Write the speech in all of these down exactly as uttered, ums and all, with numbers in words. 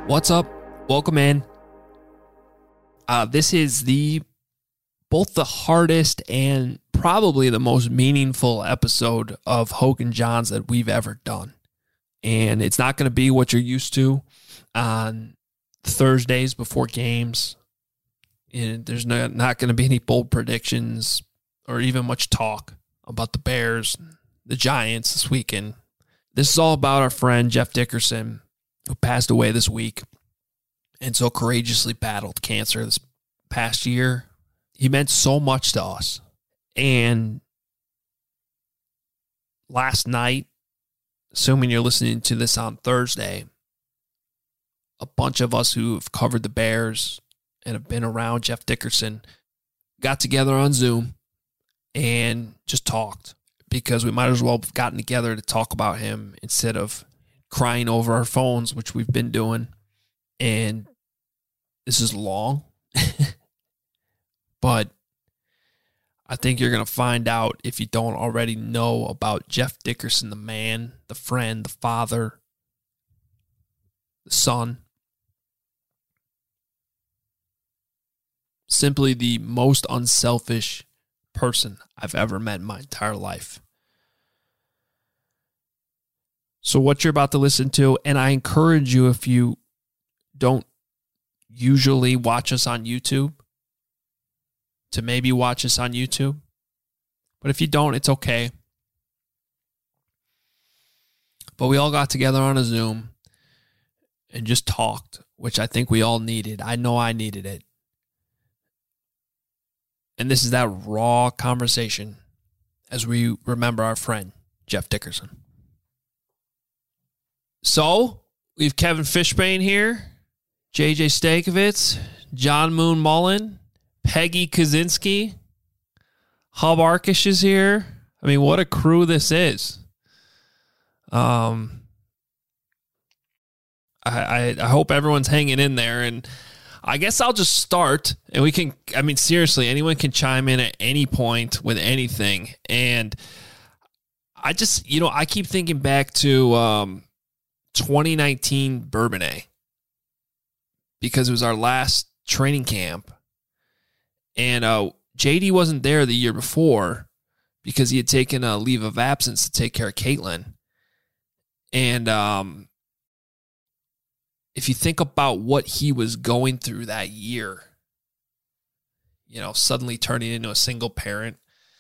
What's up? Welcome in. Uh, this is the both the hardest and probably the most meaningful episode of Hogan Johns that we've ever done. And it's not going to be what you're used to on Thursdays before games. And there's no, not going to be any bold predictions or even much talk about the Bears, the Giants this weekend. This is all about our friend Jeff Dickerson, who passed away this week and so courageously battled cancer this past year. He meant so much to us. And last night, assuming you're listening to this on Thursday, a bunch of us who have covered the Bears and have been around Jeff Dickerson got together on Zoom and just talked, because we might as well have gotten together to talk about him instead of crying over our phones, which we've been doing. And this is long, but I think you're going to find out, if you don't already know, about Jeff Dickerson, the man, the friend, the father, the son. Simply the most unselfish person I've ever met in my entire life. So what you're about to listen to, and I encourage you, if you don't usually watch us on YouTube, to maybe watch us on YouTube. But if you don't, it's okay. But we all got together on a Zoom and just talked, which I think we all needed. I know I needed it. And this is that raw conversation as we remember our friend, Jeff Dickerson. So, we have Kevin Fishbane here, J J Stankovitz, John Moon Mullen, Peggy Kaczynski, Hub Arkish is here. I mean, what a crew this is. Um, I, I, I hope everyone's hanging in there, and I guess I'll just start, and we can, I mean, seriously, anyone can chime in at any point with anything. And I just, you know, I keep thinking back to um, twenty nineteen Bourbonnais, because it was our last training camp. And uh, J D wasn't there the year before because he had taken a leave of absence to take care of Caitlin. And um, if you think about what he was going through that year, you know, suddenly turning into a single parent,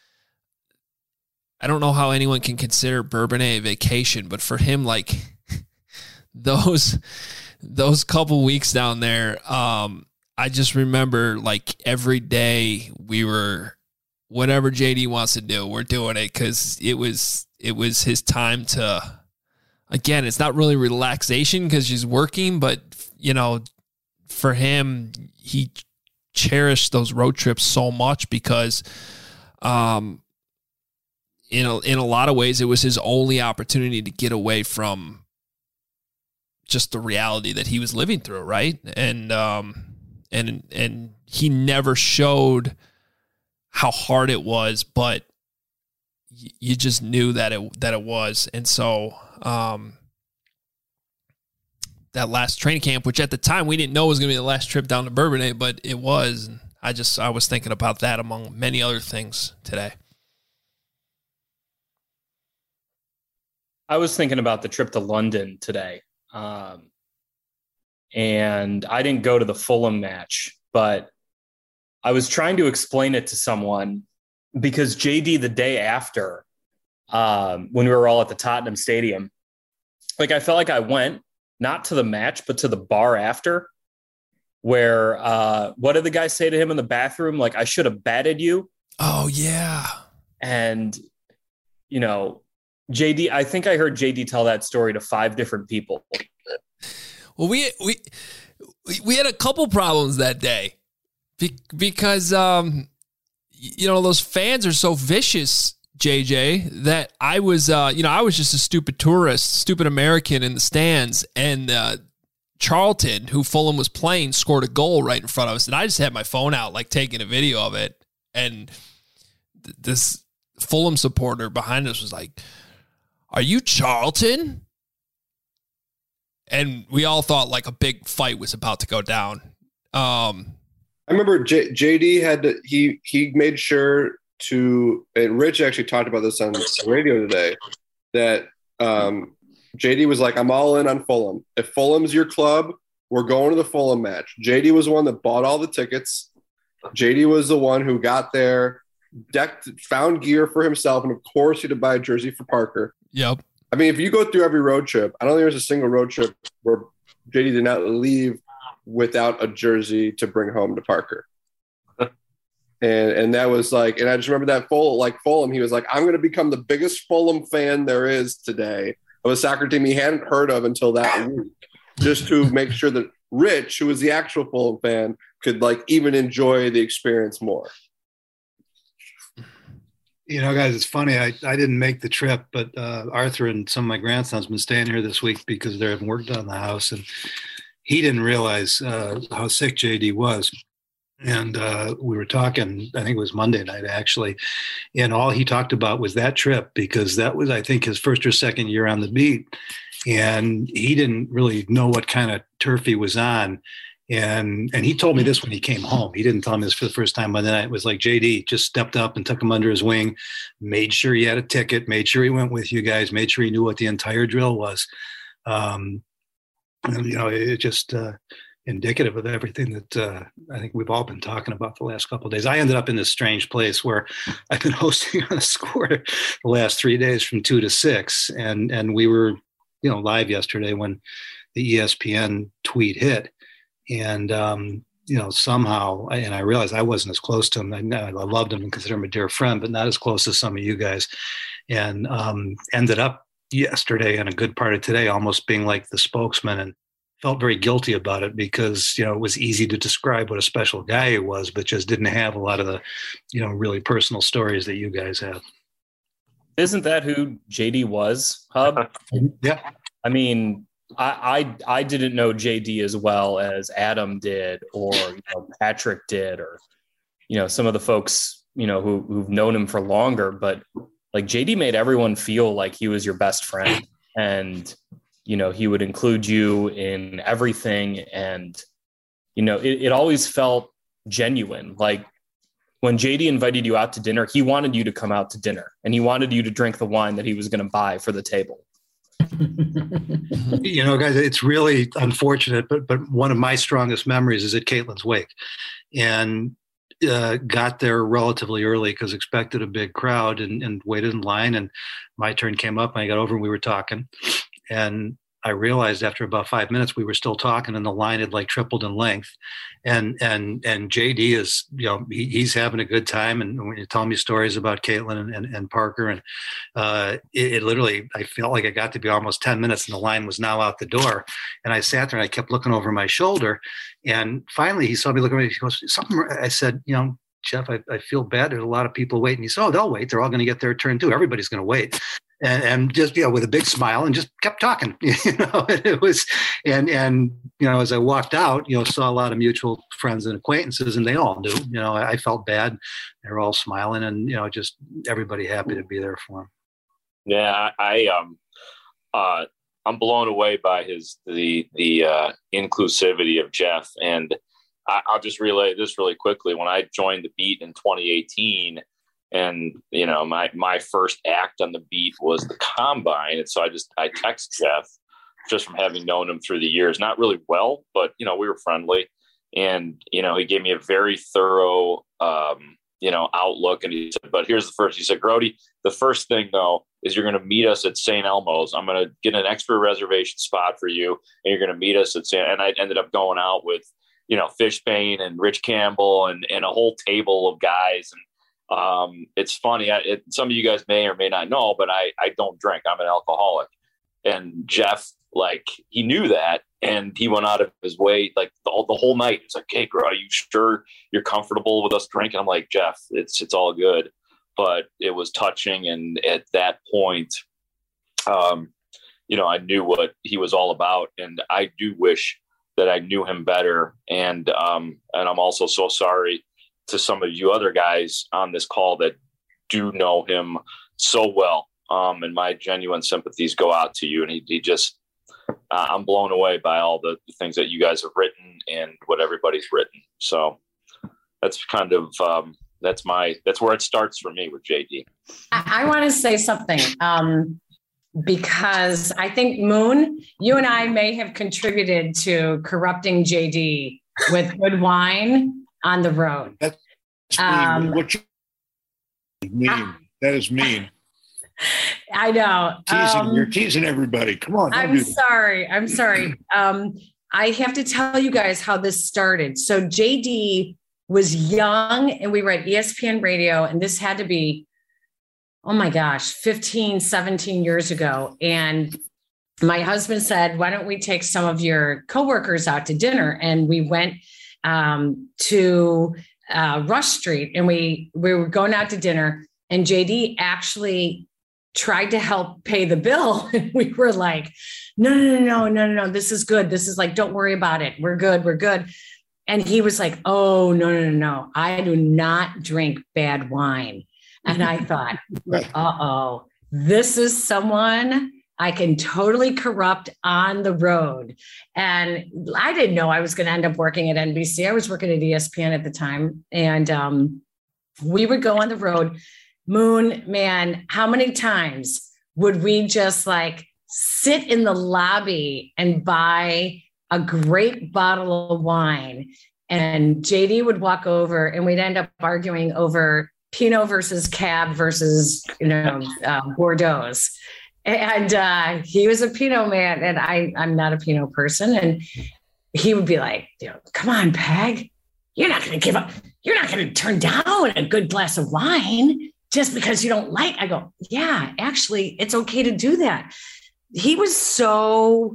I don't know how anyone can consider Bourbonnais a vacation, but for him, like those those couple weeks down there, um, I just remember, like, every day we were, whatever J D wants to do, we're doing it, because it was it was his time to, again, it's not really relaxation because she's working, but, you know, for him, he cherished those road trips so much because, um, you know, in a lot of ways, it was his only opportunity to get away from just the reality that he was living through, right? And um, and and he never showed how hard it was, but y- you just knew that it that it was. And so um, that last training camp, which at the time we didn't know was going to be the last trip down to Bourbonnais, but it was. And I just I was thinking about that among many other things today. I was thinking about the trip to London today. Um, and I didn't go to the Fulham match, but I was trying to explain it to someone because J D, the day after, um, when we were all at the Tottenham Stadium, like, I felt like I went not to the match, but to the bar after, where, uh, what did the guy say to him in the bathroom? Like, I should have batted you. Oh, yeah. And, you know, J D, I think I heard J D tell that story to five different people. Well, we we we had a couple problems that day Be- because um you know, those fans are so vicious, J J, that I was uh you know I was just a stupid tourist, stupid American in the stands, and uh, Charlton, who Fulham was playing, scored a goal right in front of us, and I just had my phone out, like, taking a video of it, and th- this Fulham supporter behind us was like, "Are you Charlton?" and we all thought like a big fight was about to go down. Um, I remember J- JD had to, he he made sure to, and Rich actually talked about this on the radio today, that um, J D was like, I'm all in on Fulham. If Fulham's your club, we're going to the Fulham match. J D was the one that bought all the tickets. J D was the one who got there, decked, found gear for himself, and of course he had to buy a jersey for Parker. Yep. I mean, if you go through every road trip, I don't think there's a single road trip where J D did not leave without a jersey to bring home to Parker. And and that was like, and I just remember that Fulham, like Fulham, he was like, I'm going to become the biggest Fulham fan there is today of a soccer team he hadn't heard of until that week, just to make sure that Rich, who was the actual Fulham fan, could like even enjoy the experience more. You know, guys, it's funny. I, I didn't make the trip, but uh, Arthur and some of my grandsons been staying here this week because they're having work done on the house, and he didn't realize uh, how sick J D was. And uh, we were talking, I think it was Monday night actually, and all he talked about was that trip, because that was, I think, his first or second year on the beat, and he didn't really know what kind of turf he was on. And and he told me this when he came home. He didn't tell me this for the first time, but then it was like J D just stepped up and took him under his wing, made sure he had a ticket, made sure he went with you guys, made sure he knew what the entire drill was. Um, and, you know, it just uh, indicative of everything that uh, I think we've all been talking about the last couple of days. I ended up in this strange place where I've been hosting on a score the last three days from two to six, and and we were, you know, live yesterday when the E S P N tweet hit. And, um, you know, somehow, and I realized I wasn't as close to him. I, I loved him and consider him a dear friend, but not as close as some of you guys. And um, ended up yesterday and a good part of today almost being like the spokesman, and felt very guilty about it because, you know, it was easy to describe what a special guy he was, but just didn't have a lot of the, you know, really personal stories that you guys have. Isn't that who J D was, Hub? Yeah. I mean, I, I I didn't know J D as well as Adam did, or you know, Patrick did, or you know, some of the folks, you know, who who've known him for longer. But like J D made everyone feel like he was your best friend, and you know, he would include you in everything, and you know, it, it always felt genuine. Like when J D invited you out to dinner, he wanted you to come out to dinner, and he wanted you to drink the wine that he was going to buy for the table. You know, guys, it's really unfortunate, but but one of my strongest memories is at Caitlin's wake, and uh, got there relatively early because expected a big crowd, and, and waited in line. And my turn came up, and I got over, and we were talking, and I realized after about five minutes we were still talking, and the line had like tripled in length. And and and J D is, you know, he, he's having a good time, and when you tell me stories about Caitlin and, and, and Parker, and uh, it, it literally, I felt like it got to be almost ten minutes, and the line was now out the door. And I sat there and I kept looking over my shoulder, and finally he saw me looking at me. He goes, "Something." I said, "You know, Jeff, I, I feel bad. There's a lot of people waiting." He said, "Oh, they'll wait. They're all going to get their turn too. Everybody's going to wait." And, and just, you know, with a big smile, and just kept talking, you know, it was, and, and, you know, as I walked out, you know, saw a lot of mutual friends and acquaintances, and they all knew, you know, I, I felt bad. They were all smiling, and, you know, just everybody happy to be there for him. Yeah. I, I um, uh, I'm blown away by his, the, the uh, inclusivity of Jeff. And I, I'll just relay this really quickly. When I joined the beat in twenty eighteen, and, you know, my, my first act on the beat was the combine. And so I just, I text Jeff just from having known him through the years, not really well, but, you know, we were friendly, and, you know, he gave me a very thorough, um, you know, outlook. And he said, but here's the first, he said, Grody, the first thing though, is you're going to meet us at Saint Elmo's. I'm going to get an extra reservation spot for you, and you're going to meet us at Saint And I ended up going out with, you know, Fishbane and Rich Campbell and, and a whole table of guys. And, Um, it's funny. I, it, some of you guys may or may not know, but I, I don't drink. I'm an alcoholic. And Jeff, like, he knew that, and he went out of his way, like the, the whole night. It's like, hey, bro, are you sure you're comfortable with us drinking? I'm like, Jeff, it's, it's all good. But it was touching. And at that point, um, you know, I knew what he was all about, and I do wish that I knew him better. And, um, and I'm also so sorry to some of you other guys on this call that do know him so well. Um, and my genuine sympathies go out to you. And he, he just, uh, I'm blown away by all the, the things that you guys have written and what everybody's written. So that's kind of, um, that's my, that's where it starts for me with J D. I, I want to say something um, because I think, Moon, you and I may have contributed to corrupting J D with good wine on the road. That's Um, what you mean. I, that is mean. I know. Teasing, Um, you're teasing everybody. Come on. I'm sorry. I'm sorry. Um, I have to tell you guys how this started. So J D was young and we were at E S P N radio, and this had to be, oh my gosh, fifteen, seventeen years ago. And my husband said, why don't we take some of your coworkers out to dinner? And we went um, to uh, Rush Street, and we, we were going out to dinner, and J D actually tried to help pay the bill. And we were like, no, no, no, no, no, no, this is good. This is like, don't worry about it. We're good. We're good. And he was like, oh, no, no, no, no. I do not drink bad wine. And I thought, uh-oh, this is someone I can totally corrupt on the road. And I didn't know I was going to end up working at N B C. I was working at E S P N at the time. And um, we would go on the road. Moon, man, how many times would we just like sit in the lobby and buy a great bottle of wine? And J D would walk over and we'd end up arguing over Pinot versus Cab versus, you know, uh, Bordeaux. And uh, he was a Pinot man, and I, I'm not a Pinot person. And he would be like, you know, come on, Peg, you're not going to give up. You're not going to turn down a good glass of wine just because you don't like. I go, yeah, actually, it's okay to do that. He was so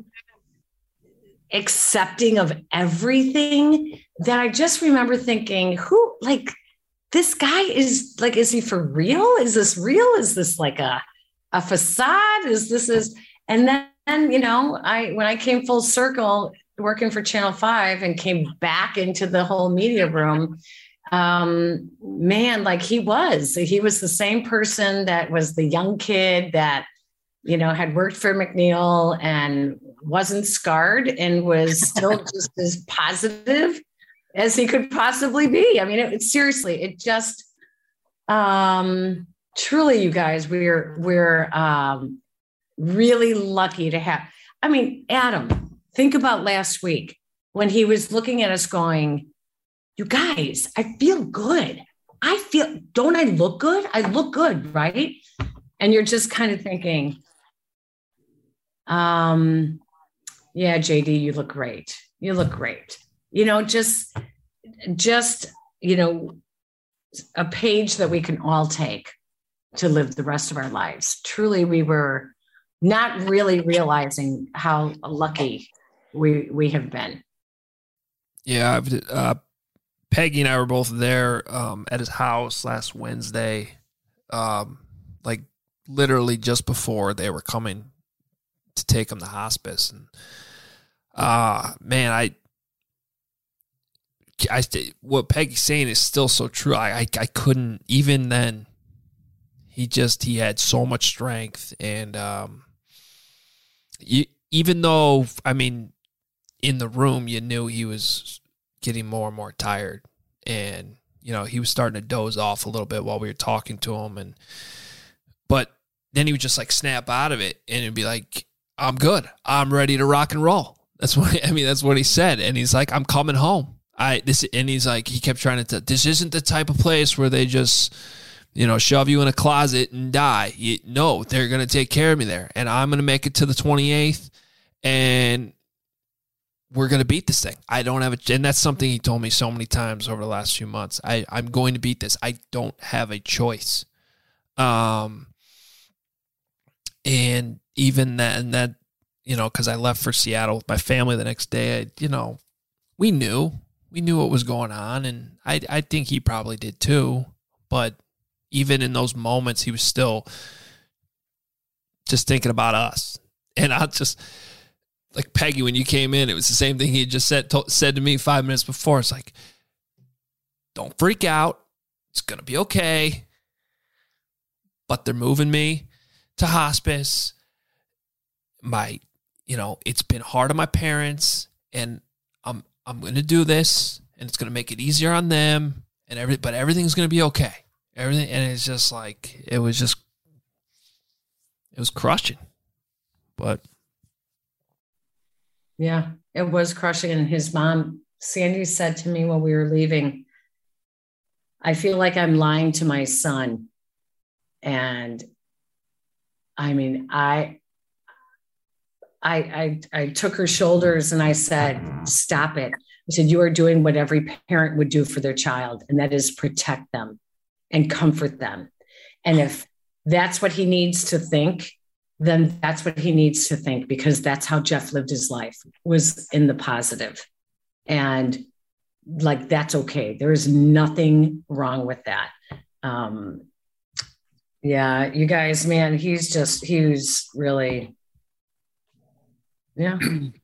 accepting of everything that I just remember thinking, who, like, this guy is like, is he for real? Is this real? Is this like a, a facade? Is this is, and then, you know, I, when I came full circle working for Channel five and came back into the whole media room, um, man, like he was, he was the same person that was the young kid that, you know, had worked for McNeil and wasn't scarred and was still just as positive as he could possibly be. I mean, it, it seriously, it just, um, truly, you guys, we're, we're, um, really lucky to have, I mean, Adam, think about last week when he was looking at us going, you guys, I feel good. I feel, don't I look good? I look good, right? And you're just kind of thinking, um, yeah, J D, you look great. You look great. You know, just, just, you know, a page that we can all take to live the rest of our lives. Truly, we were not really realizing how lucky we we have been. Yeah, I've, uh, Peggy and I were both there um, at his house last Wednesday, um, like literally just before they were coming to take him to hospice. And uh, man, I, I, what Peggy's saying is still so true. I, I, I couldn't, even then, he just, he had so much strength. And um, you, even though, I mean, in the room, you knew he was getting more and more tired, and you know he was starting to doze off a little bit while we were talking to him, and but then he would just like snap out of it and it'd be like, I'm good, I'm ready to rock and roll. That's what I mean, that's what he said. And he's like, I'm coming home. I this and he's like, he kept trying to this isn't the type of place where they just, you know, shove you in a closet and die. You, no, they're gonna take care of me there, and I'm gonna make it to the twenty-eighth, and we're going to beat this thing. I don't have a, and that's something he told me so many times over the last few months. I, I'm going to beat this. I don't have a choice. Um, and even that, and that, you know, cause I left for Seattle with my family the next day, I, you know, we knew, we knew what was going on. And I, I think he probably did too, but even in those moments, he was still just thinking about us. And I just, like Peggy, when you came in, it was the same thing he had just said to, said to me five minutes before. It's like, don't freak out. It's going to be okay. But they're moving me to hospice. My you know, it's been hard on my parents, and I'm I'm going to do this, and it's going to make it easier on them, and every but everything's going to be okay. Everything, and it's just like it was just it was crushing, but yeah, it was crushing. And his mom, Sandy, said to me when we were leaving, "I feel like I'm lying to my son," and I mean, I. I, I, I took her shoulders and I said, stop it. I said, you are doing what every parent would do for their child, and that is protect them and comfort them. And if that's what he needs to think, then that's what he needs to think, because that's how Jeff lived his life, was in the positive. And like, that's okay. There is nothing wrong with that. Um, yeah, you guys, man, he's just, he was really... Yeah.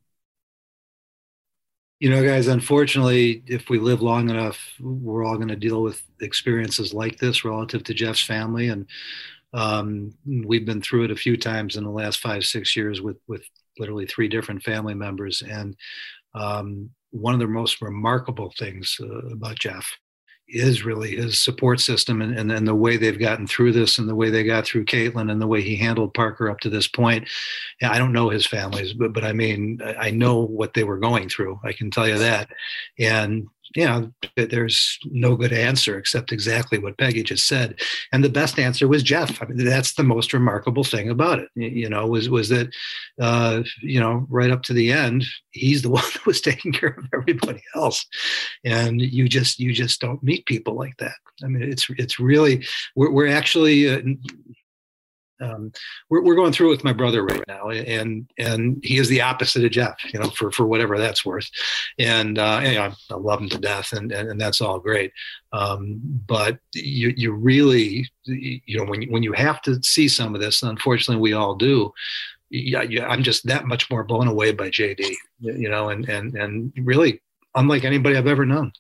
You know, guys, unfortunately, if we live long enough, we're all going to deal with experiences like this relative to Jeff's family. And um, we've been through it a few times in the last five, six years with, with literally three different family members. And um, one of the most remarkable things uh, about Jeff is really his support system, and, and, and the way they've gotten through this, and the way they got through Caitlin, and the way he handled Parker up to this point. I don't know his families, but, but I mean, I know what they were going through. I can tell you that. And, you know, there's no good answer except exactly what Peggy just said. And the best answer was Jeff. I mean, that's the most remarkable thing about it, you know, was, was that, uh, you know, right up to the end, he's the one that was taking care of everybody else. And you just, you just don't meet people like that. I mean, it's, it's really, we're, we're actually, uh, Um, we're, we're going through it with my brother right now, and and he is the opposite of Jeff, you know, for, for whatever that's worth. And, uh, and, you know, I love him to death, and, and, and that's all great. Um, but you you really, you know, when you, when you have to see some of this, and unfortunately we all do, yeah, yeah, I'm just that much more blown away by J D, you know, and and and really unlike anybody I've ever known.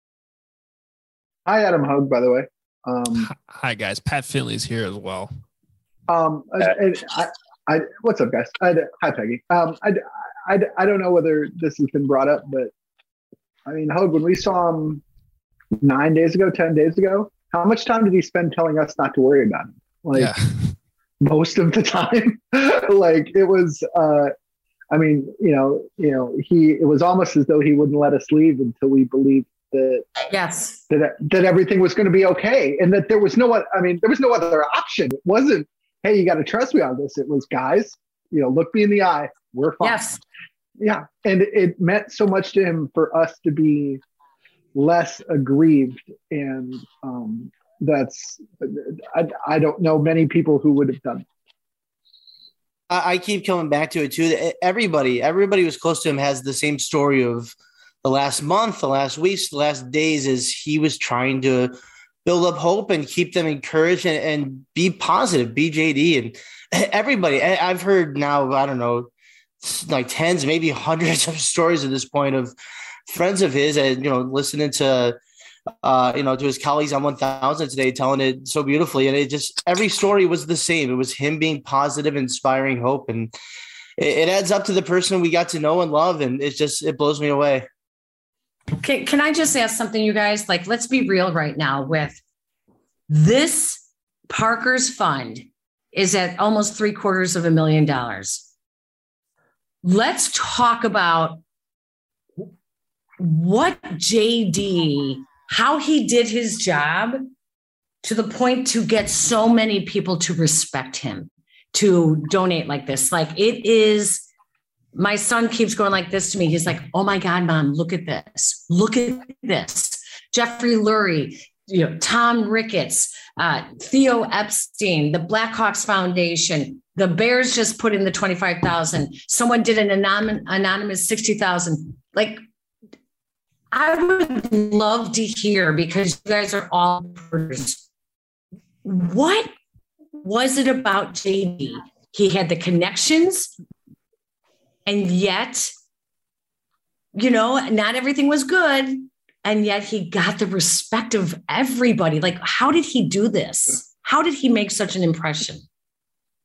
Hi, Adam Hug, by the way. Um, Hi, guys. Pat Finley's here as well. Um, I, I, I, what's up, guys? I, hi, Peggy. Um, I, I, I don't know whether this has been brought up, but I mean, Hogue, when we saw him nine days ago, ten days ago, how much time did he spend telling us not to worry about him? Like yeah. most of the time. Like it was, uh, I mean, you know, you know, he, it was almost as though he wouldn't let us leave until we believed that, yes, that, that everything was going to be okay. And that there was no, I mean, there was no other option. It wasn't, hey, you got to trust me on this. It was, guys, you know, look me in the eye. We're fine. Yes. Yeah. And it meant so much to him for us to be less aggrieved. And um, that's, I, I don't know many people who would have done it. I, I keep coming back to it too. Everybody, everybody who's close to him has the same story of the last month, the last weeks, the last days, as he was trying to build up hope and keep them encouraged, and, and be positive, be J D. And everybody, I've heard now, I don't know, like tens, maybe hundreds of stories at this point of friends of his, and, you know, listening to, uh, you know, to his colleagues on one thousand today, telling it so beautifully. And it just, every story was the same. It was him being positive, inspiring hope. And it, it adds up to the person we got to know and love. And it's just, it blows me away. Can, can I just ask something, you guys? Like, let's be real right now with this. Parker's fund is at almost three quarters of a million dollars. Let's talk about what J D, how he did his job to the point to get so many people to respect him, to donate like this. Like, it is... My son keeps going like this to me. He's like, oh my God, Mom, look at this. Look at this. Jeffrey Lurie, you know, Tom Ricketts, uh, Theo Epstein, the Blackhawks Foundation, the Bears just put in the twenty-five thousand. Someone did an anonymous, anonymous sixty thousand. Like, I would love to hear, because you guys are all reporters. What was it about J D? He had the connections. And yet, you know, not everything was good. And yet he got the respect of everybody. Like, how did he do this? How did he make such an impression?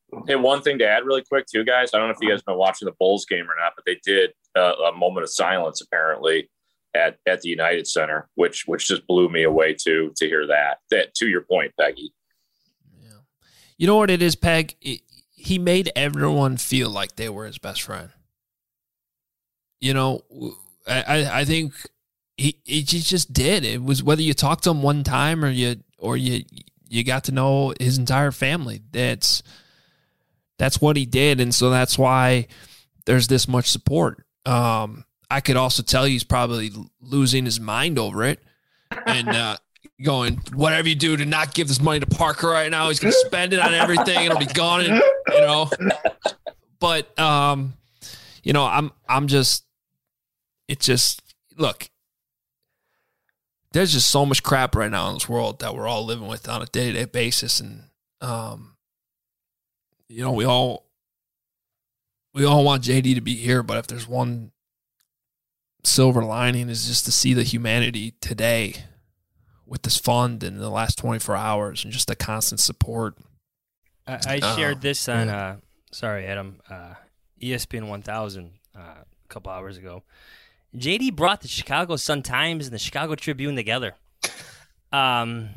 Hey, one thing to add really quick too, guys. I don't know if you guys have been watching the Bulls game or not, but they did uh, a moment of silence apparently at, at the United Center, which which just blew me away too to hear that. That to your point, Peggy. Yeah. You know what it is, Peg? It, he made everyone feel like they were his best friend. You know, I I think he he just did. It was whether you talked to him one time or you or you you got to know his entire family. That's That's what he did, and so that's why there's this much support. Um, I could also tell you he's probably losing his mind over it and uh, going, whatever you do to not give this money to Parker right now, he's going to spend it on everything. It'll be gone, and, you know. But, um, you know, I'm I'm just – it's just – look, there's just so much crap right now in this world that we're all living with on a day-to-day basis, and um, – you know, we all we all want J D to be here, but if there's one silver lining is just to see the humanity today with this fund in the last twenty-four hours and just the constant support. I, I shared uh, this on, uh, sorry, Adam, uh, E S P N one thousand uh, a couple hours ago. J D brought the Chicago Sun-Times and the Chicago Tribune together. Um,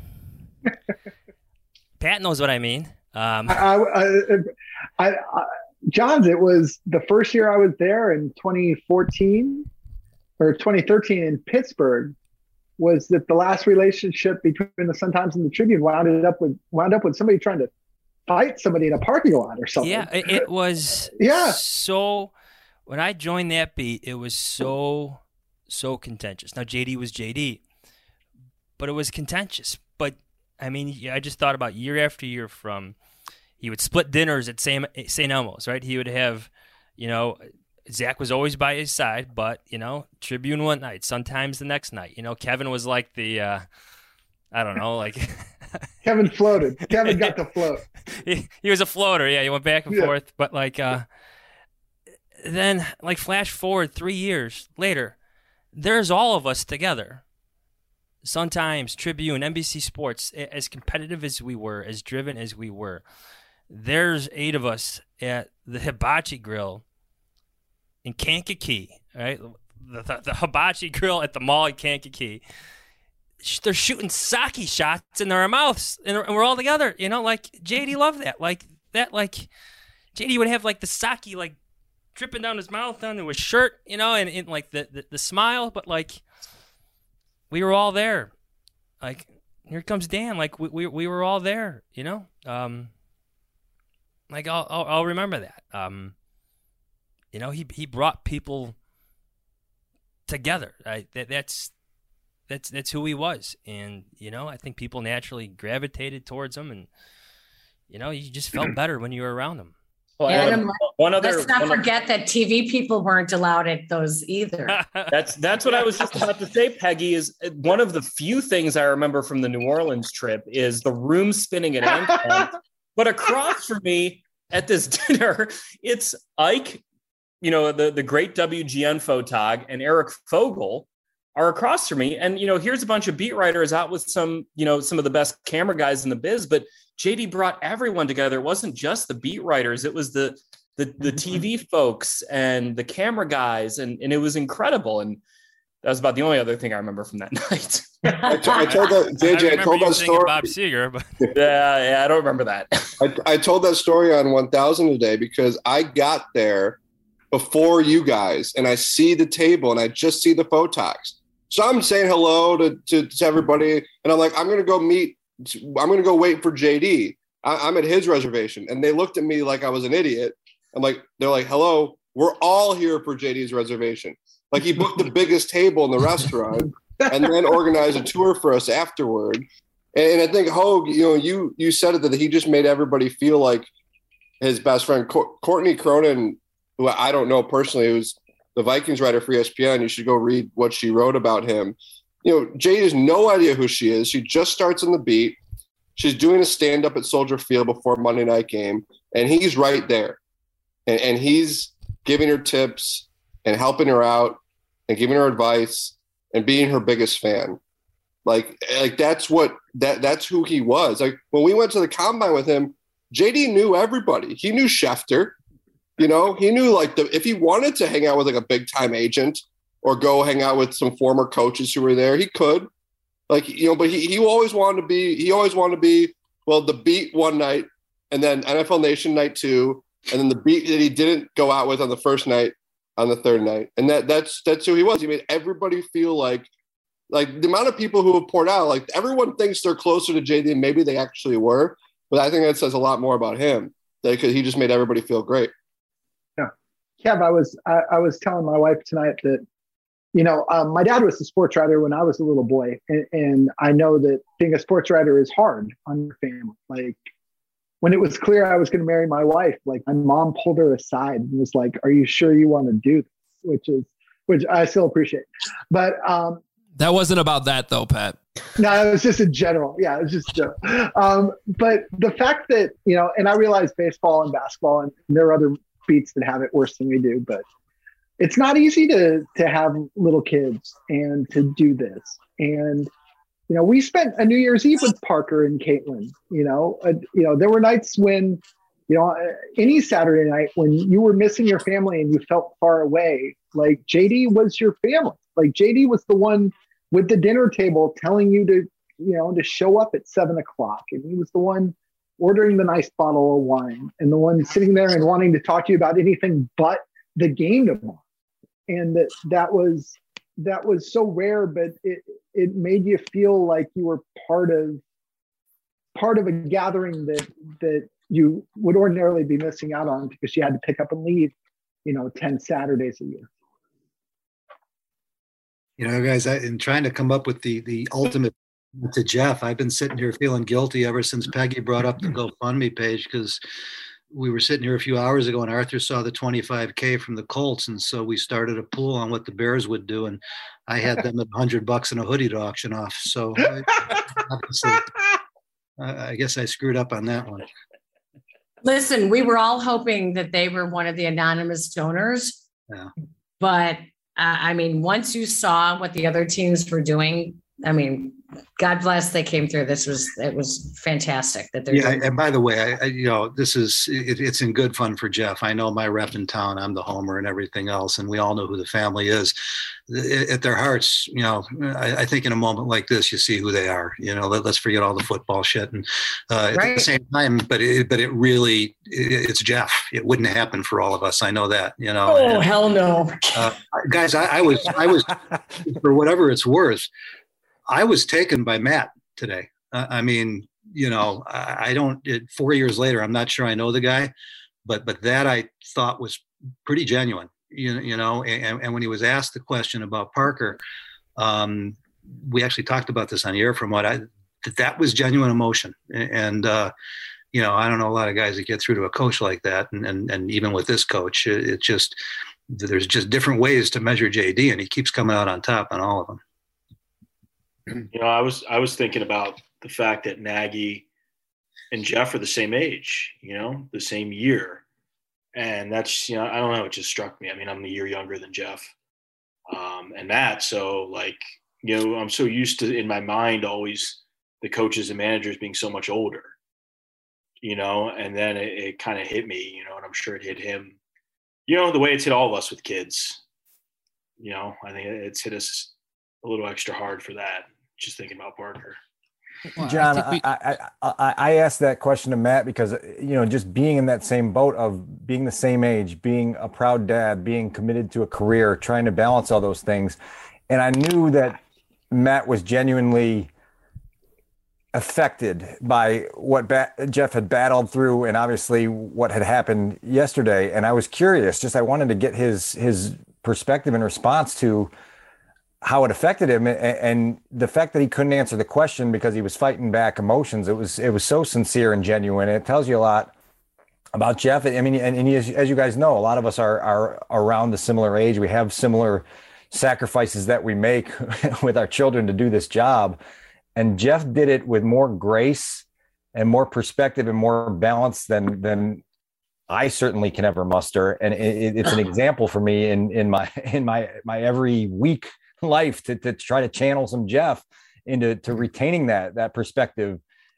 Pat knows what I mean. Um, I, I, I, I, John's, it was the first year I was there in twenty fourteen or twenty thirteen in Pittsburgh. Was that the last relationship between the Sun-Times and the Tribune wound up with wound up with somebody trying to fight somebody in a parking lot or something? Yeah, it, it was. yeah. So when I joined that beat, it was so so contentious. Now J D was J D, but it was contentious. But I mean, I just thought about year after year from he would split dinners at Saint Elmo's, right? He would have, you know, Zach was always by his side, but, you know, Tribune one night, sometimes the next night. You know, Kevin was like the, uh, I don't know, like. Kevin floated. Kevin got to float. he, he was a floater, yeah. He went back and yeah. forth. But, like, uh, then, like, flash forward three years later, there's all of us together. Sun-Times, Tribune, N B C Sports, as competitive as we were, as driven as we were, there's eight of us at the Hibachi Grill in Kankakee, right? The, the, the Hibachi Grill at the mall in Kankakee. They're shooting sake shots in our mouths, and we're all together. You know, like, J D loved that. Like, that, like, J D would have, like, the sake, like, dripping down his mouth, onto his shirt, you know, and, and like, the, the, the smile, but, like, we were all there. Like, here comes Dan. Like, we we, we were all there, you know? Um, like, I'll, I'll I'll remember that. Um, you know, he he brought people together. Right? That that's that's that's who he was. And, you know, I think people naturally gravitated towards him, and, you know, you just felt better when you were around him. Well, Adam, Adam, one other, let's not one forget other, that T V people weren't allowed at those either. That's that's what I was just about to say, Peggy. Is one of the few things I remember from the New Orleans trip is the room spinning at Anthem. But across from me at this dinner, it's Ike, you know, the, the great W G N photog, and Eric Fogel are across from me. And, you know, here's a bunch of beat writers out with some, you know, some of the best camera guys in the biz, but J D brought everyone together. It wasn't just the beat writers. It was the, the, the T V folks and the camera guys. And, and it was incredible. And that was about the only other thing I remember from that night. I, t- I told that J J, I, I told that story. Bob Seger, but yeah, yeah, I don't remember that. I, I told that story on one thousand today because I got there before you guys, and I see the table, and I just see the photogs. So I'm saying hello to, to, to everybody, and I'm like, I'm going to go meet, I'm going to go wait for J D. I, I'm at his reservation, and they looked at me like I was an idiot. I'm like, they're like, hello, we're all here for J D's reservation. Like, he booked the biggest table in the restaurant and then organized a tour for us afterward. And I think, Hogue, you know, you you said it, that he just made everybody feel like his best friend. Co- Courtney Cronin, who I don't know personally, who's the Vikings writer for E S P N. You should go read what she wrote about him. You know, Jade has no idea who she is. She just starts in the beat. She's doing a stand-up at Soldier Field before Monday night game, and he's right there. And, and he's giving her tips and helping her out and giving her advice and being her biggest fan. Like, like that's what that that's who he was. Like, when we went to the combine with him, J D knew everybody. He knew Schefter. You know, he knew like the if he wanted to hang out with like a big time agent or go hang out with some former coaches who were there, he could. Like, you know, but he he always wanted to be he always wanted to be well the beat one night and then N F L Nation night two, and then the beat that he didn't go out with on the first night on the third night. And that that's that's who he was. He made everybody feel like like the amount of people who have poured out, like everyone thinks they're closer to J D than maybe they actually were. But I think that says a lot more about him because he just made everybody feel great. Yeah. Kev, I was I, I was telling my wife tonight that, you know, um, my dad was a sports writer when I was a little boy. And, and I know that being a sports writer is hard on your family. Like when it was clear I was going to marry my wife, like my mom pulled her aside and was like, "Are you sure you want to do this?" Which is, which I still appreciate. But um, that wasn't about that though, Pat. No, it was just in general. Yeah, it was just a joke. Um, but the fact that, you know, and I realize baseball and basketball, and there are other beats that have it worse than we do, but it's not easy to to have little kids and to do this. And, you know, we spent a New Year's Eve with Parker and Caitlin. You know, uh, you know, there were nights when, you know, any Saturday night when you were missing your family and you felt far away, like J D was your family. Like J D was the one with the dinner table telling you to, you know, to show up at seven o'clock. And he was the one ordering the nice bottle of wine and the one sitting there and wanting to talk to you about anything but the game tomorrow. And that, that was, that was so rare, but it, it made you feel like you were part of, part of a gathering that, that you would ordinarily be missing out on because you had to pick up and leave, you know, ten Saturdays a year. You know, guys, I, in trying to come up with the the ultimate to Jeff, I've been sitting here feeling guilty ever since Peggy brought up the GoFundMe page, because we were sitting here a few hours ago and Arthur saw the twenty-five K from the Colts. And so we started a pool on what the Bears would do. And I had them at a hundred bucks in a hoodie to auction off. So I, obviously, I guess I screwed up on that one. Listen, we were all hoping that they were one of the anonymous donors. Yeah. But uh, I mean, once you saw what the other teams were doing, I mean, God bless they came through. This was, it was fantastic that they're yeah. doing. And by the way, I, I you know, this is, it, it's in good fun for Jeff. I know my rep in town, I'm the homer and everything else. And we all know who the family is. At their hearts, you know, I, I think in a moment like this, you see who they are, you know, let, let's forget all the football shit. And uh, right. At the same time, but it, but it really, it, it's Jeff. It wouldn't happen for all of us. I know that, you know. Oh, and, hell no. Uh, guys, I, I was, I was, for whatever it's worth, I was taken by Matt today. Uh, I mean, you know, I, I don't, it, four years later, I'm not sure I know the guy, but, but that I thought was pretty genuine, you, you know, and, and when he was asked the question about Parker, um, we actually talked about this on the air from what I, that, that was genuine emotion. And, uh, you know, I don't know a lot of guys that get through to a coach like that. And, and, and even with this coach, it, it just, there's just different ways to measure J D, and he keeps coming out on top on all of them. You know, I was I was thinking about the fact that Nagy and Jeff are the same age, you know, the same year. And that's, you know, I don't know, it just struck me. I mean, I'm a year younger than Jeff um, and Matt. So, like, you know, I'm so used to, in my mind, always the coaches and managers being so much older, you know, and then it, it kind of hit me, you know, and I'm sure it hit him, you know, the way it's hit all of us with kids. You know, I think it's hit us a little extra hard for that, just thinking about Parker. Well, John, I, we... I, I, I, I asked that question to Matt because, you know, just being in that same boat of being the same age, being a proud dad, being committed to a career, trying to balance all those things. And I knew that Matt was genuinely affected by what ba- Jeff had battled through and obviously what had happened yesterday. And I was curious, just I wanted to get his his perspective and response to how it affected him, and the fact that he couldn't answer the question because he was fighting back emotions. It was, it was so sincere and genuine. It tells you a lot about Jeff. I mean, and, and he, as you guys know, a lot of us are, are around the similar age. We have similar sacrifices that we make with our children to do this job. And Jeff did it with more grace and more perspective and more balance than, than I certainly can ever muster. And it, it's an example for me in, in my, in my, my every week life to, to try to channel some Jeff into to retaining that that perspective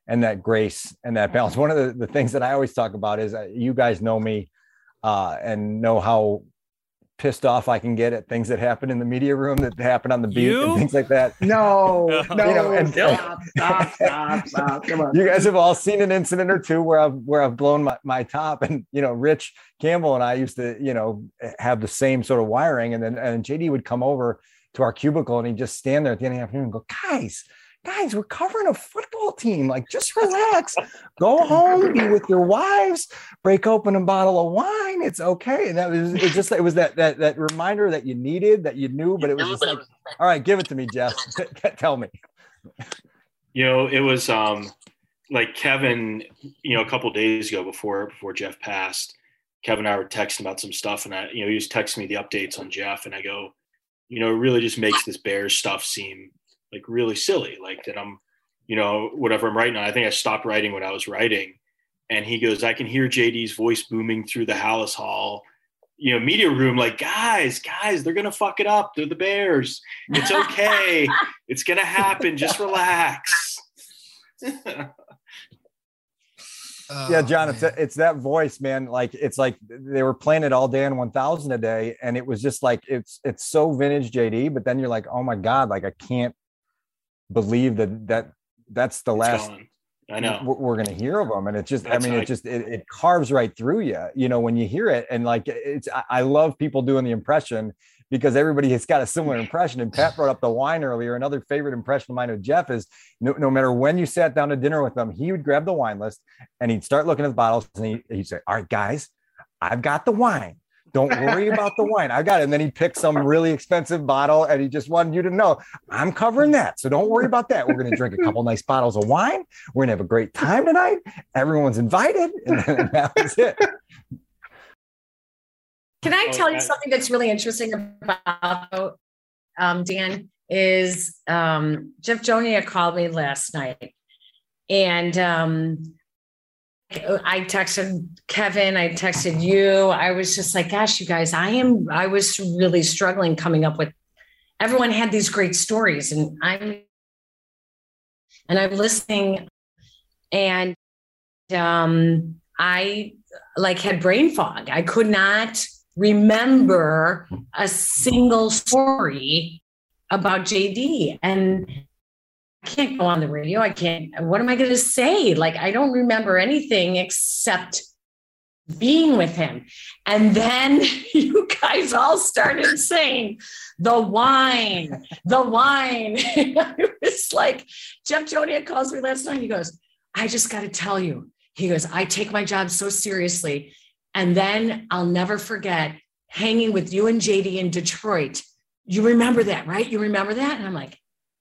and that grace and that balance. One of the, the things that I always talk about is uh, you guys know me uh, and know how pissed off I can get at things that happen in the media room, that happen on the beat You? and things like that. No, no, You know, and- stop, stop, stop, stop. Come on. You guys have all seen an incident or two where I've where I've blown my, my top, and you know, Rich Campbell and I used to, you know, have the same sort of wiring, and then and J D would come over to our cubicle and he'd just stand there at the end of the afternoon and go, guys, guys, we're covering a football team. Like, just relax, go home, be with your wives, break open a bottle of wine. It's okay. And that was it. Just it was that that that reminder that you needed, that you knew, but it was just like, all right, give it to me, Jeff. Tell me. You know, it was um, like Kevin, you know, a couple of days ago before before Jeff passed, Kevin and I were texting about some stuff, and I, you know, he was texting me the updates on Jeff, and I go, you know, it really just makes this Bears stuff seem like really silly, like that I'm, you know, whatever I'm writing on. I think I stopped writing what I was writing. And he goes, I can hear J D's voice booming through the Hallis Hall, you know, media room, like, guys, guys, they're going to fuck it up. They're the Bears. It's okay. It's going to happen. Just relax. Oh, yeah, John, man. it's a, it's that voice, man. Like, it's like they were playing it all day on one thousand a day, and it was just like it's it's so vintage J D. But then you're like, oh my god, like I can't believe that that that's the It's last gone. I know. we're, we're gonna hear of them, and it just That's I mean how I- it just it, it carves right through you, you know, when you hear it. And like it's I, I love people doing the impression, because everybody has got a similar impression. And Pat brought up the wine earlier. Another favorite impression of mine with Jeff is no, no matter when you sat down to dinner with him, he would grab the wine list and he'd start looking at the bottles, and he, he'd say, all right, guys, I've got the wine. Don't worry about the wine. I got it. And then he'd pick some really expensive bottle, and he just wanted you to know, I'm covering that. So don't worry about that. We're going to drink a couple nice bottles of wine. We're going to have a great time tonight. Everyone's invited. And then that was it. Can I Oh, tell you I- something that's really interesting about um, Dan? Is um, Jeff Jonia called me last night, and um, I texted Kevin, I texted you. I was just like, gosh, you guys, I am, I was really struggling coming up with, everyone had these great stories, and I'm, and I'm listening, and um, I like had brain fog. I could not remember a single story about J D, and I can't go on the radio. I can't, what am I going to say? Like, I don't remember anything except being with him. And then you guys all started saying the wine, the wine. It was like, Jeff Jonia calls me last night. He goes, I just got to tell you, he goes, I take my job so seriously. And then I'll never forget hanging with you and J D in Detroit. You remember that, right? You remember that? And I'm like,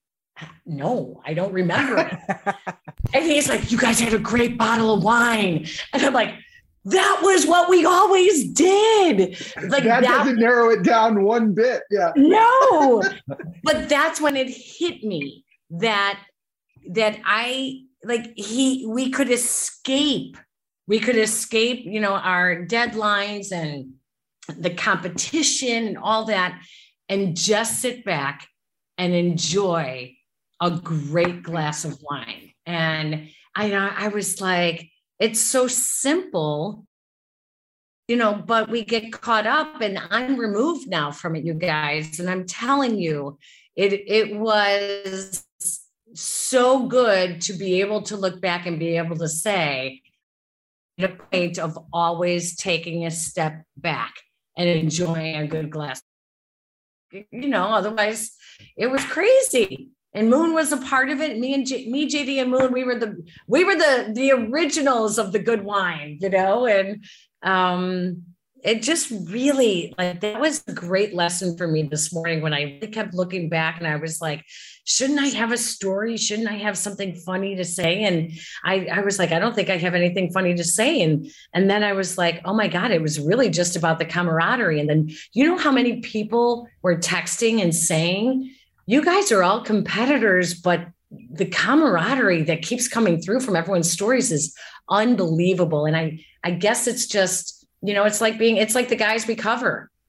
no, I don't remember it. And he's like, you guys had a great bottle of wine. And I'm like, that was what we always did. Like that, that doesn't narrow it down one bit. Yeah. No, but that's when it hit me that that I like he we could escape. We could escape, you know, our deadlines and the competition and all that, and just sit back and enjoy a great glass of wine. And I I was like, it's so simple, you know, but we get caught up, and I'm removed now from it, you guys. And I'm telling you, it it was so good to be able to look back and be able to say, the point of always taking a step back and enjoying a good glass. You know, otherwise it was crazy. And Moon was a part of it. Me and J- me, J D, and Moon, we were the we were the the originals of the good wine, you know. And um, it just really, like, that was a great lesson for me this morning when I kept looking back, and I was like, shouldn't I have a story? Shouldn't I have something funny to say? And I, I was like, I don't think I have anything funny to say. And and then I was like, oh my God, it was really just about the camaraderie. And then, you know how many people were texting and saying, you guys are all competitors, but the camaraderie that keeps coming through from everyone's stories is unbelievable. And I, I guess it's just, you know, it's like being, it's like the guys we cover.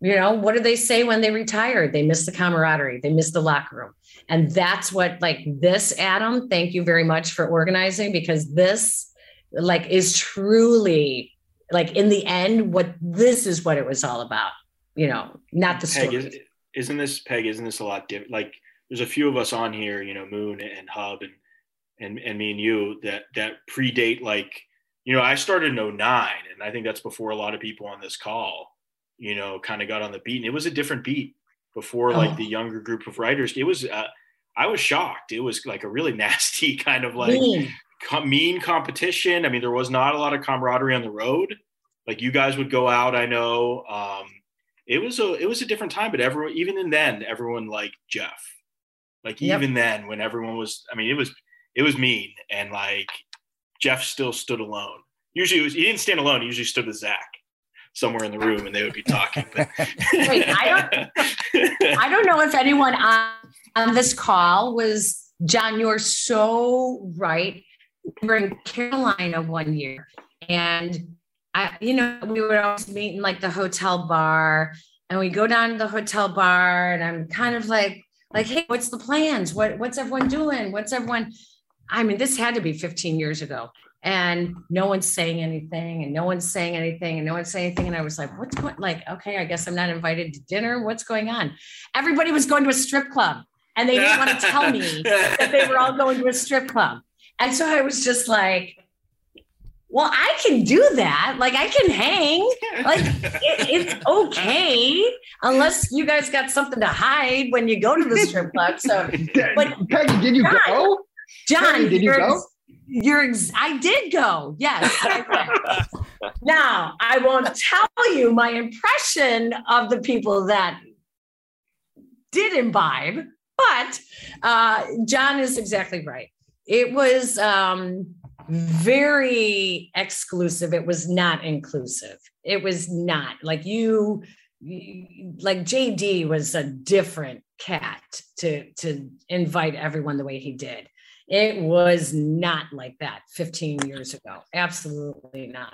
You know, what do they say when they retire? They miss the camaraderie. They miss the locker room. And that's what, like this, Adam, thank you very much for organizing, because this like is truly like in the end, what this is what it was all about, you know, not the Peg, story. isn't, isn't this Peg, isn't this a lot different? Like there's a few of us on here, you know, Moon and Hub and, and, and me and you that, that predate, like, you know, I started in oh nine, and I think that's before a lot of people on this call, you know, kind of got on the beat, and it was a different beat before like Oh. the younger group of writers. It was, uh, I was shocked. It was like a really nasty kind of like Mean. com- mean competition. I mean, there was not a lot of camaraderie on the road. Like you guys would go out, I know. Um, it was a, it was a different time, but everyone, even in then, everyone liked Jeff. Like Yep. even then, when everyone was, I mean, it was, it was mean, and like Jeff still stood alone. Usually, it was, he didn't stand alone. He usually stood with Zach somewhere in the room, and they would be talking. But Wait, I don't, I don't know if anyone on, on this call was, John, you're so right. We were in Carolina one year, and I, you know, we would always meet in like the hotel bar, and we go down to the hotel bar, and I'm kind of like, like, hey, what's the plans? What, what's everyone doing? What's everyone? I mean, this had to be fifteen years ago. And no one's saying anything, and no one's saying anything, and no one's saying anything. And I was like, what's going, like, okay, I guess I'm not invited to dinner. What's going on? Everybody was going to a strip club, and they didn't want to tell me that they were all going to a strip club. And so I was just like, well, I can do that. Like, I can hang. Like, it, it's okay. Unless you guys got something to hide when you go to the strip club. So, but Peggy, did you John, go? John, Peggy, did you you're, go? You're, ex- I did go. Yes. I went. Now, I won't tell you my impression of the people that did imbibe, but uh, John is exactly right. It was um, very exclusive. It was not inclusive. It was not like you, like J D was a different cat to, to invite everyone the way he did. It was not like that fifteen years ago. Absolutely not.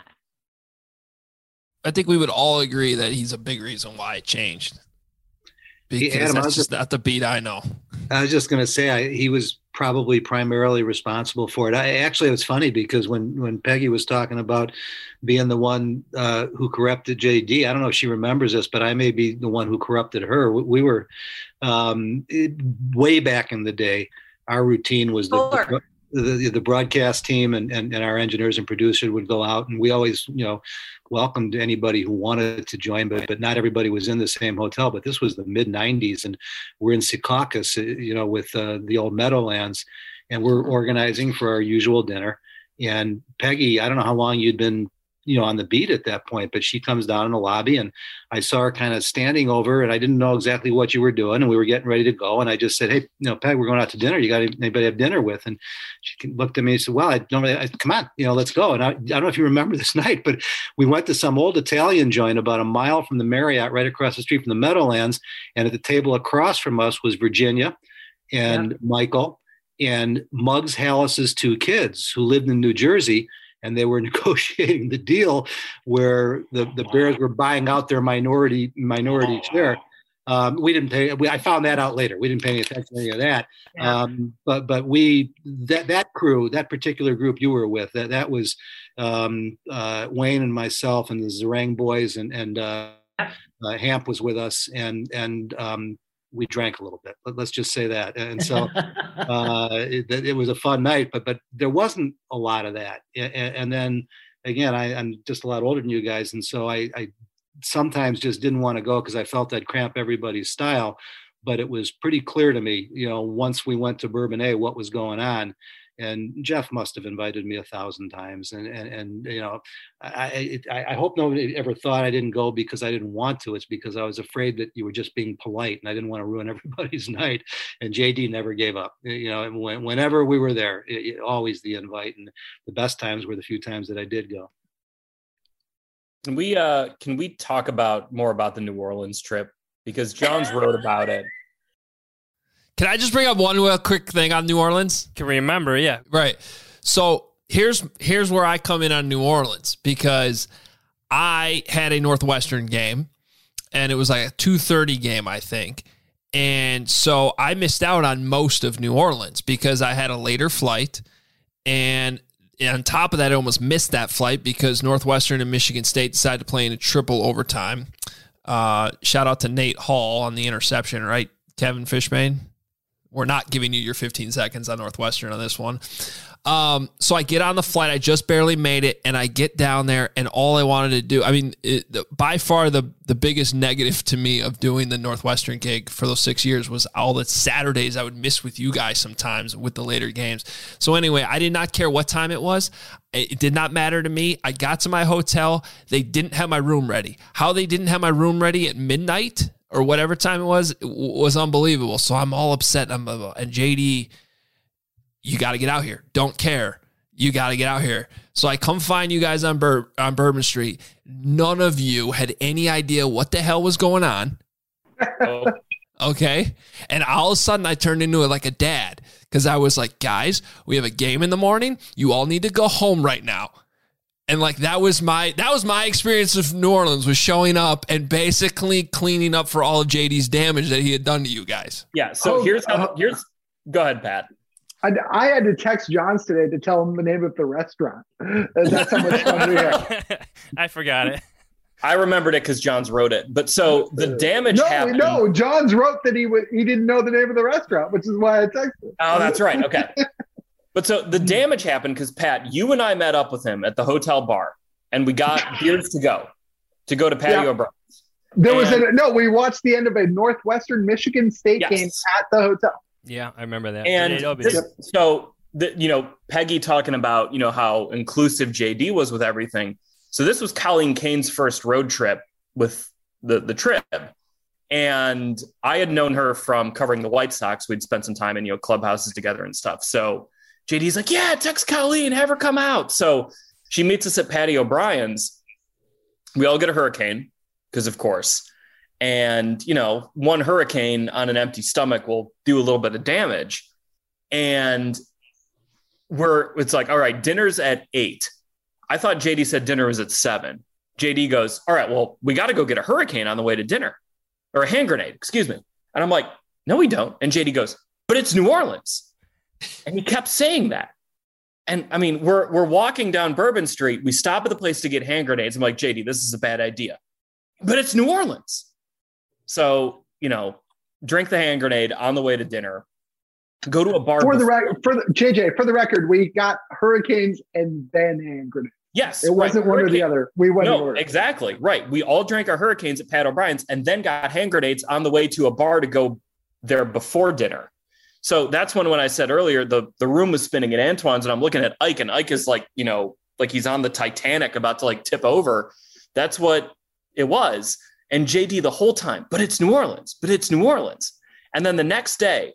I think we would all agree that he's a big reason why it changed. Because Adam, I that's was just not the beat I know. I was just going to say I, he was probably primarily responsible for it. I actually, it was funny because when, when Peggy was talking about being the one uh, who corrupted J D, I don't know if she remembers this, but I may be the one who corrupted her. We, we were um, it, way back in the day. Our routine was the, the, the, the broadcast team and, and, and our engineers and producers would go out, and we always, you know, welcomed anybody who wanted to join, but, but not everybody was in the same hotel. But this was the mid nineties, and we're in Secaucus, you know, with uh, the old Meadowlands, and we're organizing for our usual dinner. And Peggy, I don't know how long you'd been, you know, on the beat at that point, but she comes down in the lobby, and I saw her kind of standing over, and I didn't know exactly what you were doing, and we were getting ready to go. And I just said, hey, you know, Peg, we're going out to dinner. You got anybody to have dinner with? And she looked at me and said, well, I don't really, I, come on, you know, let's go. And I, I don't know if you remember this night, but we went to some old Italian joint about a mile from the Marriott, right across the street from the Meadowlands. And at the table across from us was Virginia and yeah. Michael and Muggs Hallis's two kids who lived in New Jersey. And they were negotiating the deal where the, the Bears were buying out their minority minority oh, share. Um, we didn't pay. We, I found that out later. We didn't pay any attention to any of that. Yeah. Um, but but we that that crew, that particular group you were with, that that was um, uh, Wayne and myself and the Zerang boys, and and uh, uh, Hamp was with us, and and um, we drank a little bit. Let's just say that. And so uh, it, it was a fun night, but but there wasn't a lot of that. And, and then again, I, I'm just a lot older than you guys, and so I, I sometimes just didn't want to go because I felt I'd cramp everybody's style. But it was pretty clear to me, you know, once we went to Bourbonnais, what was going on. And Jeff must have invited me a thousand times. And, and, and you know, I, I, I hope nobody ever thought I didn't go because I didn't want to. It's because I was afraid that you were just being polite and I didn't want to ruin everybody's night. And J D never gave up, you know, and when, whenever we were there, it, it, always the invite. And the best times were the few times that I did go. Can we, uh, can we talk about more about the New Orleans trip? Because John's wrote about it. Can I just bring up one real quick thing on New Orleans? Can remember, yeah. Right. So here's here's where I come in on New Orleans, because I had a Northwestern game, and it was like a two thirty game, I think. And so I missed out on most of New Orleans because I had a later flight. And on top of that, I almost missed that flight because Northwestern and Michigan State decided to play in a triple overtime. Uh, shout out to Nate Hall on the interception, right, Kevin Fishbane? We're not giving you your fifteen seconds on Northwestern on this one. Um, so I get on the flight. I just barely made it, and I get down there, and all I wanted to do, I mean, it, the, by far the, the biggest negative to me of doing the Northwestern gig for those six years was all the Saturdays I would miss with you guys sometimes with the later games. So anyway, I did not care what time it was. It did not matter to me. I got to my hotel. They didn't have my room ready. How they didn't have my room ready at midnight or whatever time it was, it was unbelievable. So I'm all upset. I'm, and J D, you got to get out here. Don't care. You got to get out here. So I come find you guys on Bur- on Bourbon Street. None of you had any idea what the hell was going on. Oh. Okay. And all of a sudden I turned into it like a dad because I was like, guys, we have a game in the morning. You all need to go home right now. And like that was my that was my experience of New Orleans, was showing up and basically cleaning up for all of J D's damage that he had done to you guys. Yeah. So oh, here's how, uh, here's go ahead, Pat. I, I had to text Johns today to tell him the name of the restaurant. That's how much fun we had. I forgot it. I remembered it because Johns wrote it. But so the damage no, happened. No, Johns wrote that he would he didn't know the name of the restaurant, which is why I texted. Oh, that's right. Okay. But so the damage happened because, Pat, you and I met up with him at the hotel bar, and we got beers to go, to go to Patio Yeah. O'Brien's. There and, was a no. We watched the end of a Northwestern Michigan State yes. game at the hotel. Yeah, I remember that. And this, so, the, you know, Peggy talking about, you know, how inclusive J D was with everything. So this was Colleen Kane's first road trip with the, the trip. And I had known her from covering the White Sox. We'd spent some time in, you know, clubhouses together and stuff. So J D's like, yeah, text Colleen, have her come out. So she meets us at Patio O'Brien's. We all get a hurricane because, of course. And, you know, one hurricane on an empty stomach will do a little bit of damage. And we're, it's like, all right, dinner's at eight. I thought J D said dinner was at seven. J D goes, all right, well, we got to go get a hurricane on the way to dinner, or a hand grenade, excuse me. And I'm like, no, we don't. And J D goes, but it's New Orleans. And he kept saying that. And I mean, we're, we're walking down Bourbon Street. We stop at the place to get hand grenades. I'm like, J D, this is a bad idea, but it's New Orleans. So, you know, drink the hand grenade on the way to dinner, go to a bar. For the record, for the J J, for the record, we got hurricanes and then hand grenades. Yes. It wasn't right. one or the other. We went No, exactly. Right. We all drank our hurricanes at Pat O'Brien's and then got hand grenades on the way to a bar to go there before dinner. So that's when, when I said earlier, the, the room was spinning at Antoine's and I'm looking at Ike, and Ike is like, you know, like he's on the Titanic about to like tip over. That's what it was. And J D the whole time, but it's New Orleans, but it's New Orleans. And then the next day,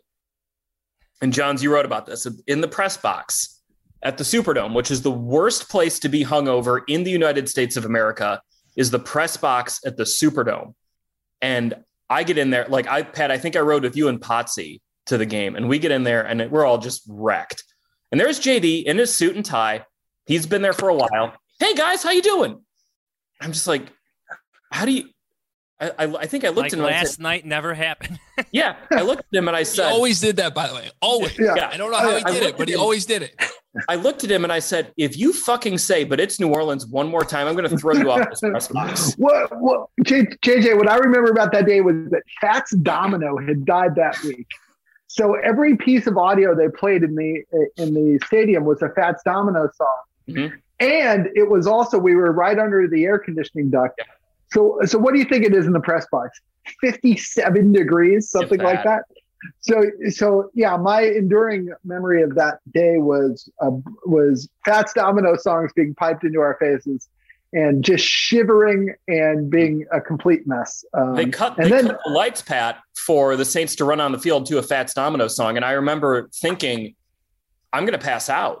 and Johns, you wrote about this, in the press box at the Superdome, which is the worst place to be hungover in the United States of America, is the press box at the Superdome. And I get in there, like I, Pat, I think I rode with you and Potsy to the game, and we get in there and we're all just wrecked. And there's J D in his suit and tie. He's been there for a while. Hey guys, how you doing? I'm just like, how do you, I, I, I think I looked like at him. Last said, night never happened. Yeah, I looked at him and I said, he always did that, by the way. Always. Yeah. I don't know how he I did it, but he him, always did it. I looked at him and I said, if you fucking say, but it's New Orleans one more time, I'm going to throw you off this press box. What, what, J J, what I remember about that day was that Fats Domino had died that week. So every piece of audio they played in the in the stadium was a Fats Domino song. Mm-hmm. And it was also, we were right under the air conditioning duct. Yeah. So, so what do you think it is in the press box? fifty-seven degrees, something like that. So, so yeah, my enduring memory of that day was uh, was Fats Domino songs being piped into our faces, and just shivering and being a complete mess. Um, they cut, and they then, cut the lights, Pat, for the Saints to run on the field to a Fats Domino song, and I remember thinking, I'm going to pass out.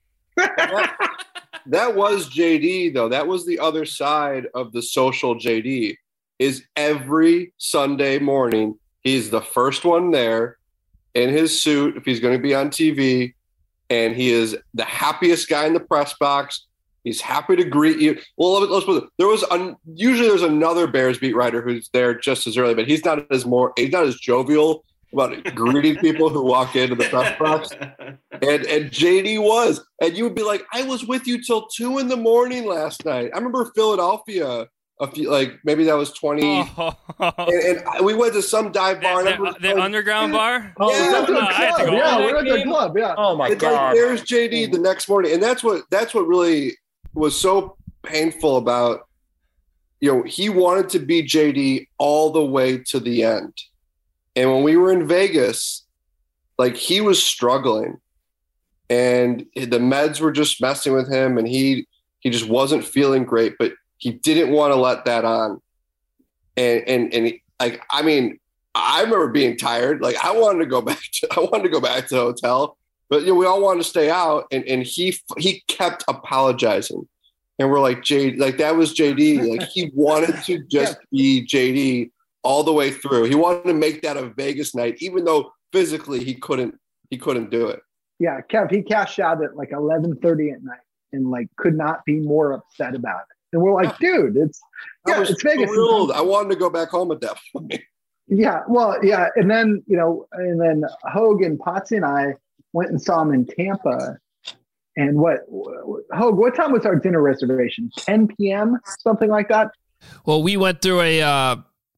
That was J D, though. That was the other side of the social J D. Is every Sunday morning, he's the first one there in his suit if he's going to be on T V, and he is the happiest guy in the press box. He's happy to greet you. Well, let's put it. There was un, usually there's another Bears beat writer who's there just as early, but he's not as more he's not as jovial about greeting people who walk into the press box. And and J D was, and you would be like, I was with you till two in the morning last night. I remember Philadelphia. A few, like maybe that was twenty, oh. and, and we went to some dive bar. The, the, the like, underground bar. Oh, yeah, we went to the no, I had to club. go. Yeah, Oh, we went to the game? club. Yeah. Oh my it's god! Like, there's J D the next morning, and that's what that's what really was so painful about. You know, he wanted to be J D all the way to the end, and when we were in Vegas, like he was struggling, and the meds were just messing with him, and he he just wasn't feeling great, but he didn't want to let that on. And, and, and he, like, I mean, I remember being tired. Like I wanted to go back to, I wanted to go back to the hotel, but you know, we all wanted to stay out. And, and he, he kept apologizing, and we're like, J like that was J D. Like he wanted to just be J D all the way through. He wanted to make that a Vegas night, even though physically he couldn't, he couldn't do it. Yeah. Kev, he cashed out at like eleven thirty at night and like could not be more upset about it. And we're like, dude, it's yeah, I was it's Vegas. thrilled. I wanted to go back home at that point. Yeah, well, yeah, and then you know, and then Hogue and Potsy and I went and saw him in Tampa. And what Hogue? What time was our dinner reservation? ten p.m. something like that. Well, we went through a uh,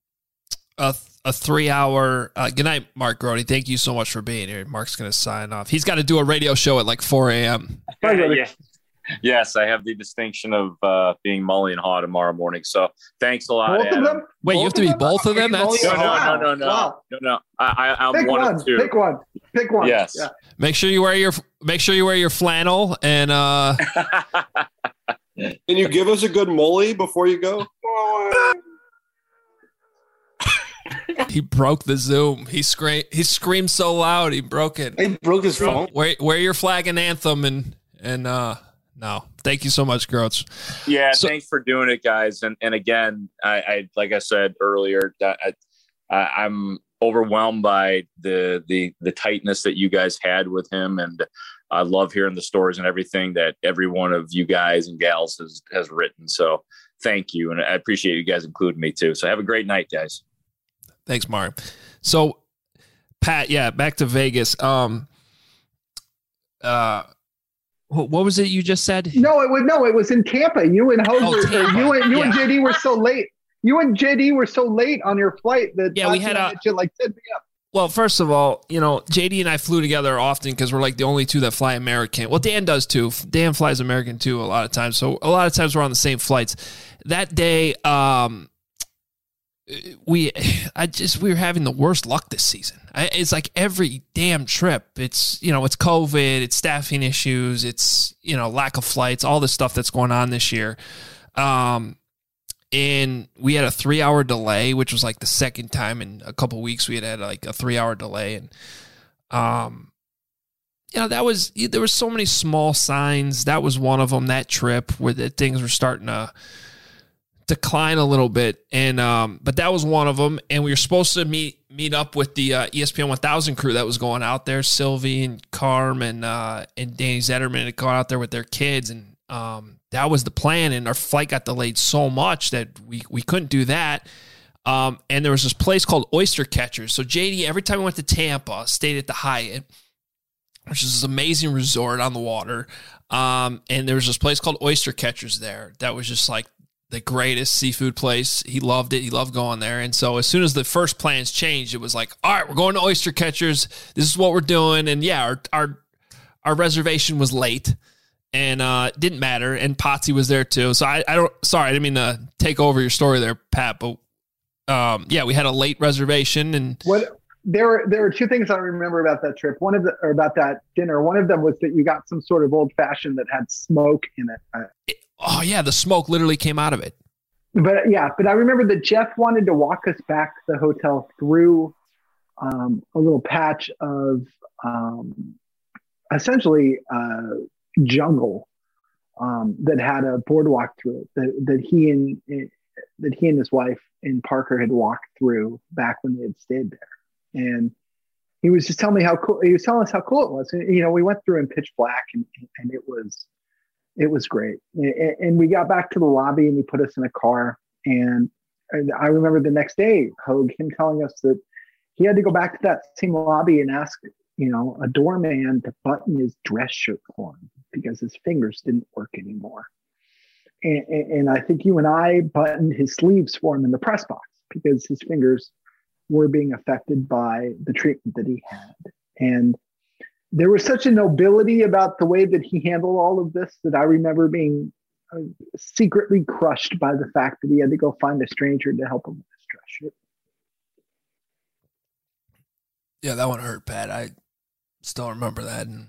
a a three hour. Uh, good night, Mark Grody. Thank you so much for being here. Mark's going to sign off. He's got to do a radio show at like four a.m. Yeah. Yes, I have the distinction of uh, being Mully and Haw tomorrow morning. So thanks a lot, Both Adam. of them? Wait, Both you have to be both of them? That's No, no, Wow. no, no, no, Wow. no, no. I, I, I'm Pick one, one. of two. Pick one. Pick one. Yes. Yeah. make sure you wear your make sure you wear your flannel and uh Can you give us a good molly before you go? he broke the Zoom. He screamed he screamed so loud he broke it. He broke his phone. Wear, wear your flag and anthem and and uh no. Thank you so much, Groats. Yeah, So- thanks for doing it, guys. And and again, I, I like I said earlier, that I, I, I'm overwhelmed by the the the tightness that you guys had with him, and I love hearing the stories and everything that every one of you guys and gals has has written. So thank you, and I appreciate you guys including me too. So have a great night, guys. Thanks, Mark. So, Pat, yeah, back to Vegas. Um, uh, wh- what was it you just said? No, it was no, it was in Tampa. You and Hogue, Oh, were- Tampa. you and you and Yeah. J D were so late. You and J D were so late on your flight that Yeah, we Potsy had and I a- met you at like ten p.m. Well, first of all, you know, J D and I flew together often because we're like the only two that fly American. Well, Dan does too. Dan flies American too a lot of times. So a lot of times we're on the same flights. That day, um, we, I just, we were having the worst luck this season. I, it's like every damn trip. It's, you know, it's COVID, it's staffing issues, it's, you know, lack of flights, all this stuff that's going on this year. Um, and we had a three hour delay, which was like the second time in a couple weeks we had had like a three hour delay. And, um, you know, that was, there were so many small signs. That was one of them, that trip where the things were starting to decline a little bit. And, um, but that was one of them. And we were supposed to meet, meet up with the uh, E S P N one thousand crew that was going out there. Sylvie and Carm and, uh, and Danny Zetterman had gone out there with their kids. And, um, that was the plan. And our flight got delayed so much that we, we couldn't do that. Um, and there was this place called Oyster Catchers. So J D, every time we went to Tampa, stayed at the Hyatt, which is this amazing resort on the water. Um, and there was this place called Oyster Catchers there. That was just like the greatest seafood place. He loved it. He loved going there. And so as soon as the first plans changed, it was like, all right, we're going to Oyster Catchers. This is what we're doing. And yeah, our, our, our reservation was late and, uh, didn't matter. And Potsy was there too. So I, I don't, sorry, I didn't mean to take over your story there, Pat, but, um, yeah, we had a late reservation and What there were there were two things I remember about that trip. One of the or about that dinner. One of them was that you got some sort of old fashioned that had smoke in it. Uh, oh yeah, the smoke literally came out of it. But yeah, but I remember that Jeff wanted to walk us back to the hotel through um, a little patch of um, essentially uh, jungle um, that had a boardwalk through it that, that he and that he and his wife and Parker had walked through back when they had stayed there. And he was just telling me how cool, he was telling us how cool it was. And, you know, we went through in pitch black and, and it was, it was great. And, and we got back to the lobby and he put us in a car. And, and I remember the next day, Hogue, him telling us that he had to go back to that same lobby and ask, you know, a doorman to button his dress shirt for him because his fingers didn't work anymore. And, and, and I think you and I buttoned his sleeves for him in the press box because his fingers were being affected by the treatment that he had. And there was such a nobility about the way that he handled all of this that I remember being uh, secretly crushed by the fact that he had to go find a stranger to help him with his dress shirt. Yeah, that one hurt, Pat. I still remember that. And,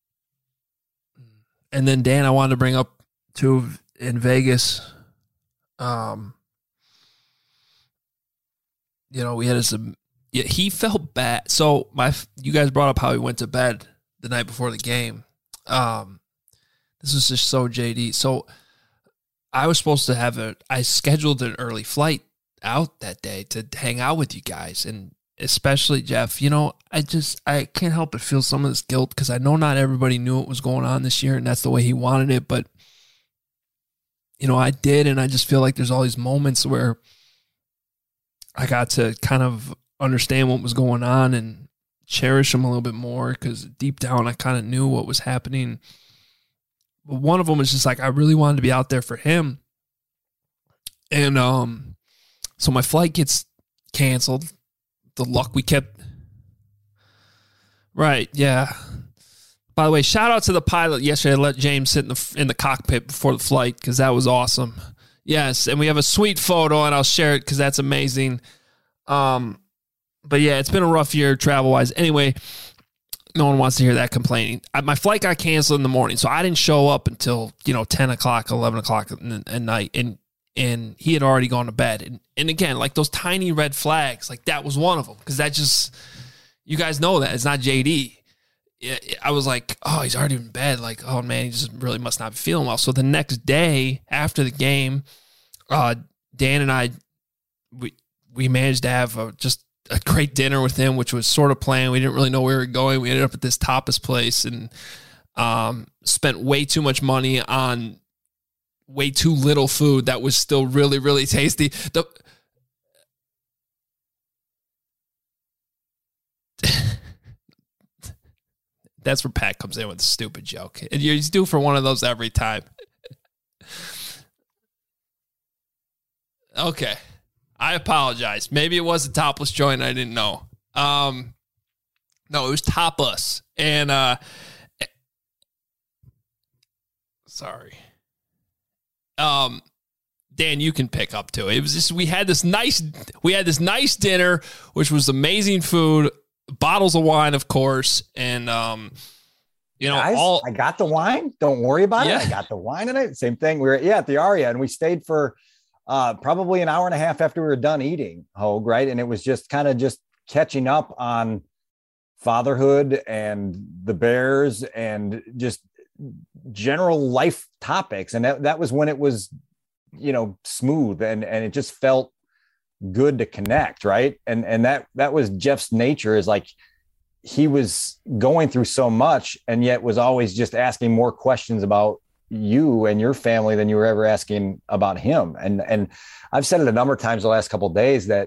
and then, Dan, I wanted to bring up, too, in Vegas, um, you know, we had some, yeah, he felt bad. So my, you guys brought up how he went to bed the night before the game. Um, this was just so J D. So I was supposed to have a, I scheduled an early flight out that day to hang out with you guys. And especially Jeff, you know, I just, I can't help but feel some of this guilt because I know not everybody knew what was going on this year and that's the way he wanted it. But, you know, I did. And I just feel like there's all these moments where I got to kind of understand what was going on and cherish him a little bit more because deep down I kind of knew what was happening. But one of them was just like, I really wanted to be out there for him. And um, so my flight gets canceled. The luck we kept. Right. Yeah. By the way, shout out to the pilot yesterday. I let James sit in the, in the cockpit before the flight because that was awesome. Yes. And we have a sweet photo and I'll share it because that's amazing. Um, But yeah, it's been a rough year travel-wise. Anyway, no one wants to hear that complaining. I, my flight got canceled in the morning, so I didn't show up until, you know, ten o'clock, eleven o'clock at night, and and he had already gone to bed. And, and again, like those tiny red flags, like that was one of them, because that just, you guys know that. It's not J D. I was like, oh, he's already in bed. Like, oh, man, he just really must not be feeling well. So the next day after the game, uh, Dan and I, we we managed to have a, just a great dinner with him, which was sort of planned. We didn't really know where we were going. We ended up at this tapas place and um, spent way too much money on way too little food that was still really, really tasty. The That's where Pat comes in with a stupid joke. And he's due for one of those every time. Okay. I apologize. Maybe it was a topless joint. I didn't know. Um, no, it was tapas. And, uh, sorry. Um, Dan, you can pick up too. It was just, we had this nice, we had this nice dinner, which was amazing food, bottles of wine, of course. And, um, you know, Guys, all I got the wine. Don't worry about Yeah. it. I got the wine tonight. Same thing. We were, yeah, at the Aria, and we stayed for, Uh, probably an hour and a half after we were done eating, Hogue, right? And it was just kind of just catching up on fatherhood and the Bears and just general life topics. And that, that was when it was, you know, smooth and, and it just felt good to connect, right? And and that that was Jeff's nature, is like he was going through so much and yet was always just asking more questions about you and your family than you were ever asking about him. And, and I've said it a number of times the last couple of days that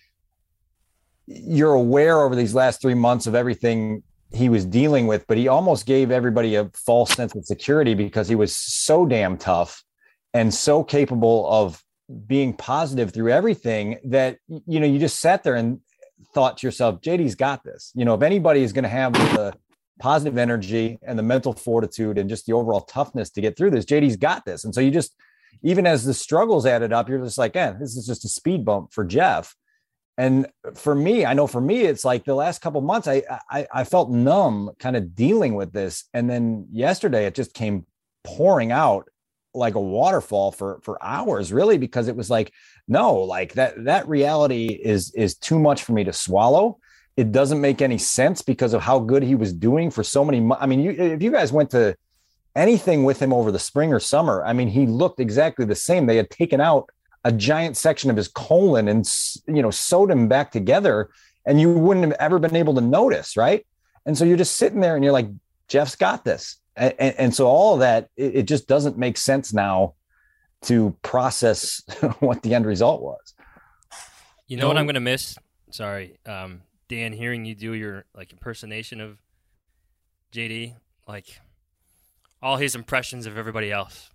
you're aware over these last three months of everything he was dealing with, but he almost gave everybody a false sense of security because he was so damn tough and so capable of being positive through everything that, you know, you just sat there and thought to yourself, J D's got this. You know, if anybody is going to have the positive energy and the mental fortitude and just the overall toughness to get through this, J D's got this. And so you just, even as the struggles added up, you're just like, eh, this is just a speed bump for Jeff. And for me, I know for me, it's like the last couple of months, I, I, I felt numb kind of dealing with this. And then yesterday it just came pouring out like a waterfall for, for hours, really, because it was like, no, like that, that reality is, is too much for me to swallow. It doesn't make any sense because of how good he was doing for so many months. I mean, you, if you guys went to anything with him over the spring or summer, I mean, he looked exactly the same. They had taken out a giant section of his colon and, you know, sewed him back together, and you wouldn't have ever been able to notice. Right. And so you're just sitting there and you're like, Jeff's got this. And, and so all of that, it, it just doesn't make sense now to process what the end result was. You know no. what I'm going to miss? Sorry, um, Dan, hearing you do your like impersonation of J D, like all his impressions of everybody else.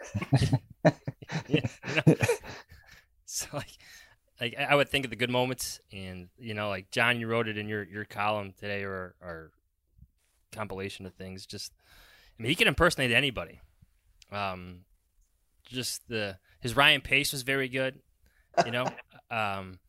you know? So like, like I would think of the good moments, and you know, like John, you wrote it in your, your column today, or or compilation of things. Just, I mean, he can impersonate anybody. Um, just the his Ryan Pace was very good. You know, um,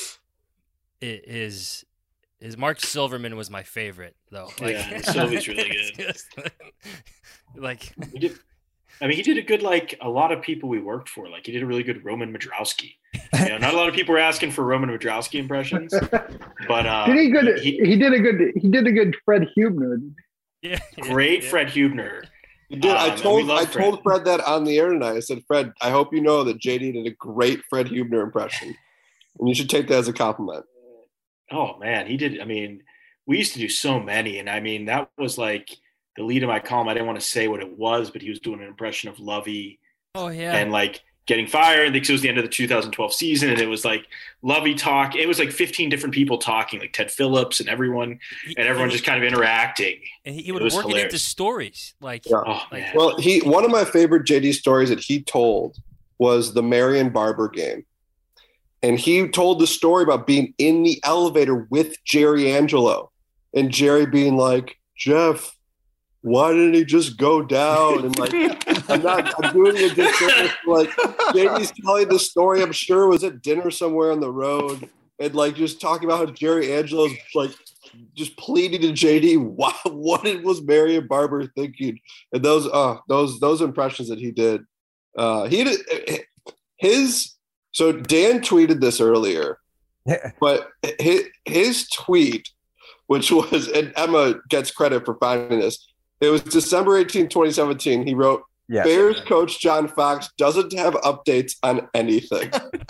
it, his his Mark Silverman was my favorite though. Like, yeah, Sylvie's really good. Just, like, he did, I mean, he did a good like a lot of people we worked for. Like, he did a really good Roman Madrowski. You know, not a lot of people were asking for Roman Madrowski impressions, but uh, did he good? He, he did a good. He did a good Fred Hubner. Yeah, great yeah. Fred Hubner. He did. Um, I told I Fred. told Fred that on the air tonight. I said, Fred, I hope you know that J D did a great Fred Hubner impression, and you should take that as a compliment. Oh man, he did. I mean, we used to do so many, and I mean that was like the lead of my column. I didn't want to say what it was, but he was doing an impression of Lovey. Oh yeah, and like getting fired because it was the end of the two thousand twelve season, and it was like Lovey talk. It was like fifteen different people talking, like Ted Phillips and everyone, he, and everyone he, just kind of interacting. And he, he would work hilarious. it into stories, like, yeah. oh, like well, he one of my favorite J D stories that he told was the Marion Barber game, and he told the story about being in the elevator with Jerry Angelo, and Jerry being like, Jeff, why didn't he just go down? And like, I'm not, I'm doing a disservice. Like, J D's telling the story, I'm sure was at dinner somewhere on the road, and like just talking about how Jerry Angelo's like just pleading to J D, what, what was Marion Barber thinking? And those, uh, those, those impressions that he did, uh, he did his. So Dan tweeted this earlier, but his, his tweet, which was, and Emma gets credit for finding this. It was December eighteenth, twenty seventeen. He wrote, yes. Bears coach John Fox doesn't have updates on anything.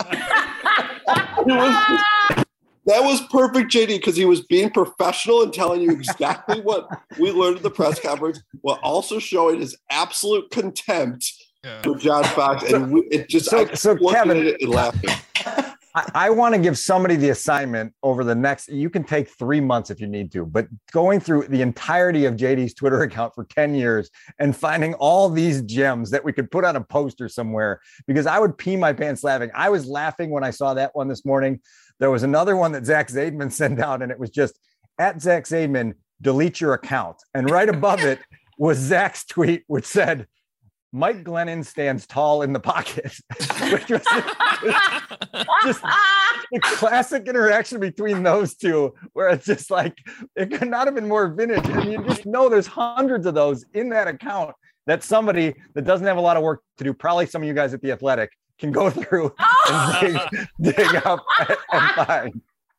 it was, that was perfect, J D, because he was being professional and telling you exactly what we learned at the press conference, while also showing his absolute contempt yeah. for John Fox. And we, it just, so, I so Kevin, at it and laughing. I, I want to give somebody the assignment over the next, you can take three months if you need to, but going through the entirety of J D's Twitter account for ten years and finding all these gems that we could put on a poster somewhere, because I would pee my pants laughing. I was laughing when I saw that one this morning. There was another one that Zach Zaidman sent out, and it was just at Zach Zaidman, delete your account. And right above it was Zach's tweet, which said, Mike Glennon stands tall in the pocket, which was just the classic interaction between those two, where it's just like, it could not have been more vintage. And you just know there's hundreds of those in that account that somebody that doesn't have a lot of work to do, probably some of you guys at The Athletic, can go through and dig, dig up and find.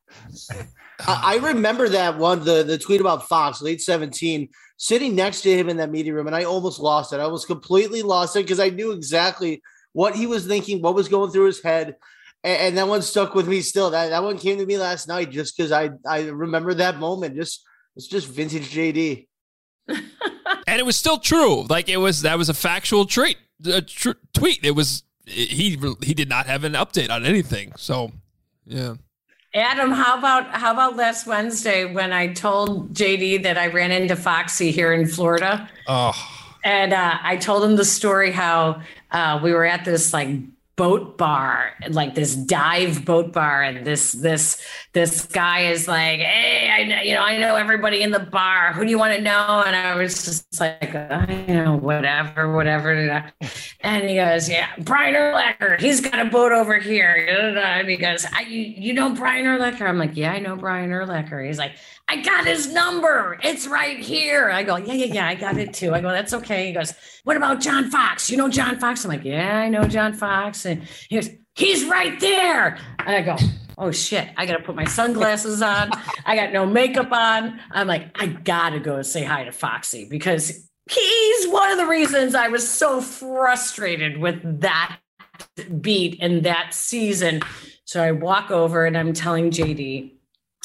I remember that one, the, the tweet about Fox, late seventeen, sitting next to him in that meeting room, and I almost lost it. I was completely lost it because I knew exactly what he was thinking, what was going through his head, and, and that one stuck with me still. That that one came to me last night just because I I remember that moment. Just it's just vintage J D. And it was still true. Like it was that was a factual treat, a tr- tweet. It was he he did not have an update on anything. So yeah. Adam, how about how about last Wednesday when I told J D that I ran into Foxy here in Florida? Oh. And uh, I told him the story how uh, we were at this like boat bar, like this dive boat bar, and this this this guy is like, "Hey, I know, you know, I know everybody in the bar. Who do you want to know?" And I was just like, "I know, whatever, whatever." And he goes, "Yeah, Brian Urlacher. He's got a boat over here." And he goes, I, you, "You know Brian Urlacher?" I'm like, "Yeah, I know Brian Urlacher." He's like, "I got his number. It's right here." I go, "Yeah, yeah, yeah, I got it too." I go, "That's okay." He goes, "What about John Fox? You know John Fox?" I'm like, "Yeah, I know John Fox." And he goes, "He's right there." And I go, "Oh shit, I got to put my sunglasses on. I got no makeup on." I'm like, I got to go say hi to Foxy because he's one of the reasons I was so frustrated with that beat and that season. So I walk over and I'm telling J D,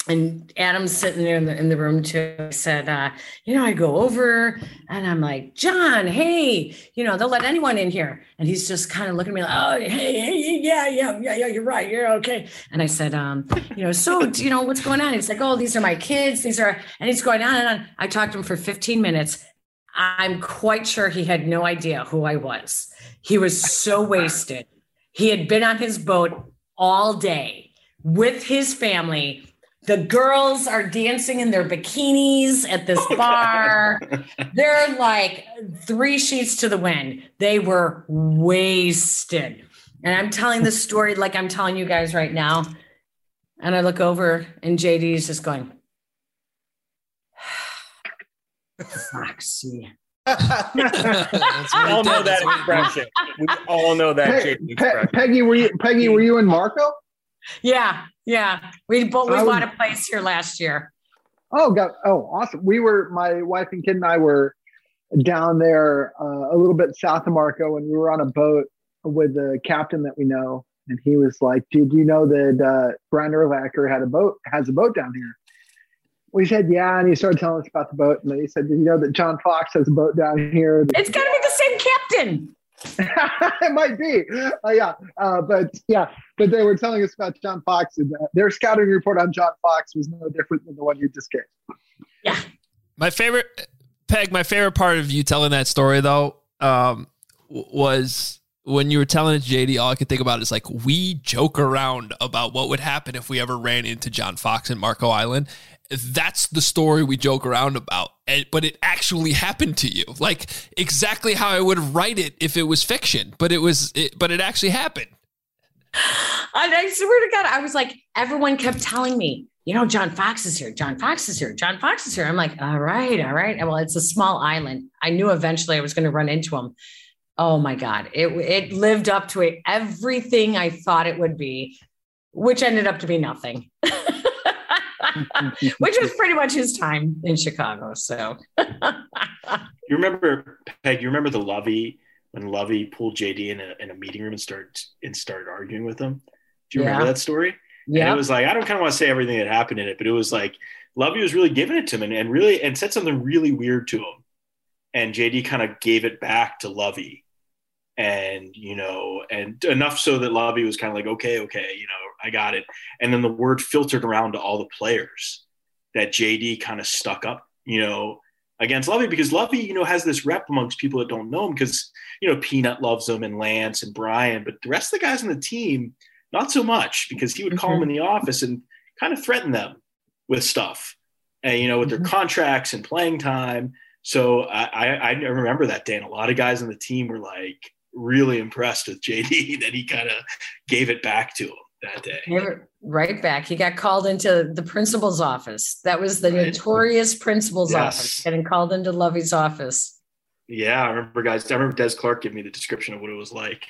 and Adam's sitting there in the, in the room too. I said, uh, you know, I go over and I'm like, John, hey, you know, they'll let anyone in here. And he's just kind of looking at me like, oh, hey, hey, yeah, yeah, yeah, yeah, you're right. You're okay. And I said, um, you know, so, you know, what's going on? He's like, oh, these are my kids. These are, and he's going on and on. I talked to him for fifteen minutes. I'm quite sure he had no idea who I was. He was so wasted. He had been on his boat all day with his family. The girls are dancing in their bikinis at this bar. They're like three sheets to the wind. They were wasted. And I'm telling this story like I'm telling you guys right now. And I look over and J D is just going, Foxy. We all know that expression. We all know that Pe- J D Pe- expression. Peggy, were you Peggy? Were you in Marco? Yeah, yeah. We both we I bought was- a place here last year. Oh, God. Oh, awesome. We were, my wife and kid and I were down there uh, a little bit south of Marco, and we were on a boat with the captain that we know. And he was like, dude, you know that uh, Brian Urlacher had a boat, has a boat down here? We said, yeah. And he started telling us about the boat. And then he said, did you know that John Fox has a boat down here? It's got to be the same captain. It might be. Uh, yeah. Uh, but yeah, but they were telling us about John Fox, and uh, their scouting report on John Fox was no different than the one you just gave. Yeah. My favorite, Peg, my favorite part of you telling that story, though, um, w- was when you were telling it to J D, all I could think about is like, we joke around about what would happen if we ever ran into John Fox in Marco Island. That's the story we joke around about, and, but it actually happened to you, like exactly how I would write it if it was fiction, but it was, it, but it actually happened. And I swear to God, I was like, everyone kept telling me, you know, John Fox is here. John Fox is here. John Fox is here. I'm like, all right, all right. Well, it's a small island. I knew eventually I was going to run into him. Oh my God. It, it lived up to it, everything I thought it would be, which ended up to be nothing. Which was pretty much his time in Chicago. So You remember, Peg, you remember the Lovey, when Lovey pulled J D in a, in a meeting room and started and started arguing with him? Do you remember Yeah. that story? Yeah. And it was like, I don't kind of want to say everything that happened in it, but it was like Lovey was really giving it to him and, and really and said something really weird to him. And J D kind of gave it back to Lovey. And, you know, and enough so that Lovey was kind of like, okay, okay, you know, I got it. And then the word filtered around to all the players that J D kind of stuck up, you know, against Lovey, because Lovey, you know, has this rep amongst people that don't know him because, you know, Peanut loves him and Lance and Brian, but the rest of the guys on the team, not so much, because he would call them in the office and kind of threaten them with stuff, and, you know, with their contracts and playing time. So I, I, I remember that day, and a lot of guys on the team were like really impressed with J D that he kind of gave it back to him that day. right back. He got called into the principal's office. That was the notorious principal's Yes. office, getting called into Lovey's office. Yeah, I remember, guys. I remember Des Clark giving me the description of what it was like.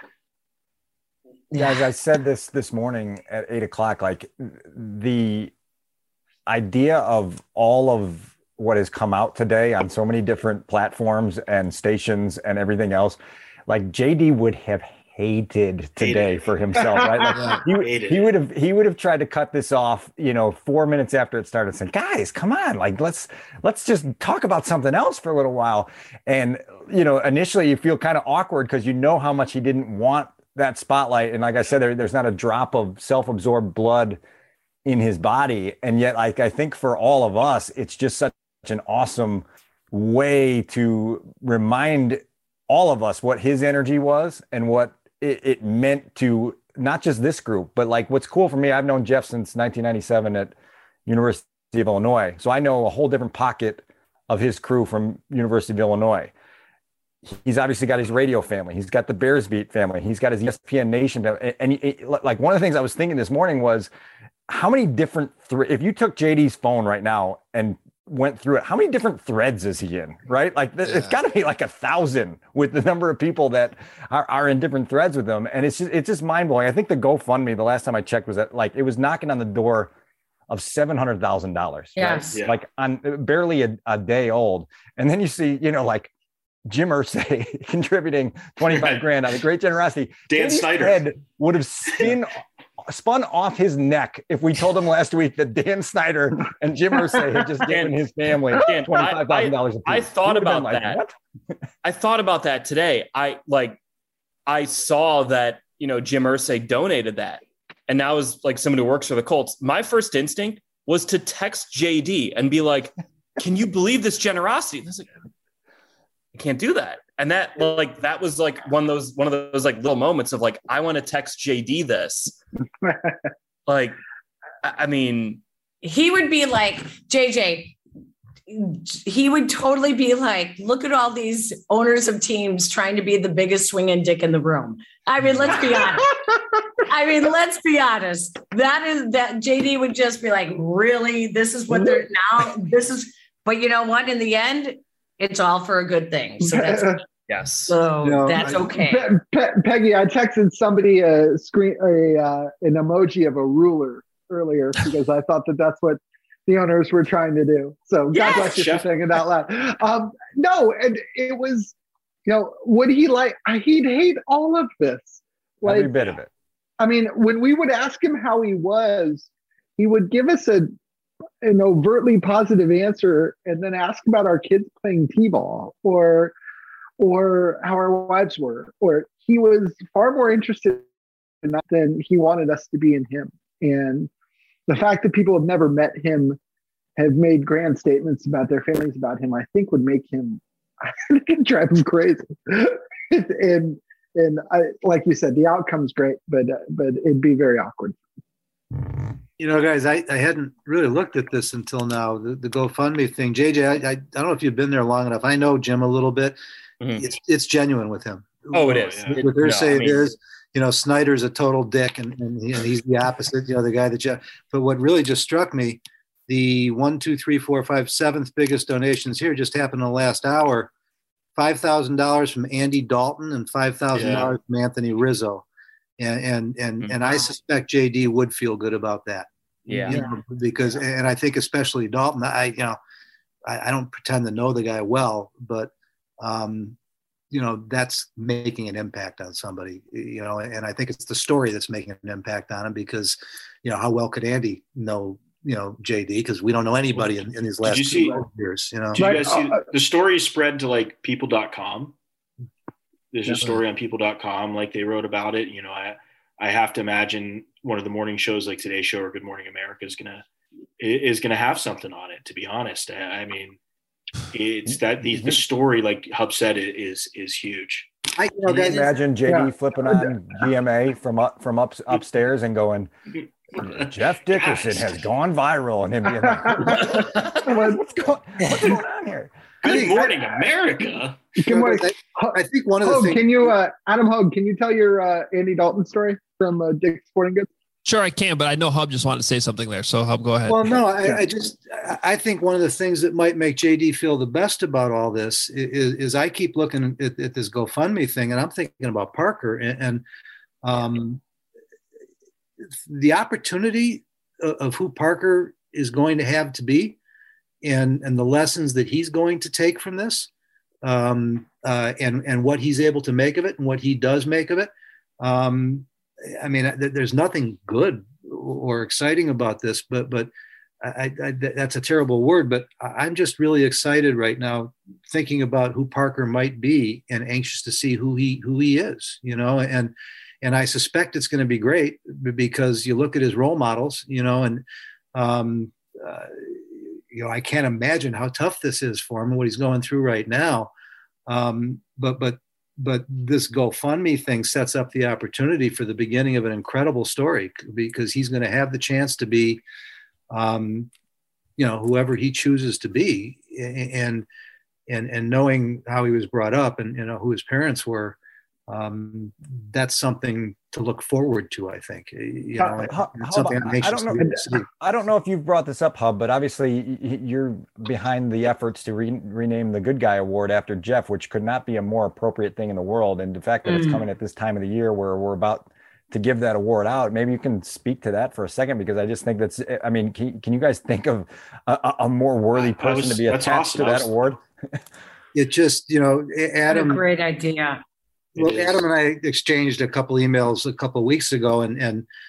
Guys, I said this this morning at eight o'clock, like the idea of all of what has come out today on so many different platforms and stations and everything else, like J D would have hated today Hated. for himself, right? Like Yeah. he, Hated he it. would have he would have tried to cut this off, you know, four minutes after it started, saying, guys, come on, like let's let's just talk about something else for a little while. And, you know, initially you feel kind of awkward because you know how much he didn't want that spotlight. And like I said, there, there's not a drop of self-absorbed blood in his body. And yet, like, I think for all of us, it's just such an awesome way to remind all of us what his energy was and what it, it meant to not just this group, but like what's cool for me, I've known Jeff since nineteen ninety-seven at University of Illinois. So I know a whole different pocket of his crew from University of Illinois. He's obviously got his radio family. He's got the Bears Beat family. He's got his E S P N Nation family. And he, it, like one of the things I was thinking this morning was how many different, th- if you took J D's phone right now and went through it, how many different threads is he in, right? Like th- Yeah. it's got to be like a thousand with the number of people that are, are in different threads with him. And it's just, it's just mind blowing. I think the GoFundMe, the last time I checked, was that like, it was knocking on the door of seven hundred thousand dollars. Yes. Yeah. Like on barely a, a day old. And then you see, you know, like Jim Irsay contributing twenty-five grand out of great generosity. Dan J D's Snyder. head would have spin spun off his neck if we told him last week that Dan Snyder and Jim Irsay had just given his family twenty-five thousand dollars. I, I thought about like, that. What? I thought about that today. I like, I saw that, you know, Jim Irsay donated that. And now as like someone who works for the Colts, my first instinct was to text J D and be like, can you believe this generosity? And I was like, I can't do that. And that like that was like one of those one of those like little moments of like, I want to text J D this. Like, I mean, he would be like, J J, he would totally be like, look at all these owners of teams trying to be the biggest swinging dick in the room. I mean, let's be honest. I mean, let's be honest. That is that J D would just be like, really? This is what they're now. This is, but you know what? In the end, it's all for a good thing. So that's yes. So no, that's okay. Pe- Pe- Peggy, I texted somebody a screen, a uh, an emoji of a ruler earlier because I thought that that's what the owners were trying to do. So God yes, bless you for saying it out loud. Um, no, and it was, you know, would he like? He'd hate all of this, like every bit of it. I mean, when we would ask him how he was, he would give us a an overtly positive answer and then ask about our kids playing t-ball or or how our wives were. Or he was far more interested in that than he wanted us to be in him. And the fact that people have never met him, have made grand statements about their feelings about him, I think would make him, I think it'd drive him crazy. and and I, like you said, the outcome's great, but uh, but it'd be very awkward. You know, guys, I, I hadn't really looked at this until now, the, the GoFundMe thing. J J, I, I, I don't know if you've been there long enough. I know Jim a little bit. Mm-hmm. It's it's genuine with him. Oh, it is. With her say it is. You know, Snyder's a total dick, and, and, he, and he's the opposite, you know, the guy that you, but what really just struck me, the one, two, three, four, five, seventh biggest donations here just happened in the last hour. five thousand dollars from Andy Dalton and five thousand dollars yeah. from Anthony Rizzo. And and and, mm-hmm. and I suspect J D would feel good about that. Yeah. You know, because, and I think especially Dalton, I, you know, I, I don't pretend to know the guy well, but, um, you know, that's making an impact on somebody, you know, and I think it's the story that's making an impact on him because, you know, how well could Andy know, you know, J D? Because we don't know anybody in, in these last you see, two years, you know. Did you guys see the story spread to like people dot com? There's Definitely. a story on people dot com, like they wrote about it. You know, I, I have to imagine one of the morning shows like Today Show or Good Morning America is going to, is going to have something on it, to be honest. I, I mean, it's that the, the story, like Hub said, is is huge. I you know, Can you imagine J D yeah. flipping on G M A from up from up upstairs and going, Jeff Dickerson yes. has gone viral, and him being like, what's, going, what's going on here? Good Morning America. Good morning. I think one of the Hogue, things. Can you, uh, Adam Hogue, can you tell your uh, Andy Dalton story from uh, Dick's Sporting Goods? Sure, I can, but I know Hub just wanted to say something there. So Hub, go ahead. Well, no, I, I just I think one of the things that might make J D feel the best about all this is, is I keep looking at, at this GoFundMe thing, and I'm thinking about Parker and, and um, the opportunity of, of who Parker is going to have to be, and and the lessons that he's going to take from this, um, uh, and and what he's able to make of it, and what he does make of it. Um, I mean, there's nothing good or exciting about this, but but I, I, that's a terrible word. But I'm just really excited right now, thinking about who Parker might be, and anxious to see who he who he is. You know, and and I suspect it's going to be great because you look at his role models. You know, and um, uh, you know, I can't imagine how tough this is for him and what he's going through right now. Um, but but. But this GoFundMe thing sets up the opportunity for the beginning of an incredible story because he's going to have the chance to be, um, you know, whoever he chooses to be, and and and knowing how he was brought up and you know who his parents were, um, that's something to look forward to. I think you know, how, it's something how, I'm anxious I don't know. to see. I don't know if you've brought this up, Hub, but obviously you're behind the efforts to re- rename the Good Guy Award after Jeff, which could not be a more appropriate thing in the world. And the fact that mm. it's coming at this time of the year where we're about to give that award out, maybe you can speak to that for a second, because I just think that's, I mean, can, can you guys think of a, a more worthy person was, to be attached awesome. to that was, award? It just, you know, Adam. What a great idea. Well, Adam and I exchanged a couple emails a couple of weeks ago, and and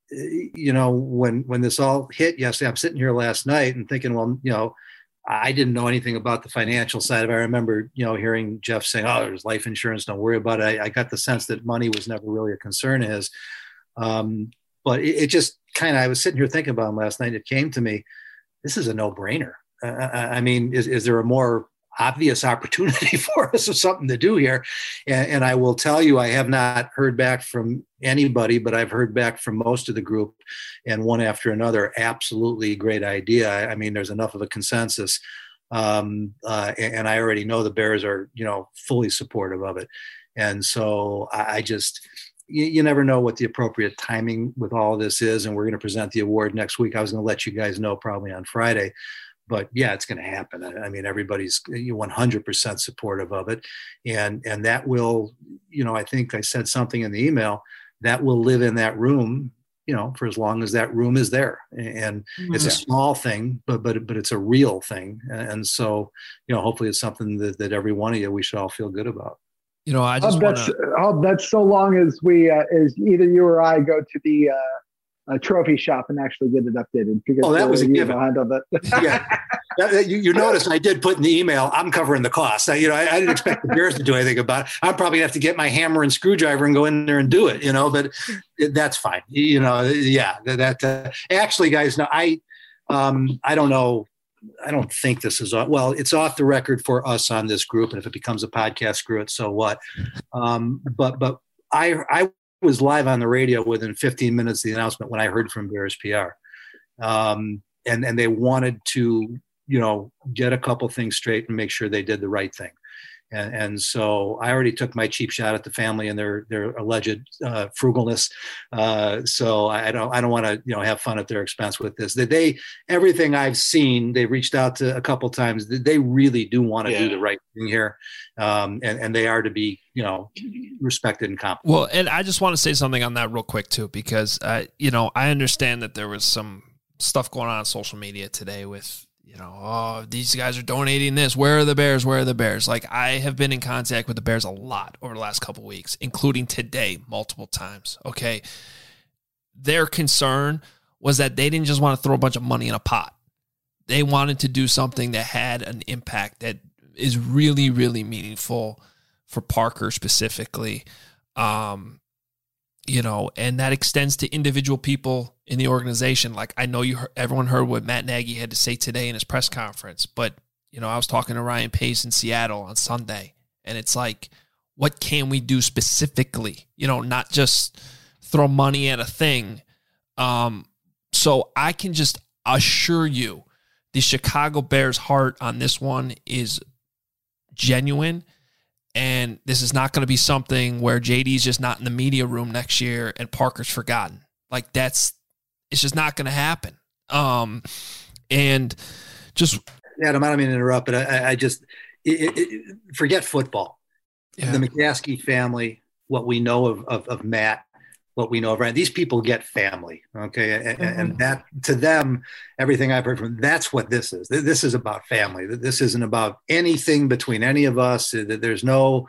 you know, when when this all hit yesterday, I'm sitting here last night and thinking, well, you know, I didn't know anything about the financial side of it. I remember, you know, hearing Jeff saying, "Oh, there's life insurance. Don't worry about it." I, I got the sense that money was never really a concern of his. Um, but it, it just kind of, I was sitting here thinking about him last night. It came to me, this is a no-brainer. Uh, I mean, is, is there a more obvious opportunity for us of something to do here? And, and I will tell you, I have not heard back from anybody, but I've heard back from most of the group, and one after another, absolutely great idea. I, I mean, there's enough of a consensus. Um, uh, and, and I already know the Bears are, you know, fully supportive of it. And so I, I just, you, you never know what the appropriate timing with all of this is. And we're going to present the award next week. I was going to let you guys know probably on Friday. But yeah, it's going to happen. I mean, everybody's one hundred percent supportive of it. And, and that will, you know, I think I said something in the email that will live in that room, you know, for as long as that room is there. And mm-hmm. it's a small thing, but, but, but it's a real thing. And so, you know, hopefully it's something that, that every one of you, we should all feel good about. You know, I just want to, that's so long as we, uh, as either you or I go to the, uh, a trophy shop and actually get it updated. Because oh, that was a given. That. yeah, you, you notice I did put in the email, I'm covering the cost. I, you know, I, I didn't expect the Bears to do anything about it. I'm probably gonna have to get my hammer and screwdriver and go in there and do it. You know, but it, that's fine. You know, yeah, that uh, actually, guys, no, I, um, I don't know. I don't think this is off. Well, it's off the record for us on this group, and if it becomes a podcast, screw it. So what? Um, but but I I. was live on the radio within fifteen minutes of the announcement when I heard from Bears P R. Um, and, and they wanted to, you know, get a couple things straight and make sure they did the right thing. And, and so I already took my cheap shot at the family and their, their alleged uh, frugalness. Uh, so I don't, I don't want to, you know, have fun at their expense with this. They, they everything I've seen, they've reached out to a couple times. They really do want to yeah. do the right thing here. Um, and, and they are to be, you know, respected and compensated. Well, and I just want to say something on that real quick too, because, uh, you know, I understand that there was some stuff going on on social media today with, you know, oh, these guys are donating this. Where are the Bears? Where are the Bears? Like, I have been in contact with the Bears a lot over the last couple of weeks, including today multiple times. Okay. Their concern was that they didn't just want to throw a bunch of money in a pot. They wanted to do something that had an impact that is really, really meaningful for Parker specifically. Um, you know, and that extends to individual people in the organization. Like, I know you heard, everyone heard what Matt Nagy had to say today in his press conference, but, you know, I was talking to Ryan Pace in Seattle on Sunday, and it's like, what can we do specifically? You know, not just throw money at a thing. Um, so I can just assure you the Chicago Bears heart on this one is genuine. And this is not going to be something where J D's just not in the media room next year and Parker's forgotten. Like, that's, it's just not going to happen. Um, and just Adam, I don't mean to interrupt, but I, I just it, it, forget football. Yeah. The McCaskey family, what we know of, of, of Matt, what we know of Ryan, these people get family. Okay. And, mm-hmm. and that to them, everything I've heard from them, that's what this is. This is about family. This isn't about anything between any of us. There's no,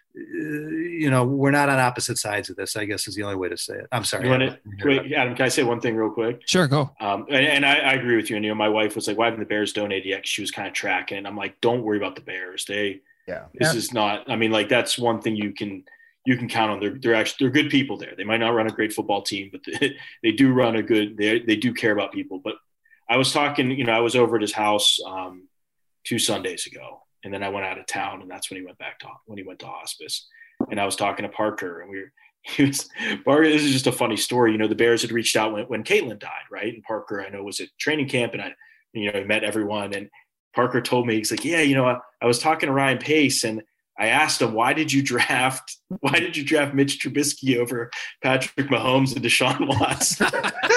you know, we're not on opposite sides of this, I guess is the only way to say it. I'm sorry. You want to, wait, Adam, can I say one thing real quick? Sure, go. Um, and and I, I agree with you. And, you know, my wife was like, why haven't the Bears donated yet? She was kind of tracking. And I'm like, don't worry about the Bears. They, yeah, this yeah. is not, I mean, like, that's one thing you can, you can count on. They're, they're actually, they're good people there. They might not run a great football team, but they, they do run a good, they they do care about people. But I was talking, you know, I was over at his house um, two Sundays ago, and then I went out of town, and that's when he went back to, when he went to hospice. And I was talking to Parker, and we were, he was, Parker, this is just a funny story. You know, the Bears had reached out when, when Caitlin died, right? And Parker, I know, was at training camp, and I, you know, he met everyone. And Parker told me, he's like, yeah, you know, I, I was talking to Ryan Pace, and I asked him, why did you draft, why did you draft Mitch Trubisky over Patrick Mahomes and Deshaun Watson?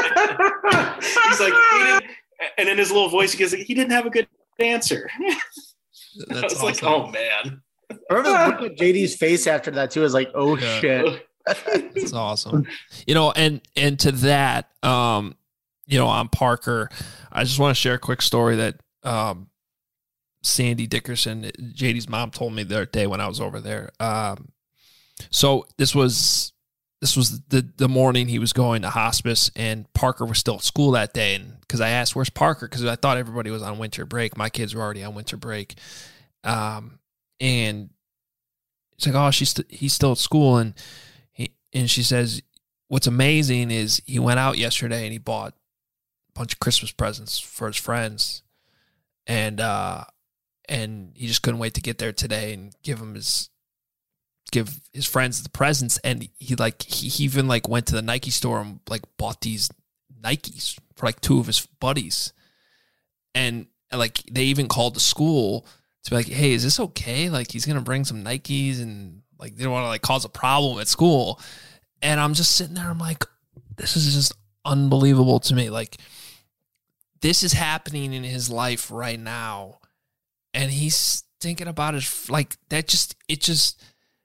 He's like, he didn't, and in his little voice, he goes, he didn't have a good answer. That's I was awesome. like, oh man. I remember looking at J D's face after that too. I was like, oh yeah. shit. That's awesome. You know, and, and to that, um, you know, on Parker, I just want to share a quick story that, um, Sandy Dickerson, J D's mom, told me the other day when I was over there. Um, so this was this was the the morning he was going to hospice, and Parker was still at school that day. And because I asked, "Where's Parker?" Because I thought everybody was on winter break. My kids were already on winter break, um, and it's like, "Oh, she's st- he's still at school." And he and she says, "What's amazing is he went out yesterday and he bought a bunch of Christmas presents for his friends, and uh, and he just couldn't wait to get there today and give him his." give his friends the presents, and he like he, he even like went to the Nike store and like bought these Nikes for like two of his buddies, and, and like they even called the school to be like, hey, is this okay? Like he's gonna bring some Nikes, and like they don't want to like cause a problem at school. And I'm just sitting there, I'm like, this is just unbelievable to me. Like this is happening in his life right now, and he's thinking about his like that. Just it just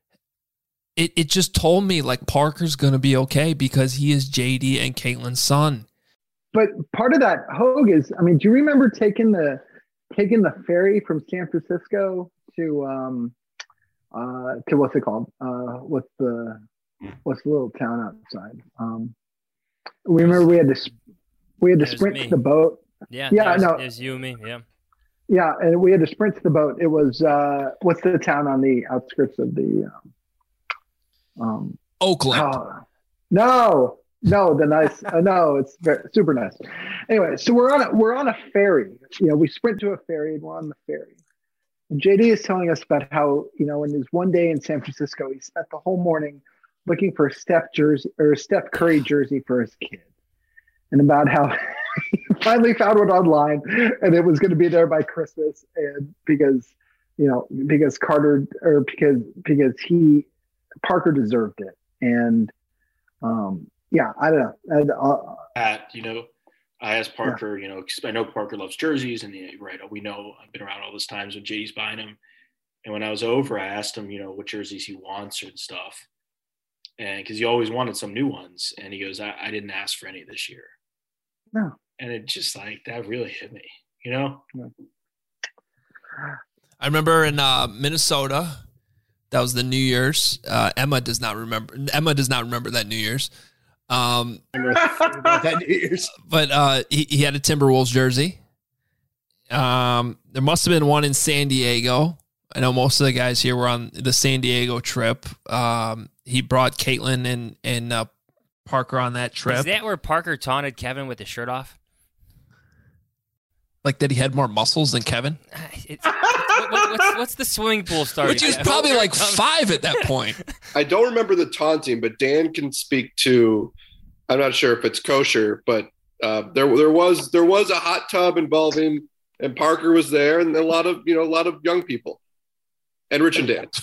It it just told me like Parker's gonna be okay because he is J D and Caitlin's son. But part of that, Hogue, is, I mean, do you remember taking the taking the ferry from San Francisco to um uh to what's it called? Uh what's the what's the little town outside? Um we remember we had to we had to sprint to the boat. Yeah, yeah, no, it's you and me, yeah. Yeah, and we had to sprint to the boat. It was uh what's the town on the outskirts of the um, Um, Oakland. Uh, no, no, the nice. Uh, no, it's very, super nice. Anyway, so we're on a we're on a ferry. You know, we sprint to a ferry and we're on the ferry. And J D is telling us about how, you know, in his one day in San Francisco, he spent the whole morning looking for a Steph jersey or a Steph Curry jersey for his kid, and about how he finally found one online and it was going to be there by Christmas, and because you know because Carter or because because he. Parker deserved it. And um, yeah, I don't know. And, uh, Pat, you know, I asked Parker, yeah. you know, 'cause I know Parker loves jerseys, and he, right, we know I've been around all those times when J D's buying them. And when I was over, I asked him, you know, what jerseys he wants and stuff. And because he always wanted some new ones. And he goes, I, I didn't ask for any this year. No. And it just like, that really hit me, you know? Yeah. I remember in uh, Minnesota, that was the New Year's. Uh, Emma does not remember. Emma does not remember that New Year's. Um, that New Year's. But uh, he, he had a Timberwolves jersey. Um, there must have been one in San Diego. I know most of the guys here were on the San Diego trip. Um, he brought Caitlin and and uh, Parker on that trip. Is that where Parker taunted Kevin with his shirt off? Like that he had more muscles than Kevin? It's, what, what's, what's the swimming pool starting? Which is probably like five at that point. I don't remember the taunting, but Dan can speak to, I'm not sure if it's kosher, but uh, there there was there was a hot tub involving, and Parker was there, and a lot of, you know, a lot of young people. And Rich and Dan.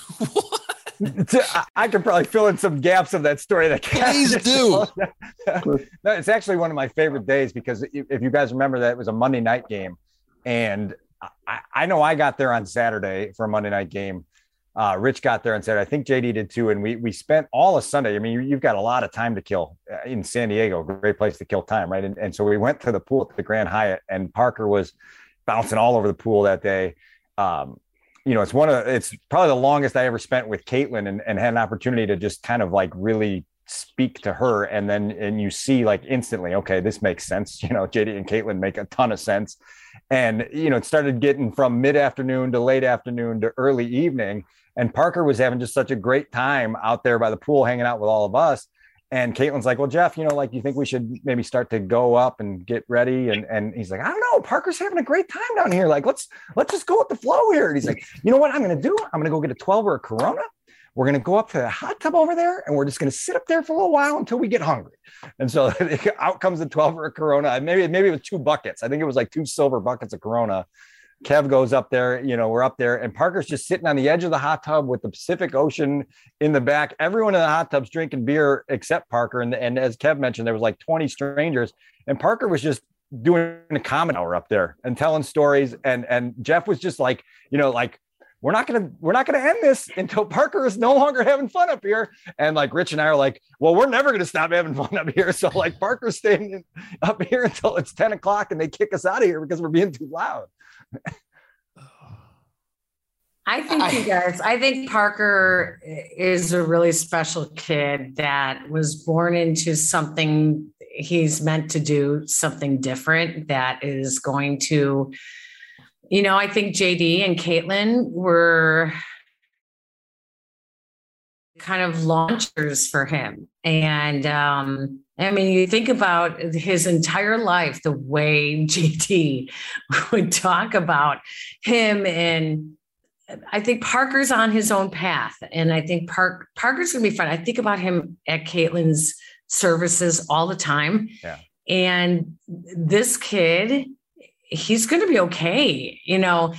I could probably fill in some gaps of that story. That Please do. No, it's actually one of my favorite days because if you guys remember that it was a Monday night game, and I, I know I got there on Saturday for a Monday night game. Uh, Rich got there on Saturday. I think J D did too. And we we spent all of Sunday. I mean, you, you've got a lot of time to kill in San Diego. Great place to kill time, right? And, and so we went to the pool at the Grand Hyatt, and Parker was bouncing all over the pool that day. Um, you know, it's one of it's probably the longest I ever spent with Caitlin, and, and had an opportunity to just kind of like really speak to her. And then, and you see like instantly, okay, this makes sense. You know, J D and Caitlin make a ton of sense. And, you know, it started getting from mid-afternoon to late afternoon to early evening. And Parker was having just such a great time out there by the pool, hanging out with all of us. And Caitlin's like, well, Jeff, you know, like, you think we should maybe start to go up and get ready? And and he's like, I don't know, Parker's having a great time down here. Like, let's, let's just go with the flow here. And he's like, you know what I'm going to do? I'm going to go get a twelve or a Corona. We're going to go up to the hot tub over there, and we're just going to sit up there for a little while until we get hungry. And so out comes the twelve or a Corona. Maybe, maybe it was two buckets. I think it was like two silver buckets of Corona. Kev goes up there, you know, we're up there, and Parker's just sitting on the edge of the hot tub with the Pacific Ocean in the back. Everyone in the hot tub's drinking beer except Parker. And, and as Kev mentioned, there was like twenty strangers, and Parker was just doing a comment hour up there and telling stories. And, and Jeff was just like, you know, like, we're not going to, we're not going to end this until Parker is no longer having fun up here. And like Rich and I are like, well, we're never going to stop having fun up here. So like Parker's staying up here until it's ten o'clock and they kick us out of here because we're being too loud. I think you guys, I think Parker is a really special kid that was born into something he's meant to do, something different that is going to, you know, I think J D and Caitlin were kind of launchers for him. And um, I mean, you think about his entire life, the way J D would talk about him, and I think Parker's on his own path. And I think Park Parker's gonna be fun. I think about him at Caitlin's services all the time. Yeah. And this kid, he's going to be okay. You know,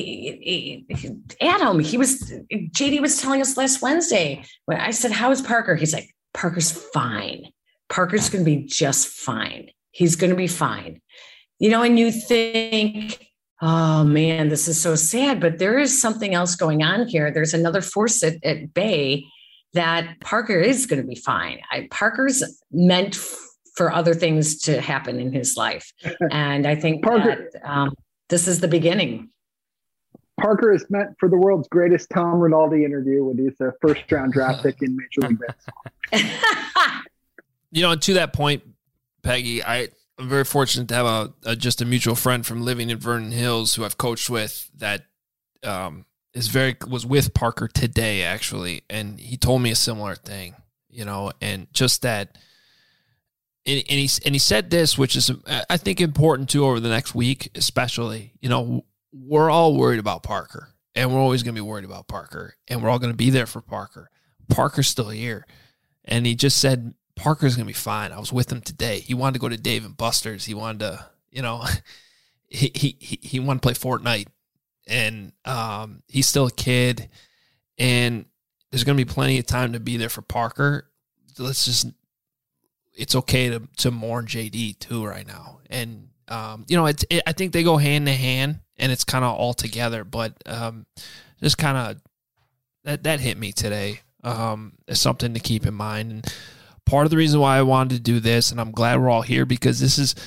he, he, Adam, he was, J D was telling us last Wednesday when I said, how is Parker? He's like, Parker's fine. Parker's going to be just fine. He's going to be fine. You know, and you think, oh man, this is so sad, but there is something else going on here. There's another force at, at bay that Parker is going to be fine. I, Parker's meant f- for other things to happen in his life. And I think Parker, that, um, this is the beginning. Parker is meant for the world's greatest Tom Rinaldi interview when he's a first round draft pick in Major League Baseball. You know, and to that point, Peggy, I, I'm very fortunate to have a, a just a mutual friend from living in Vernon Hills who I've coached with that um, is very was with Parker today, actually. And he told me a similar thing, you know, and just that. And, and, he, and he said this, which is, I think, important too over the next week, especially, you know, we're all worried about Parker, and we're always going to be worried about Parker, and we're all going to be there for Parker. Parker's still here. And he just said, Parker's going to be fine. I was with him today. He wanted to go to Dave and Buster's. He wanted to, you know, he he he wanted to play Fortnite. And um, he's still a kid. And there's going to be plenty of time to be there for Parker. Let's just, it's okay to to mourn J D too right now. And, um, you know, it's, it, I think they go hand in hand, and it's kind of all together. But um, just kind of, that, that hit me today. Um, as something to keep in mind. And part of the reason why I wanted to do this, and I'm glad we're all here, because this is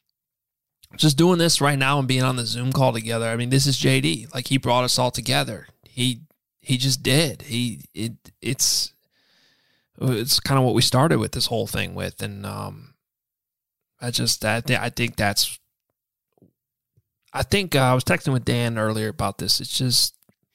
just doing this right now and being on the Zoom call together. I mean, this is J D. Like, he brought us all together. He he just did. He it it's it's kind of what we started with this whole thing with, and um, I just I, th- I think that's I think uh, I was texting with Dan earlier about this. It's just,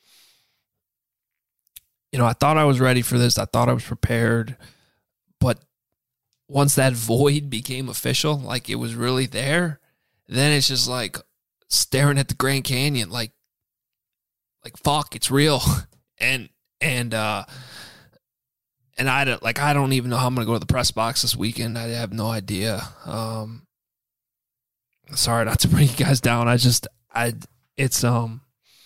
you know, I thought I was ready for this. I thought I was prepared. But once that void became official, like it was really there, then it's just like staring at the Grand Canyon, like, like, fuck, it's real. And, and, uh, and I don't, like, I don't even know how I'm going to go to the press box this weekend. I have no idea. Um, sorry not to bring you guys down. I just, I, it's, um,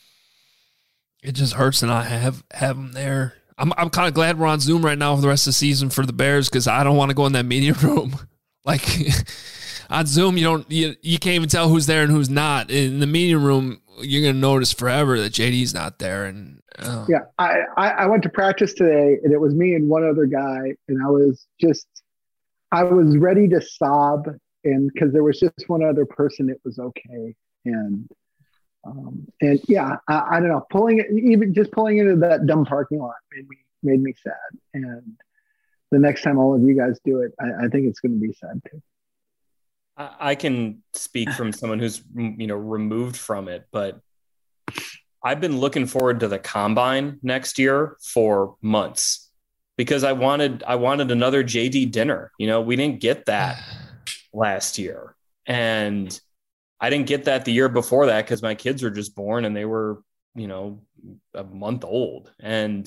it just hurts to not have, have them there. I'm I'm kind of glad we're on Zoom right now for the rest of the season for the Bears, because I don't want to go in that media room. Like, on Zoom, you don't you, you can't even tell who's there and who's not. In the media room, you're gonna notice forever that J D's not there. And uh. yeah, I, I I went to practice today, and it was me and one other guy, and I was just I was ready to sob, and because there was just one other person, it was okay. And Um, and yeah, I, I don't know, pulling it, even just pulling into that dumb parking lot made me, made me sad. And the next time all of you guys do it, I, I think it's going to be sad too. I, I can speak from someone who's, you know, removed from it, but I've been looking forward to the combine next year for months, because I wanted, I wanted another J D dinner. You know, we didn't get that last year. And I didn't get that the year before that because my kids were just born and they were, you know, a month old. And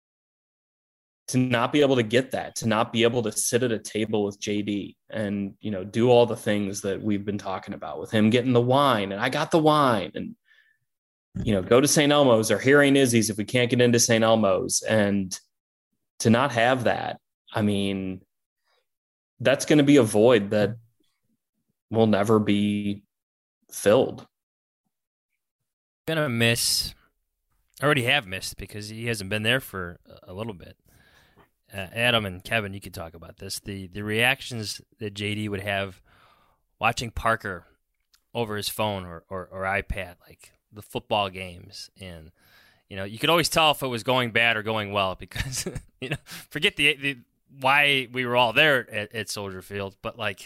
to not be able to get that, to not be able to sit at a table with J D and, you know, do all the things that we've been talking about with him getting the wine, and I got the wine, and, you know, go to Saint Elmo's or Harry Izzy's if we can't get into Saint Elmo's, and to not have that, I mean, that's going to be a void that will never be filled. Gonna miss, I already have missed, because he hasn't been there for a little bit. Uh, Adam and Kevin, you could talk about this. The the reactions that J D would have watching Parker over his phone or, or, or iPad, like the football games, and you know, you could always tell if it was going bad or going well because, you know, forget the, the why we were all there at, at Soldier Field, but like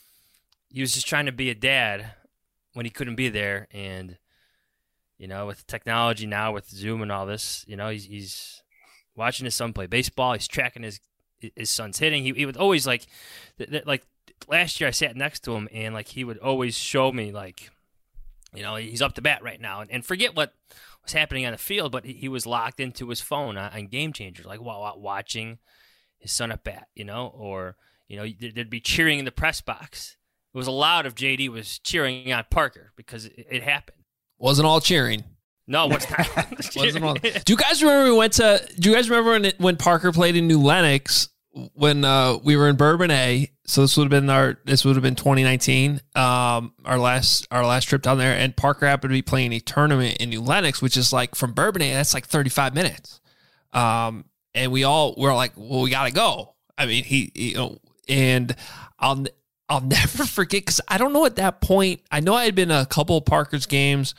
he was just trying to be a dad when he couldn't be there. And, you know, with technology now, with Zoom and all this, you know, he's, he's watching his son play baseball. He's tracking his his son's hitting. He, he would always like, th- th- like last year I sat next to him and like he would always show me like, you know, he's up to bat right now. And, and forget what was happening on the field, but he, he was locked into his phone on, on Game Changers, like while watching his son at bat, you know, or, you know, there'd be cheering in the press box. It was allowed if J D was cheering on Parker because it, it happened. Wasn't all cheering. No, what's not? Wasn't all. Do you guys remember we went to? Do you guys remember when it, when Parker played in New Lenox when uh, we were in Bourbonnais? So this would have been our. This would have been twenty nineteen. Um, our last our last trip down there, and Parker happened to be playing a tournament in New Lenox, which is like from Bourbonnais. That's like thirty-five minutes. Um, and we all were like, well, we got to go. I mean, he, you know, and I'll. I'll never forget because I don't know at that point. I know I had been to a couple of Parker's games,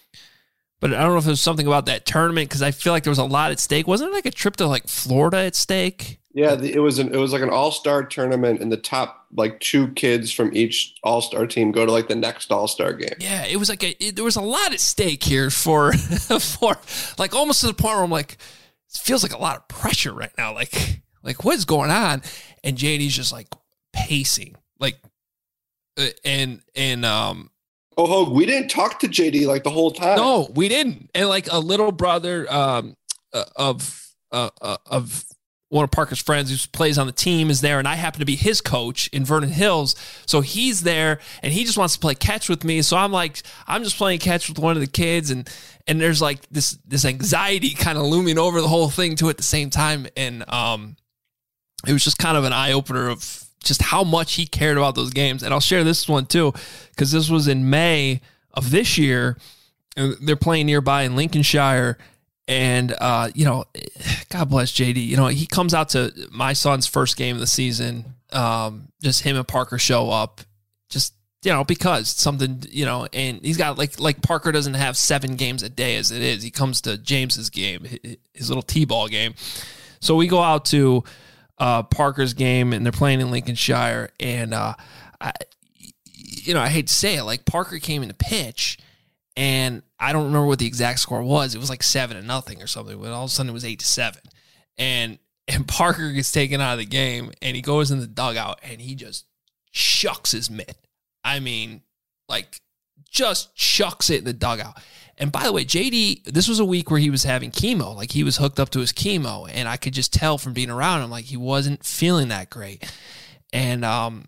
but I don't know if there was something about that tournament because I feel like there was a lot at stake. Wasn't it like a trip to like Florida at stake? Yeah, the, it was an it was like an all-star tournament, and the top like two kids from each all-star team go to like the next all-star game. Yeah, it was like a, it, there was a lot at stake here for for like almost to the point where I'm like, it feels like a lot of pressure right now. Like like what's going on? And J D's just like pacing. Like, uh, and, and, um, oh, Hogue, we didn't talk to J D like the whole time. No, we didn't. And like a little brother, um, uh, of, uh, uh, of one of Parker's friends who plays on the team is there. And I happen to be his coach in Vernon Hills. So he's there and he just wants to play catch with me. So I'm like, I'm just playing catch with one of the kids. And, and there's like this, this anxiety kind of looming over the whole thing too at the same time. And, um, it was just kind of an eye opener of just how much he cared about those games. And I'll share this one too, because this was in May of this year. And they're playing nearby in Lincolnshire. And, uh, you know, God bless J D. You know, he comes out to my son's first game of the season. Um, just him and Parker show up. Just, you know, because something, you know, and he's got like, like Parker doesn't have seven games a day as it is. He comes to James's game, his little T-ball game. So we go out to Uh, Parker's game, and they're playing in Lincolnshire. And, uh, I, you know, I hate to say it, like Parker came in to pitch, and I don't remember what the exact score was. It was like seven to nothing or something, but all of a sudden it was eight to seven. And, and Parker gets taken out of the game, and he goes in the dugout, and he just chucks his mitt. I mean, like, just chucks it in the dugout. And by the way, J D, this was a week where he was having chemo. Like, he was hooked up to his chemo, and I could just tell from being around him, like, he wasn't feeling that great. And um,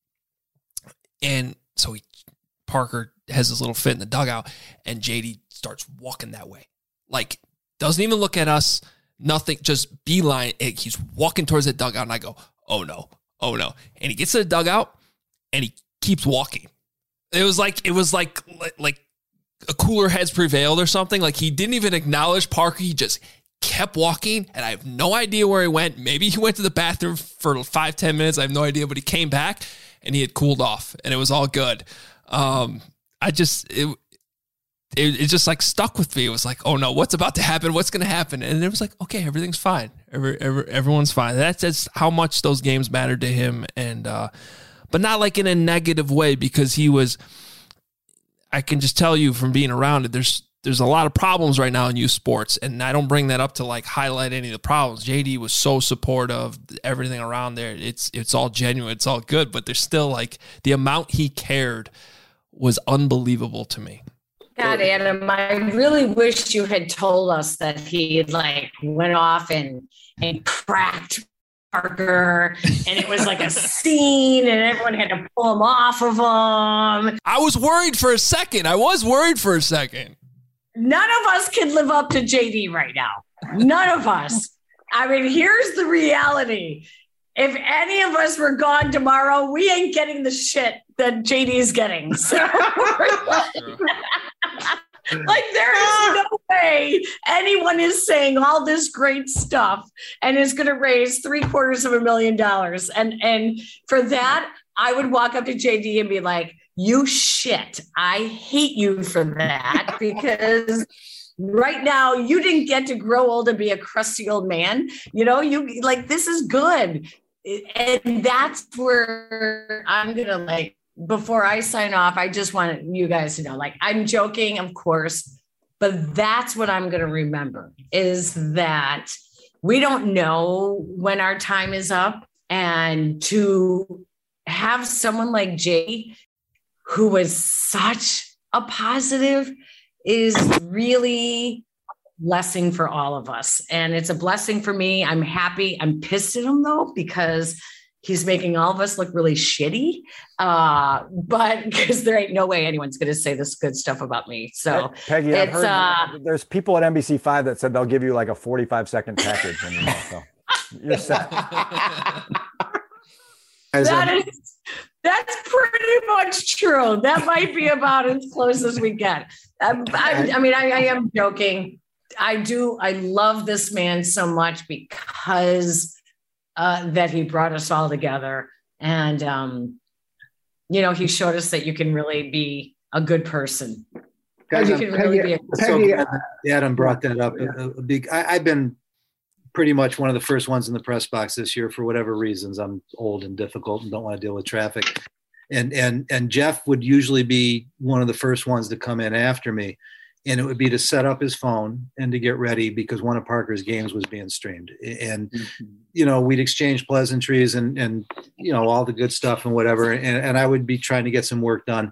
and so he, Parker has this little fit in the dugout, and J D starts walking that way. Like, doesn't even look at us, nothing, just beeline. He's walking towards the dugout, and I go, oh, no, oh, no. And he gets to the dugout, and he keeps walking. It was like, it was like, like, a cooler heads prevailed or something. Like, he didn't even acknowledge Parker. He just kept walking, and I have no idea where he went. Maybe he went to the bathroom for five, ten minutes. I have no idea, but he came back and he had cooled off, and it was all good. Um, I just, it, it, it just like stuck with me. It was like, oh no, what's about to happen? What's going to happen? And it was like, okay, everything's fine. Every, every, everyone's fine. That's just how much those games mattered to him. And, uh, but not like in a negative way, because he was, I can just tell you from being around it, there's there's a lot of problems right now in youth sports, and I don't bring that up to like highlight any of the problems. J D was so supportive, everything around there. It's it's all genuine, it's all good, but there's still like the amount he cared was unbelievable to me. God, Adam, I really wish you had told us that he like went off and and cracked Parker, and it was like a scene, and everyone had to pull him off of him. I was worried for a second. I was worried for a second. None of us can live up to J D right now. None of us. I mean, here's the reality. If any of us were gone tomorrow, we ain't getting the shit that J D is getting. So, like, there is no way anyone is saying all this great stuff and is going to raise three quarters of a million dollars. And and for that, I would walk up to J D and be like, you shit. I hate you for that, because right now, you didn't get to grow old and be a crusty old man. You know, you like, this is good. And that's where I'm going to like, before I sign off, I just want you guys to know, like, I'm joking, of course, but that's what I'm going to remember is that we don't know when our time is up. And to have someone like Jay, who was such a positive, is really blessing for all of us. And it's a blessing for me. I'm happy. I'm pissed at him though, because he's making all of us look really shitty. Uh, but because there ain't no way anyone's going to say this good stuff about me. So Peggy, I've it's, heard uh, there's people at N B C five that said they'll give you like a forty-five second package. When you know, so you're set. that is, that's pretty much true. That might be about as close as we get. I, I, I mean, I, I am joking. I do. I love this man so much because uh, that he brought us all together. And, um, you know, he showed us that you can really be a good person. Guys, you can Peggy, really be a I'm so glad that Adam brought that up. A, a big, I, I've been pretty much one of the first ones in the press box this year for whatever reasons. I'm old and difficult and don't want to deal with traffic. And and and Jeff would usually be one of the first ones to come in after me. And it would be to set up his phone and to get ready because one of Parker's games was being streamed. And, mm-hmm. you know, we'd exchange pleasantries and, and, you know, all the good stuff and whatever. And, and I would be trying to get some work done.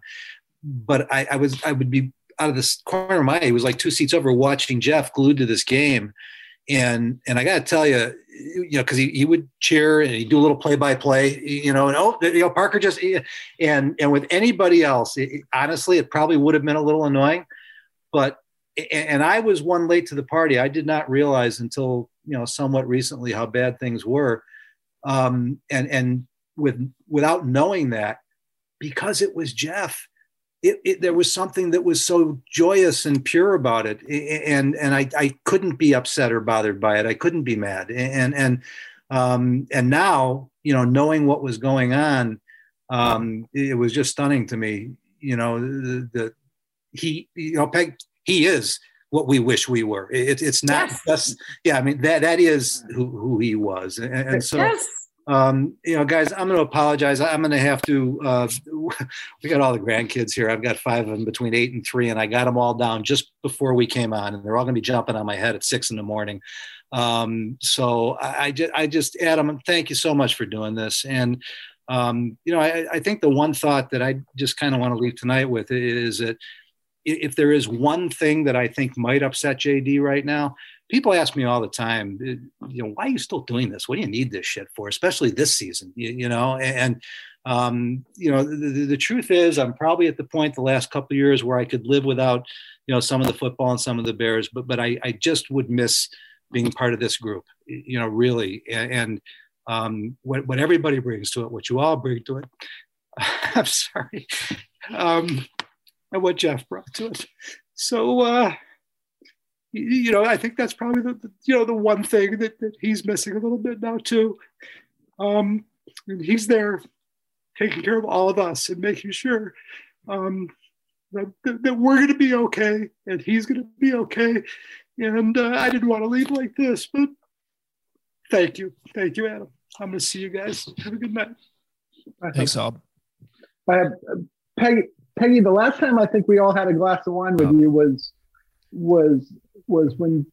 But I, I was, I would be out of the corner of my eye. It was like two seats over watching Jeff glued to this game. And, and I got to tell you, you know, cause he, he would cheer and he'd do a little play by play, you know, and, oh, you know, Parker just, and, and with anybody else, it, honestly, it probably would have been a little annoying. But, and I was one late to the party. I did not realize until, you know, somewhat recently how bad things were. Um, and, and with, without knowing that, because it was Jeff, it, it, there was something that was so joyous and pure about it. And, and I, I couldn't be upset or bothered by it. I couldn't be mad. And, and, um, and now, you know, knowing what was going on, um, it was just stunning to me, you know, the, the he, you know, Peg, he is what we wish we were. It, it's not yes. just, yeah, I mean, that, that is who, who he was. And, and so, yes. um, you know, guys, I'm going to apologize. I'm going to have to, uh, we got all the grandkids here. I've got five of them between eight and three, and I got them all down just before we came on, and they're all going to be jumping on my head at six in the morning. Um, so I, I just, I just, Adam, thank you so much for doing this. And, um, you know, I, I think the one thought that I just kind of want to leave tonight with is that, if there is one thing that I think might upset J D right now, people ask me all the time, you know, why are you still doing this? What do you need this shit for? Especially this season, you, you know? And, um, you know, the, the, the truth is I'm probably at the point the last couple of years where I could live without, you know, some of the football and some of the Bears, but, but I, I just would miss being part of this group, you know, really. And, and um, what, what everybody brings to it, what you all bring to it, I'm sorry. Um, and what Jeff brought to it. So, uh, you, you know, I think that's probably the, the, you know, the one thing that, that he's missing a little bit now too. Um, and he's there taking care of all of us and making sure um, that, that we're going to be okay and he's going to be okay. And uh, I didn't want to leave like this, but thank you. Thank you, Adam. I'm going to see you guys. Have a good night. Thanks, Al. I have uh, Peggy. Peggy, the last time I think we all had a glass of wine with oh. you was was was when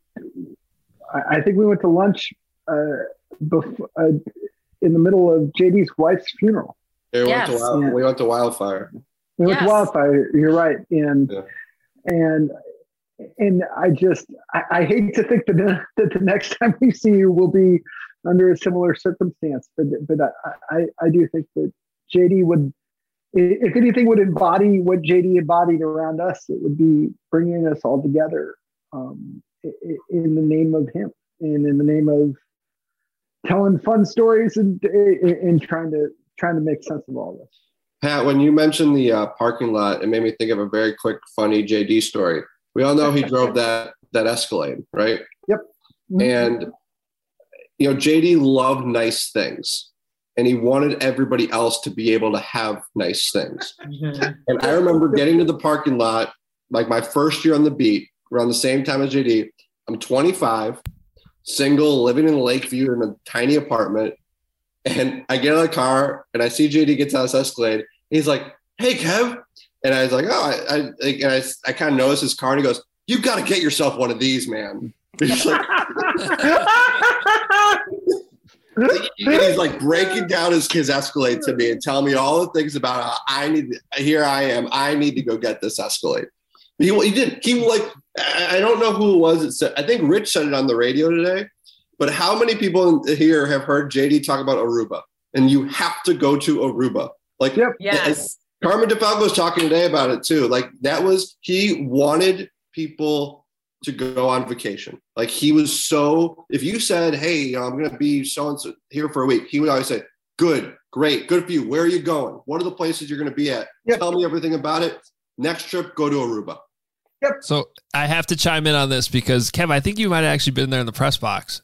I, I think we went to lunch uh, before, uh, in the middle of J D's wife's funeral. Yeah, we, yes. went to wild, yeah. we went to Wildfire. We went yes. to Wildfire. You're right, and yeah. and and I just I, I hate to think that the, that the next time we see you will be under a similar circumstance, but but I I, I do think that J D would. If anything would embody what J D embodied around us, it would be bringing us all together um, in the name of him and in the name of telling fun stories and, and trying to trying to make sense of all this. Pat, when you mentioned the uh, parking lot, it made me think of a very quick, funny J D story. We all know he drove that that Escalade, right? Yep. Mm-hmm. And you know, J D loved nice things. And he wanted everybody else to be able to have nice things. Mm-hmm. And I remember getting to the parking lot, like my first year on the beat, around the same time as J D. I'm twenty-five, single, living in Lakeview in a tiny apartment. And I get out of the car and I see J D gets out of this Escalade. He's like, "Hey, Kev." And I was like, "Oh, I, I, and I, I kind of noticed his car and he goes, "You got to get yourself one of these, man." He's like, he's like breaking down his, his Escalade to me and telling me all the things about how I need, here I am, I need to go get this Escalade. He, he did. He like, I don't know who it was. It said, I think Rich said it on the radio today, but how many people here have heard J D talk about Aruba? And you have to go to Aruba. Like, yep. Yes. Carmen DeFalco was talking today about it too. Like that was, he wanted people to go on vacation. Like he was so, if you said, "Hey, you know, I'm going to be so-and-so here for a week," he would always say, "Good, great, good for you. Where are you going? What are the places you're going to be at? Yep. Tell me everything about it. Next trip, go to Aruba." Yep. So I have to chime in on this because Kev, I think you might have actually been there in the press box.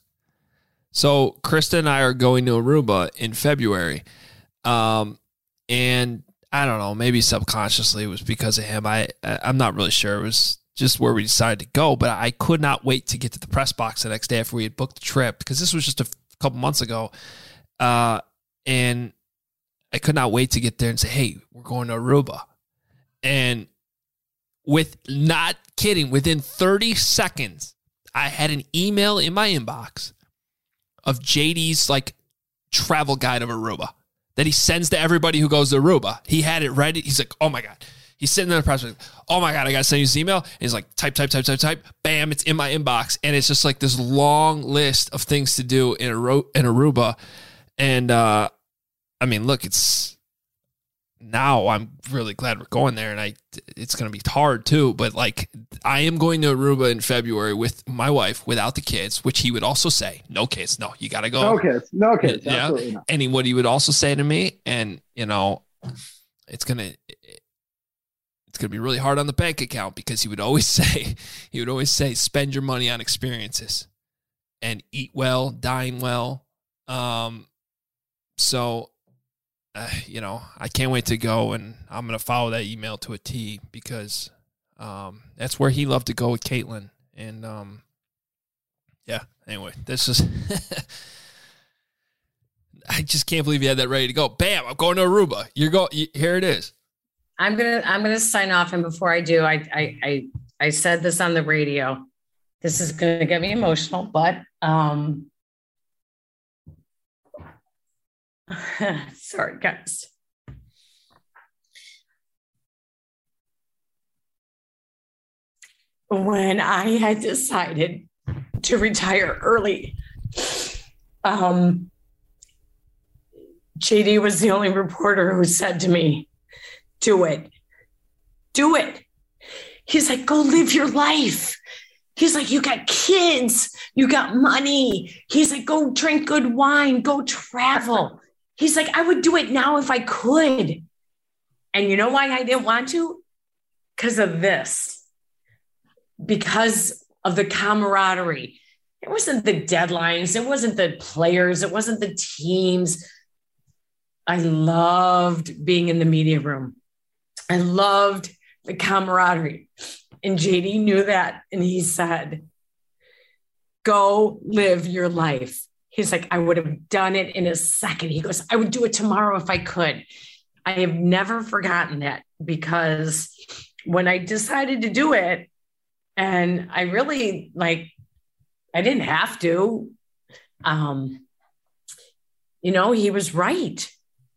So Krista and I are going to Aruba in February. Um, and I don't know, maybe subconsciously it was because of him. I, I'm not really sure. It was just where we decided to go, but I could not wait to get to the press box the next day after we had booked the trip because this was just a f- couple months ago. Uh, and I could not wait to get there and say, "Hey, we're going to Aruba." And with not kidding, within thirty seconds, I had an email in my inbox of J D's like travel guide of Aruba that he sends to everybody who goes to Aruba. He had it ready. He's like, "Oh my God." He's sitting there in the press box. "Oh my God, I got to send you this email." And he's like, type, type, type, type, type. Bam, it's in my inbox. And it's just like this long list of things to do in, Aru- in Aruba. And uh, I mean, look, it's now I'm really glad we're going there. And I, it's going to be hard too. But like, I am going to Aruba in February with my wife without the kids, which he would also say, "No kids. No, you got to go." No kids. No kids. Yeah. Absolutely not. And he, what he would also say to me, and you know, it's going to, it's going to be really hard on the bank account because he would always say, he would always say, "Spend your money on experiences and eat well, dine well." Um, so, uh, you know, I can't wait to go, and I'm going to follow that email to a T because um, that's where he loved to go with Caitlin. And um, yeah, anyway, this is, I just can't believe you had that ready to go. Bam, I'm going to Aruba. You're go. You, here it is. I'm gonna I'm gonna sign off, and before I do, I I I, I said this on the radio. This is gonna get me emotional, but um, sorry guys. When I had decided to retire early, um, J D was the only reporter who said to me, "Do it. Do it." He's like, "Go live your life." He's like, "You got kids. You got money." He's like, "Go drink good wine. Go travel." He's like, "I would do it now if I could." And you know why I didn't want to? Because of this. Because of the camaraderie. It wasn't the deadlines. It wasn't the players. It wasn't the teams. I loved being in the media room. I loved the camaraderie. And J D knew that. And he said, "Go live your life." He's like, "I would have done it in a second." He goes, "I would do it tomorrow if I could." I have never forgotten that because when I decided to do it, and I really like, I didn't have to, um, you know, he was right.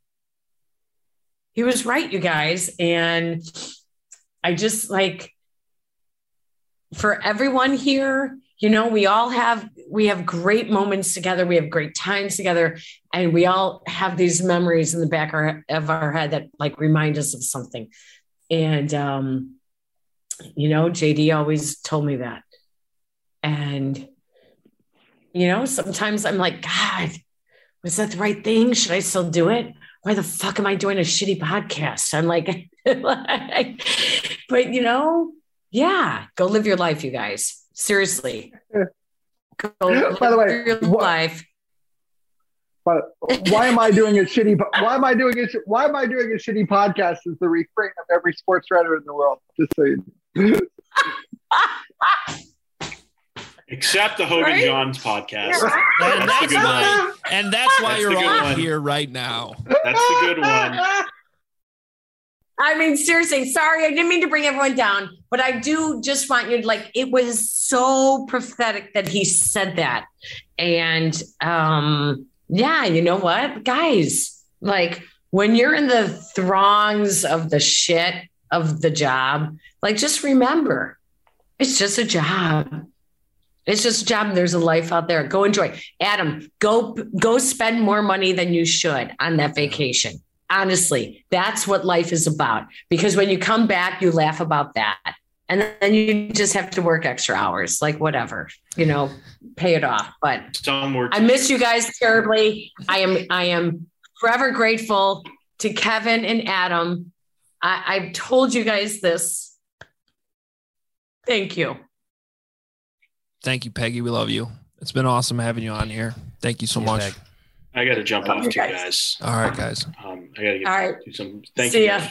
He was right, you guys. And I just like, for everyone here, you know, we all have, we have great moments together. We have great times together. And we all have these memories in the back of our head that like remind us of something. And, um, you know, J D always told me that. And, you know, sometimes I'm like, God, was that the right thing? Should I still do it? Why the fuck am I doing a shitty podcast? I'm like, like but you know, yeah, go live your life, you guys. Seriously. Go live By the way, your what, life. But why am I doing a shitty? Why am I doing a? Why am I doing a shitty podcast? Is the refrain of every sports writer in the world. Just so you know. Except the Hogan Right? Johns podcast. And That's the that's good why, one. and that's why That's you're the good all one. here right now. That's the good one. I mean, seriously, sorry, I didn't mean to bring everyone down, but I do just want you to like, it was so prophetic that he said that. And um, yeah, you know what, guys, like when you're in the throngs of the shit of the job, like just remember, it's just a job. It's just a job. There's a life out there. Go enjoy. Adam, go go spend more money than you should on that vacation. Honestly, that's what life is about. Because when you come back, you laugh about that. And then you just have to work extra hours, like whatever, you know, pay it off. But Some work. I miss you guys terribly. I am I am forever grateful to Kevin and Adam. I, I've told you guys this. Thank you. Thank you, Peggy. We love you. It's been awesome having you on here. Thank you so Yeah, much. Peg. I got to jump off Okay, too, guys. guys. All right, guys. Um, I got to get All right. do some. Thank See you. ya. Guys.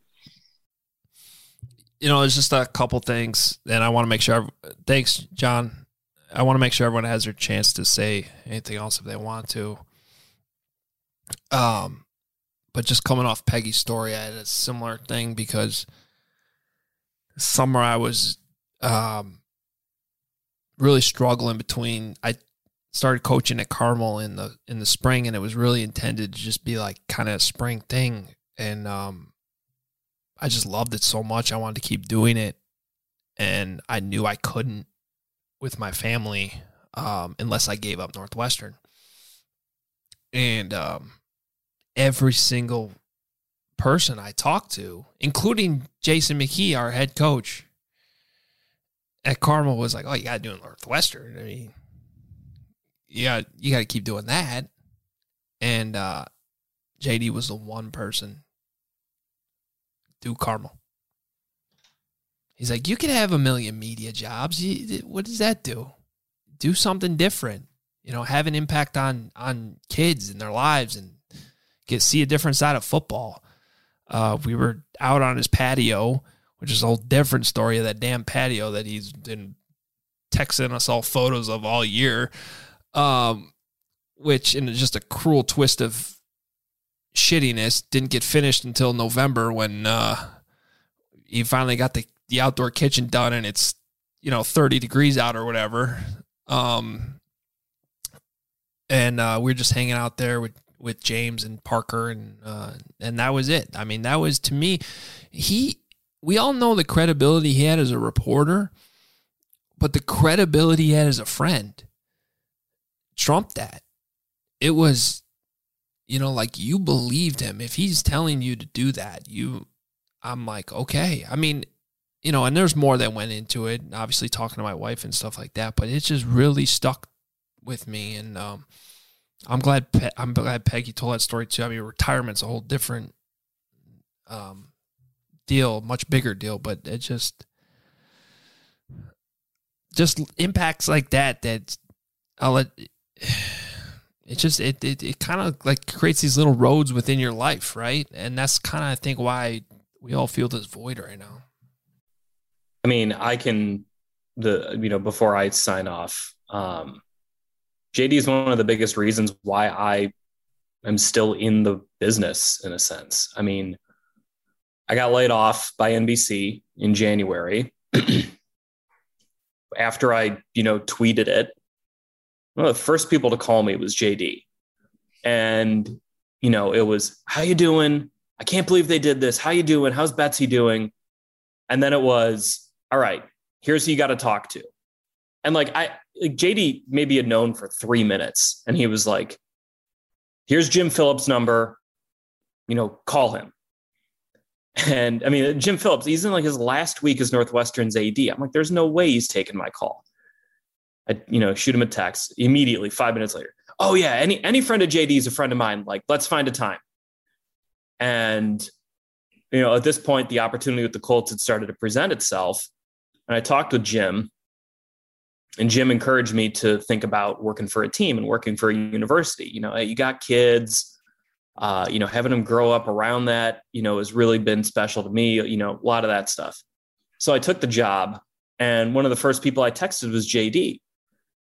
You know, there's just a couple things, and I want to make sure. Thanks, John. I want to make sure everyone has their chance to say anything else if they want to. Um, but just coming off Peggy's story, I had a similar thing because summer I was um really struggling between. I started coaching at Carmel in the in the spring, and it was really intended to just be like kind of a spring thing, and um. I just loved it so much. I wanted to keep doing it. And I knew I couldn't with my family um, unless I gave up Northwestern. And um, every single person I talked to, including Jason McKee, our head coach at Carmel, was like, oh, you got to do Northwestern. I mean, you got, you got to keep doing that. And uh, J D was the one person do Carmel. He's like, you could have a million media jobs. You, what does that do? Do something different. You know, have an impact on on kids and their lives and get see a different side of football. Uh, we were out on his patio, which is a whole different story of that damn patio that he's been texting us all photos of all year. Um, which, in just a cruel twist of shittiness, didn't get finished until November when uh, he finally got the, the outdoor kitchen done and it's, you know, thirty degrees out or whatever. Um, and uh, we were just hanging out there with, with James and Parker and uh, and that was it. I mean, that was, to me, he, we all know the credibility he had as a reporter, but the credibility he had as a friend trumped that. It was, you know, like, you believed him. If he's telling you to do that, you, I'm like, okay. I mean, you know, and there's more that went into it, obviously talking to my wife and stuff like that, but it just really stuck with me. And um, I'm glad, Pe- I'm glad Peggy told that story too. I mean, retirement's a whole different um, deal, much bigger deal, but it just, just impacts like that, that I'll let, It just, it it, it kind of like creates these little roads within your life, right? And that's kind of, I think, why we all feel this void right now. I mean, I can, the you know, before I sign off, um, J D is one of the biggest reasons why I am still in the business, in a sense. I mean, I got laid off by N B C in January after I, you know, tweeted it. One of the first people to call me was J D. And, you know, it was, how you doing? I can't believe they did this. How you doing? How's Betsy doing? And then it was, all right, here's who you got to talk to. And like, I, like J D maybe had known for three minutes. And he was like, here's Jim Phillips' number, you know, call him. And I mean, Jim Phillips, he's in like his last week as Northwestern's A D. I'm like, there's no way he's taking my call. I, you know, shoot him a text immediately, five minutes later. Oh yeah, any any friend of J D is a friend of mine. Like, let's find a time. And, you know, at this point, the opportunity with the Colts had started to present itself. And I talked with Jim, and Jim encouraged me to think about working for a team and working for a university. You know, you got kids, uh, you know, having them grow up around that, you know, has really been special to me, you know, a lot of that stuff. So I took the job, and one of the first people I texted was J D.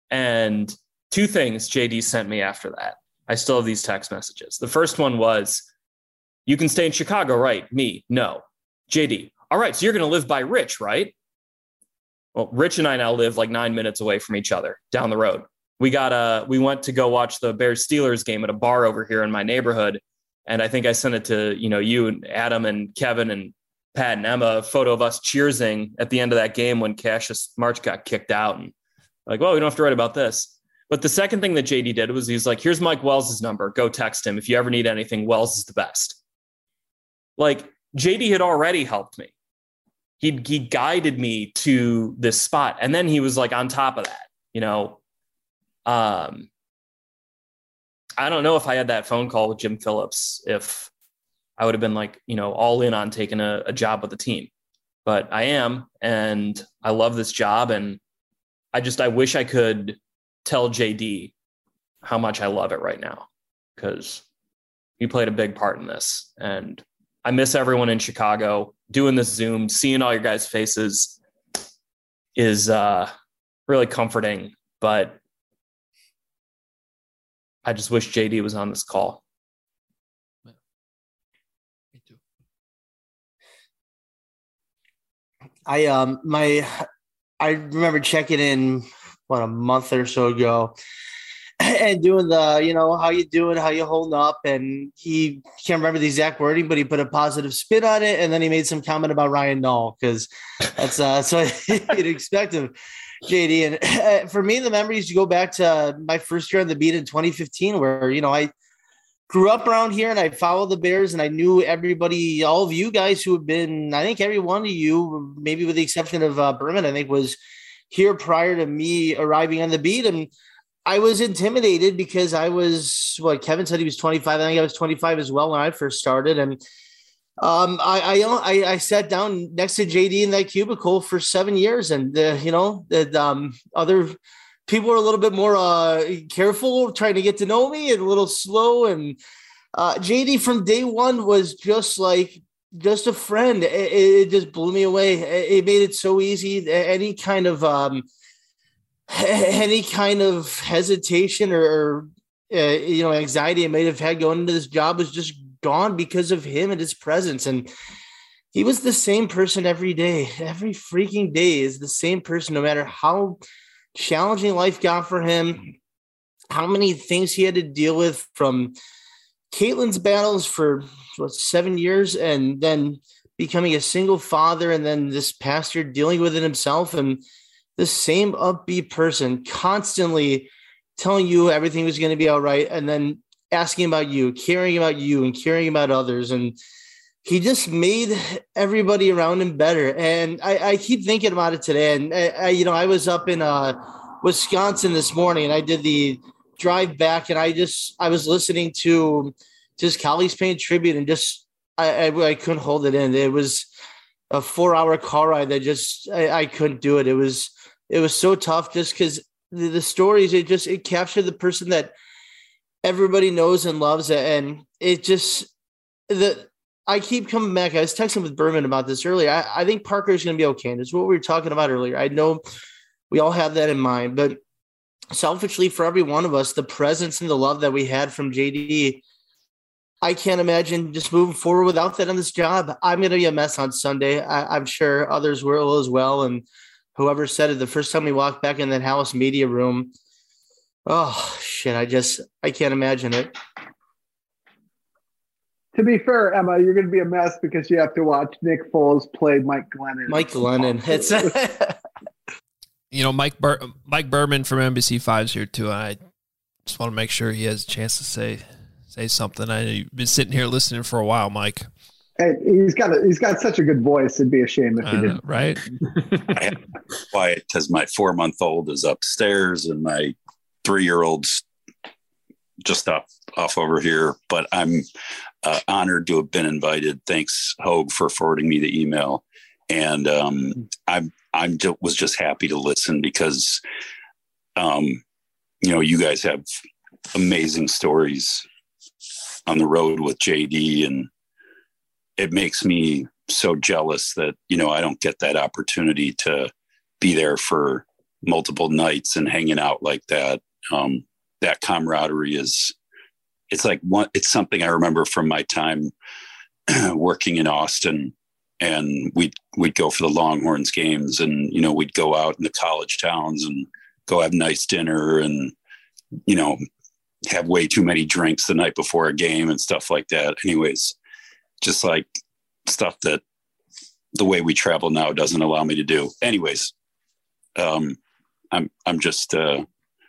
And two things J D sent me after that. I still have these text messages. The first one was, you can stay in Chicago, right? Me, no. J D, all right, so you're going to live by Rich, right? Well, Rich and I now live like nine minutes away from each other down the road. We got a, we went to go watch the Bears Steelers game at a bar over here in my neighborhood. And I think I sent it to, you know, you and Adam and Kevin and Pat and Emma, a photo of us cheersing at the end of that game when Cassius March got kicked out. And like, well, we don't have to write about this. But the second thing that J D did was he's like, here's Mike Wells' number. Go text him. If you ever need anything, Wells is the best. Like, J D had already helped me. He he guided me to this spot. And then he was like on top of that, you know. Um, I don't know if I had that phone call with Jim Phillips, if I would have been like, you know, all in on taking a, a job with the team. But I am, and I love this job. And I just, I wish I could tell J D how much I love it right now, because he played a big part in this. And I miss everyone in Chicago. Doing this Zoom, seeing all your guys' faces is uh, really comforting. But I just wish J D was on this call. Me too. I um my I remember checking in what a month or so ago and doing the, you know, how you doing, how you holding up, and he can't remember the exact wording, but he put a positive spin on it, and then he made some comment about Ryan Nall, because that's uh that's what you'd expect of J D. And uh, for me, the memories, you go back to my first year on the beat in twenty fifteen, where, you know, I grew up around here and I followed the Bears, and I knew everybody, all of you guys who have been, I think every one of you, maybe with the exception of uh, Berman, I think was here prior to me arriving on the beat. And I was intimidated because I was, what Kevin said, he was twenty-five. I think I was twenty-five as well when I first started. And um, I, I, I sat down next to J D in that cubicle for seven years. And, uh, you know, that um, other people were a little bit more uh, careful trying to get to know me, and a little slow. And uh, J D from day one was just like, just a friend. It, it just blew me away. It made it so easy. Any kind of, um, any kind of hesitation or, or uh, you know, anxiety I may have had going into this job was just gone because of him and his presence. And he was the same person every day. Every freaking day is the same person, no matter how challenging life got for him, how many things he had to deal with, from Caitlin's battles for what, seven years, and then becoming a single father, and then this past year dealing with it himself. And the same upbeat person, constantly telling you everything was going to be all right, and then asking about you, caring about you, and caring about others. And he just made everybody around him better. And I, I keep thinking about it today. And I, I, you know, I was up in uh, Wisconsin this morning, and I did the drive back, and I just, I was listening to just colleagues paying tribute, and just, I, I, I couldn't hold it in. It was a four hour car ride that just, I, I couldn't do it. It was, it was so tough, just because the, the stories, it just, it captured the person that everybody knows and loves. And it just, the, I keep coming back. I was texting with Berman about this earlier. I, I think Parker is going to be okay. And it's what we were talking about earlier. I know we all have that in mind, but selfishly, for every one of us, the presence and the love that we had from J D, I can't imagine just moving forward without that on this job. I'm going to be a mess on Sunday. I, I'm sure others will as well. And whoever said it, the first time we walked back in that House media room, oh shit, I just, I can't imagine it. To be fair, Emma, you're going to be a mess because you have to watch Nick Foles play Mike Glennon. Mike Glennon. It's you know, Mike Bur- Mike Berman from N B C five's here too. I just want to make sure he has a chance to say say something. I know you've been sitting here listening for a while, Mike. Hey, he's got a, he's got such a good voice. It'd be a shame if he didn't. Right? I have to be quiet because my four month old is upstairs and my three year old's just up off over here. But I'm uh, honored to have been invited. Thanks, Hogue, for forwarding me the email. And um, I'm I'm just, was just happy to listen because, um, you know, you guys have amazing stories on the road with J D, and it makes me so jealous that, you know, I don't get that opportunity to be there for multiple nights and hanging out like that. Um, that camaraderie is, it's like one, it's something I remember from my time working in Austin, and we'd, we'd go for the Longhorns games, and, you know, we'd go out in the college towns and go have nice dinner and, you know, have way too many drinks the night before a game and stuff like that. Anyways, just like stuff that the way we travel now doesn't allow me to do. Anyways, um, I'm, I'm just, uh,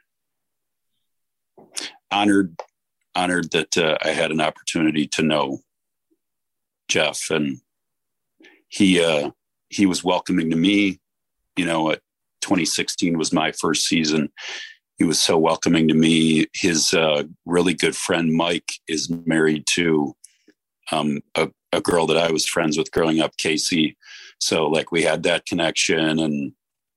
honored, honored that, uh, I had an opportunity to know Jeff, and he, uh, he was welcoming to me, you know, at twenty sixteen was my first season. He was so welcoming to me. His, uh, really good friend, Mike, is married to, um, a, a girl that I was friends with growing up, Casey. So like we had that connection, and,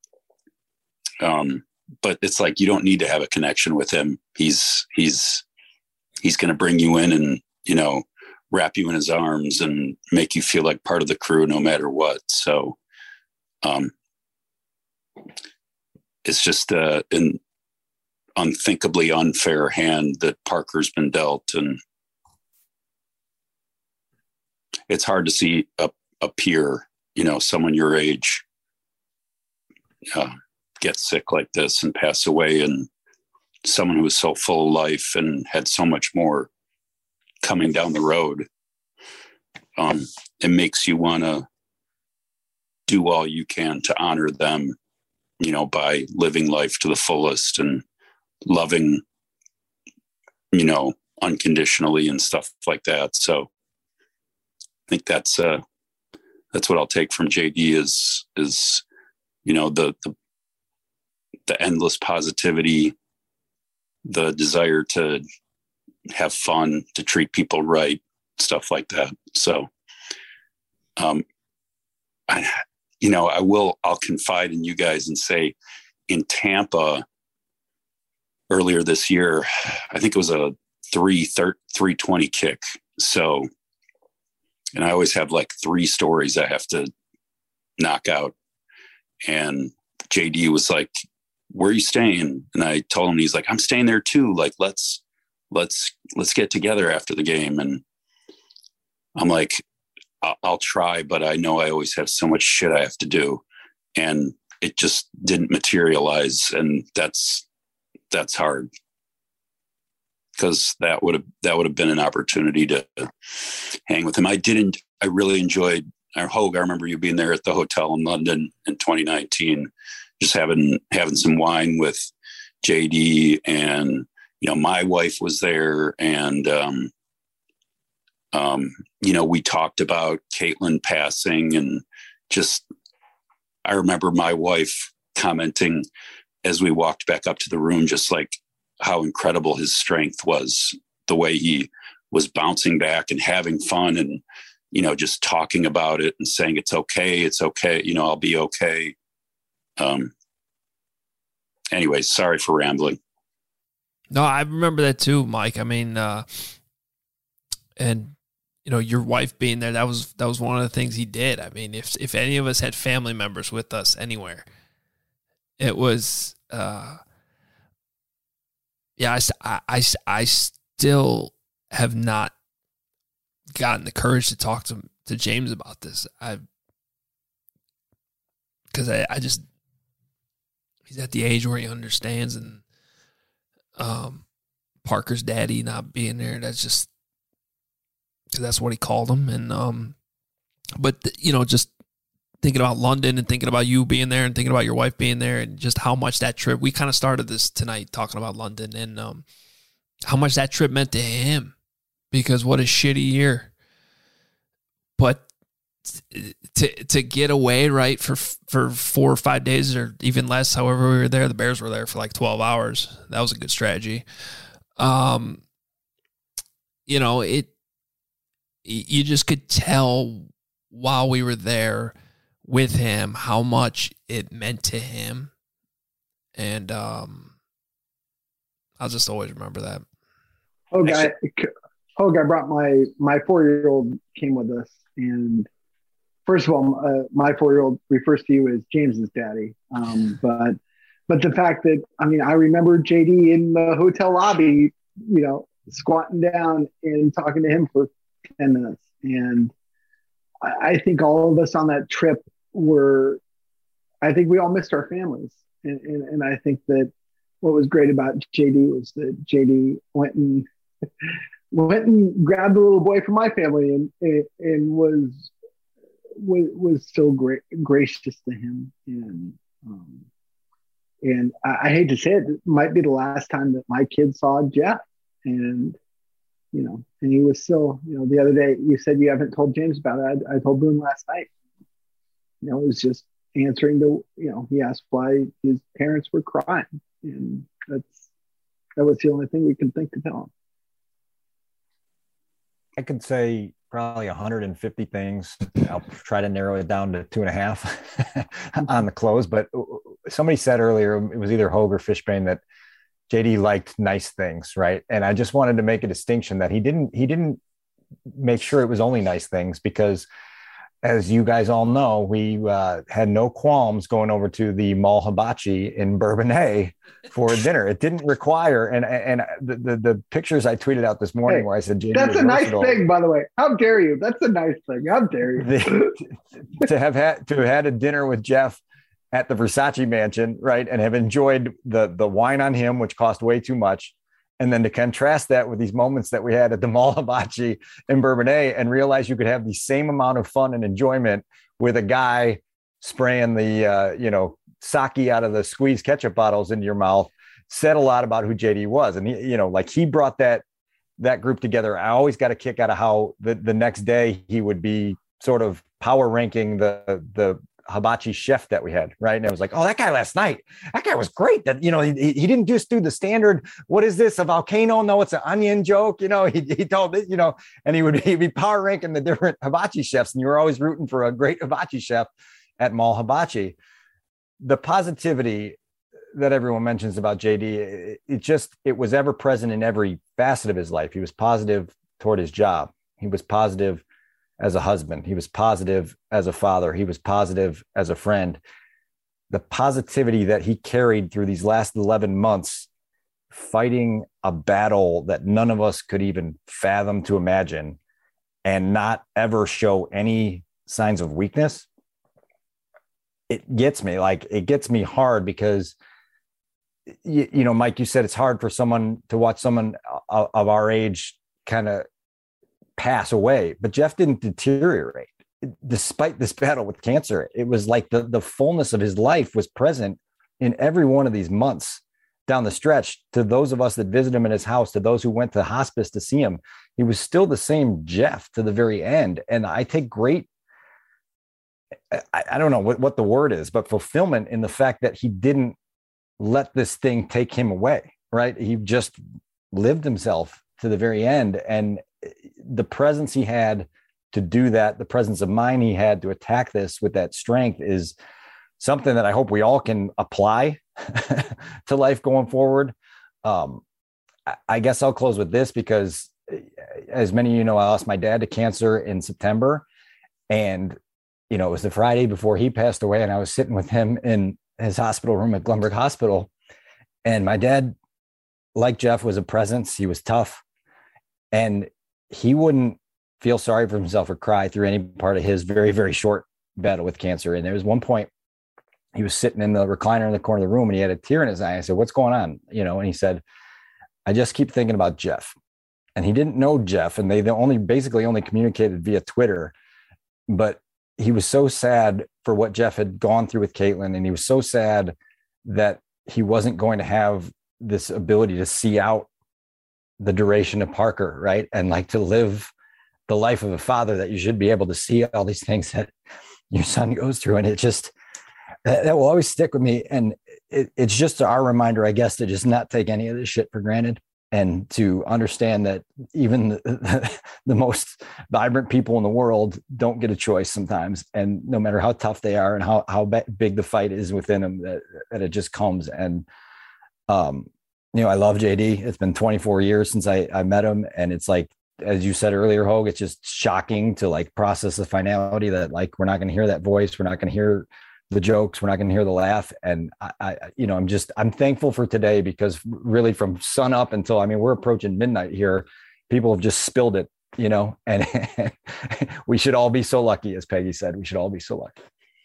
um, but it's like, you don't need to have a connection with him. He's, he's, he's going to bring you in and, you know, wrap you in his arms and make you feel like part of the crew no matter what. So, um, it's just uh, an unthinkably unfair hand that Parker's been dealt, and it's hard to see a, a peer, you know, someone your age, uh, get sick like this and pass away, and someone who was so full of life and had so much more coming down the road. Um, it makes you want to do all you can to honor them, you know, by living life to the fullest and loving, you know, unconditionally and stuff like that. So I think that's, uh, that's what I'll take from J D is, is, you know, the, the, the endless positivity, the desire to have fun, to treat people right, stuff like that. So, um, I, you know, I will, I'll confide in you guys and say in Tampa earlier this year, I think it was a three, three twenty kick. So, and I always have like three stories I have to knock out. And J D was like, where are you staying? And I told him, he's like, I'm staying there too. Like, let's, let's, let's get together after the game. And I'm like, I'll, I'll try, but I know I always have so much shit I have to do. And it just didn't materialize. And that's, that's hard, because that would have, that would have been an opportunity to hang with him. I didn't, I really enjoyed our Hogue. I remember you being there at the hotel in London in twenty nineteen, just having, having some wine with J D, and, you know, my wife was there, and, um, um, you know, we talked about Caitlin passing, and just, I remember my wife commenting as we walked back up to the room, just like how incredible his strength was, the way he was bouncing back and having fun, and, you know, just talking about it and saying, it's okay. It's okay. You know, I'll be okay. Um, anyway, sorry for rambling. No, I remember that too, Mike. I mean, uh, and, you know, your wife being there, that was, that was one of the things he did. I mean, if, if any of us had family members with us anywhere, it was, uh, yeah, I, I, I still have not gotten the courage to talk to, to James about this. I, cause I, I just, he's at the age where he understands, and, um, Parker's daddy not being there, that's just, cause that's what he called him. And, um, but you know, just thinking about London and thinking about you being there and thinking about your wife being there, and just how much that trip, we kind of started this tonight talking about London, and, um, how much that trip meant to him, because what a shitty year. But to to get away, right, for for four or five days or even less, however we were there, the Bears were there for like twelve hours. That was a good strategy. Um, you know, it, you just could tell while we were there with him how much it meant to him. And um, I'll just always remember that. Oh, guy, oh, guy brought my, my four-year-old came with us. And first of all, uh, my four-year-old refers to you as James's daddy. Um, but but the fact that, I mean, I remember J D in the hotel lobby, you know, squatting down and talking to him for ten minutes. And I, I think all of us on that trip were, I think we all missed our families. And, and, and I think that what was great about J D was that J D went and went and grabbed the little boy from my family and, and, and was, was, was so great, gracious to him. And, um, and I, I hate to say it, it might be the last time that my kid saw Jeff. And, you know, and he was still, you know, the other day you said you haven't told James about it. I, I told Boone last night. You know, it was just answering the, you know, he asked why his parents were crying. And that's, that was the only thing we could think to tell him. I could say probably one hundred fifty things. I'll try to narrow it down to two and a half on the close. But somebody said earlier, it was either Hogue or Fishbane, that J D liked nice things, right? And I just wanted to make a distinction that he didn't, he didn't make sure it was only nice things, because as you guys all know, we uh, had no qualms going over to the Mall Hibachi in Bourbonnais for dinner. It didn't require, and and the, the, the pictures I tweeted out this morning, hey, where I said, J D, that's a nice thing, by the way. How dare you? That's a nice thing. How dare you? The, to have had to have had a dinner with Jeff at the Versace mansion, right, and have enjoyed the the wine on him, which cost way too much. And then to contrast that with these moments that we had at the Mall Hibachi in Bourbonnais, and realize you could have the same amount of fun and enjoyment with a guy spraying the, uh, you know, sake out of the squeezed ketchup bottles into your mouth, said a lot about who J D was. And, he, you know, like he brought that, that group together. I always got a kick out of how the, the next day he would be sort of power ranking the, the, hibachi chef that we had, right? And I was like, oh, that guy last night, that guy was great. That, you know, he, he didn't just do the standard, what is this, a volcano? No, it's an onion joke. You know, he, he told it, you know, and he would he'd be power ranking the different hibachi chefs. And you were always rooting for a great hibachi chef at Mall Hibachi. The positivity that everyone mentions about J D, it, it just, it was ever present in every facet of his life. He was positive toward his job. He was positive as a husband. He was positive as a father. He was positive as a friend. The positivity that he carried through these last eleven months, fighting a battle that none of us could even fathom to imagine, and not ever show any signs of weakness. It gets me, like, it gets me hard, because, you, you know, Mike, you said it's hard for someone to watch someone of, of our age kind of pass away, but Jeff didn't deteriorate despite this battle with cancer. It was like the, the fullness of his life was present in every one of these months down the stretch. To those of us that visited him in his house, to those who went to hospice to see him, he was still the same Jeff to the very end. And I take great, I, I don't know what, what the word is, but fulfillment in the fact that he didn't let this thing take him away, right? He just lived himself to the very end. And the presence he had to do that, the presence of mind he had to attack this with that strength, is something that I hope we all can apply to life going forward. Um, I guess I'll close with this, because as many of you know, I lost my dad to cancer in September, and, you know, it was the Friday before he passed away, and I was sitting with him in his hospital room at Glumberg Hospital. And my dad, like Jeff, was a presence. He was tough, and he wouldn't feel sorry for himself or cry through any part of his very, very short battle with cancer. And there was one point he was sitting in the recliner in the corner of the room, and he had a tear in his eye. I said, what's going on? You know, and he said, I just keep thinking about Jeff. And he didn't know Jeff, and they they only basically only communicated via Twitter, but he was so sad for what Jeff had gone through with Caitlin. And he was so sad that he wasn't going to have this ability to see out the duration of Parker, right? And like to live the life of a father, that you should be able to see all these things that your son goes through. And it just, that, that will always stick with me. And it, it's just our reminder, I guess, to just not take any of this shit for granted, and to understand that even the, the, the most vibrant people in the world don't get a choice sometimes. And no matter how tough they are and how, how big the fight is within them, that, that it just comes. And, um, you know, I love J D. It's been twenty-four years since I, I met him. And it's like, as you said earlier, Hogue, it's just shocking to like process the finality that like, we're not going to hear that voice. We're not going to hear the jokes. We're not going to hear the laugh. And I, I, you know, I'm just, I'm thankful for today because really from sun up until, I mean, we're approaching midnight here. People have just spilled it, you know, and we should all be so lucky. As Peggy said, we should all be so lucky.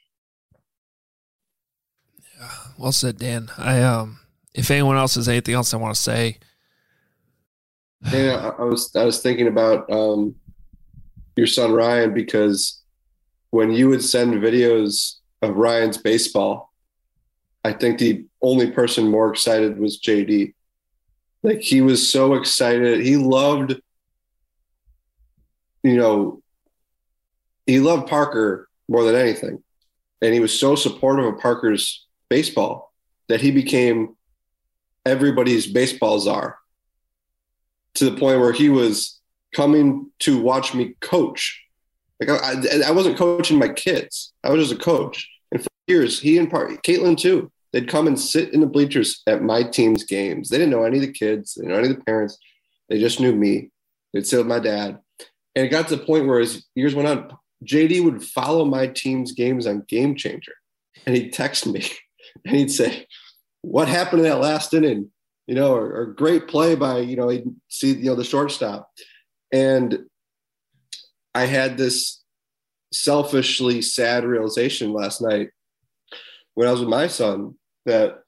Yeah, well said, Dan. I, um, if anyone else has anything else I want to say. Yeah, I was, I was thinking about, um, your son, Ryan, because when you would send videos of Ryan's baseball, I think the only person more excited was J D. Like, he was so excited. He loved, you know, he loved Parker more than anything. And he was so supportive of Parker's baseball that he became everybody's baseball czar, to the point where he was coming to watch me coach. Like, I, I wasn't coaching my kids. I was just a coach. And for years, he and Parker, Caitlin too, they'd come and sit in the bleachers at my team's games. They didn't know any of the kids. They didn't know any of the parents. They just knew me. They'd sit with my dad. And it got to the point where as years went on, J D would follow my team's games on Game Changer. And he'd text me and he'd say, what happened in that last inning? You know, or, or great play by, you know, he'd see, you know, the shortstop. And I had this selfishly sad realization last night when I was with my son, that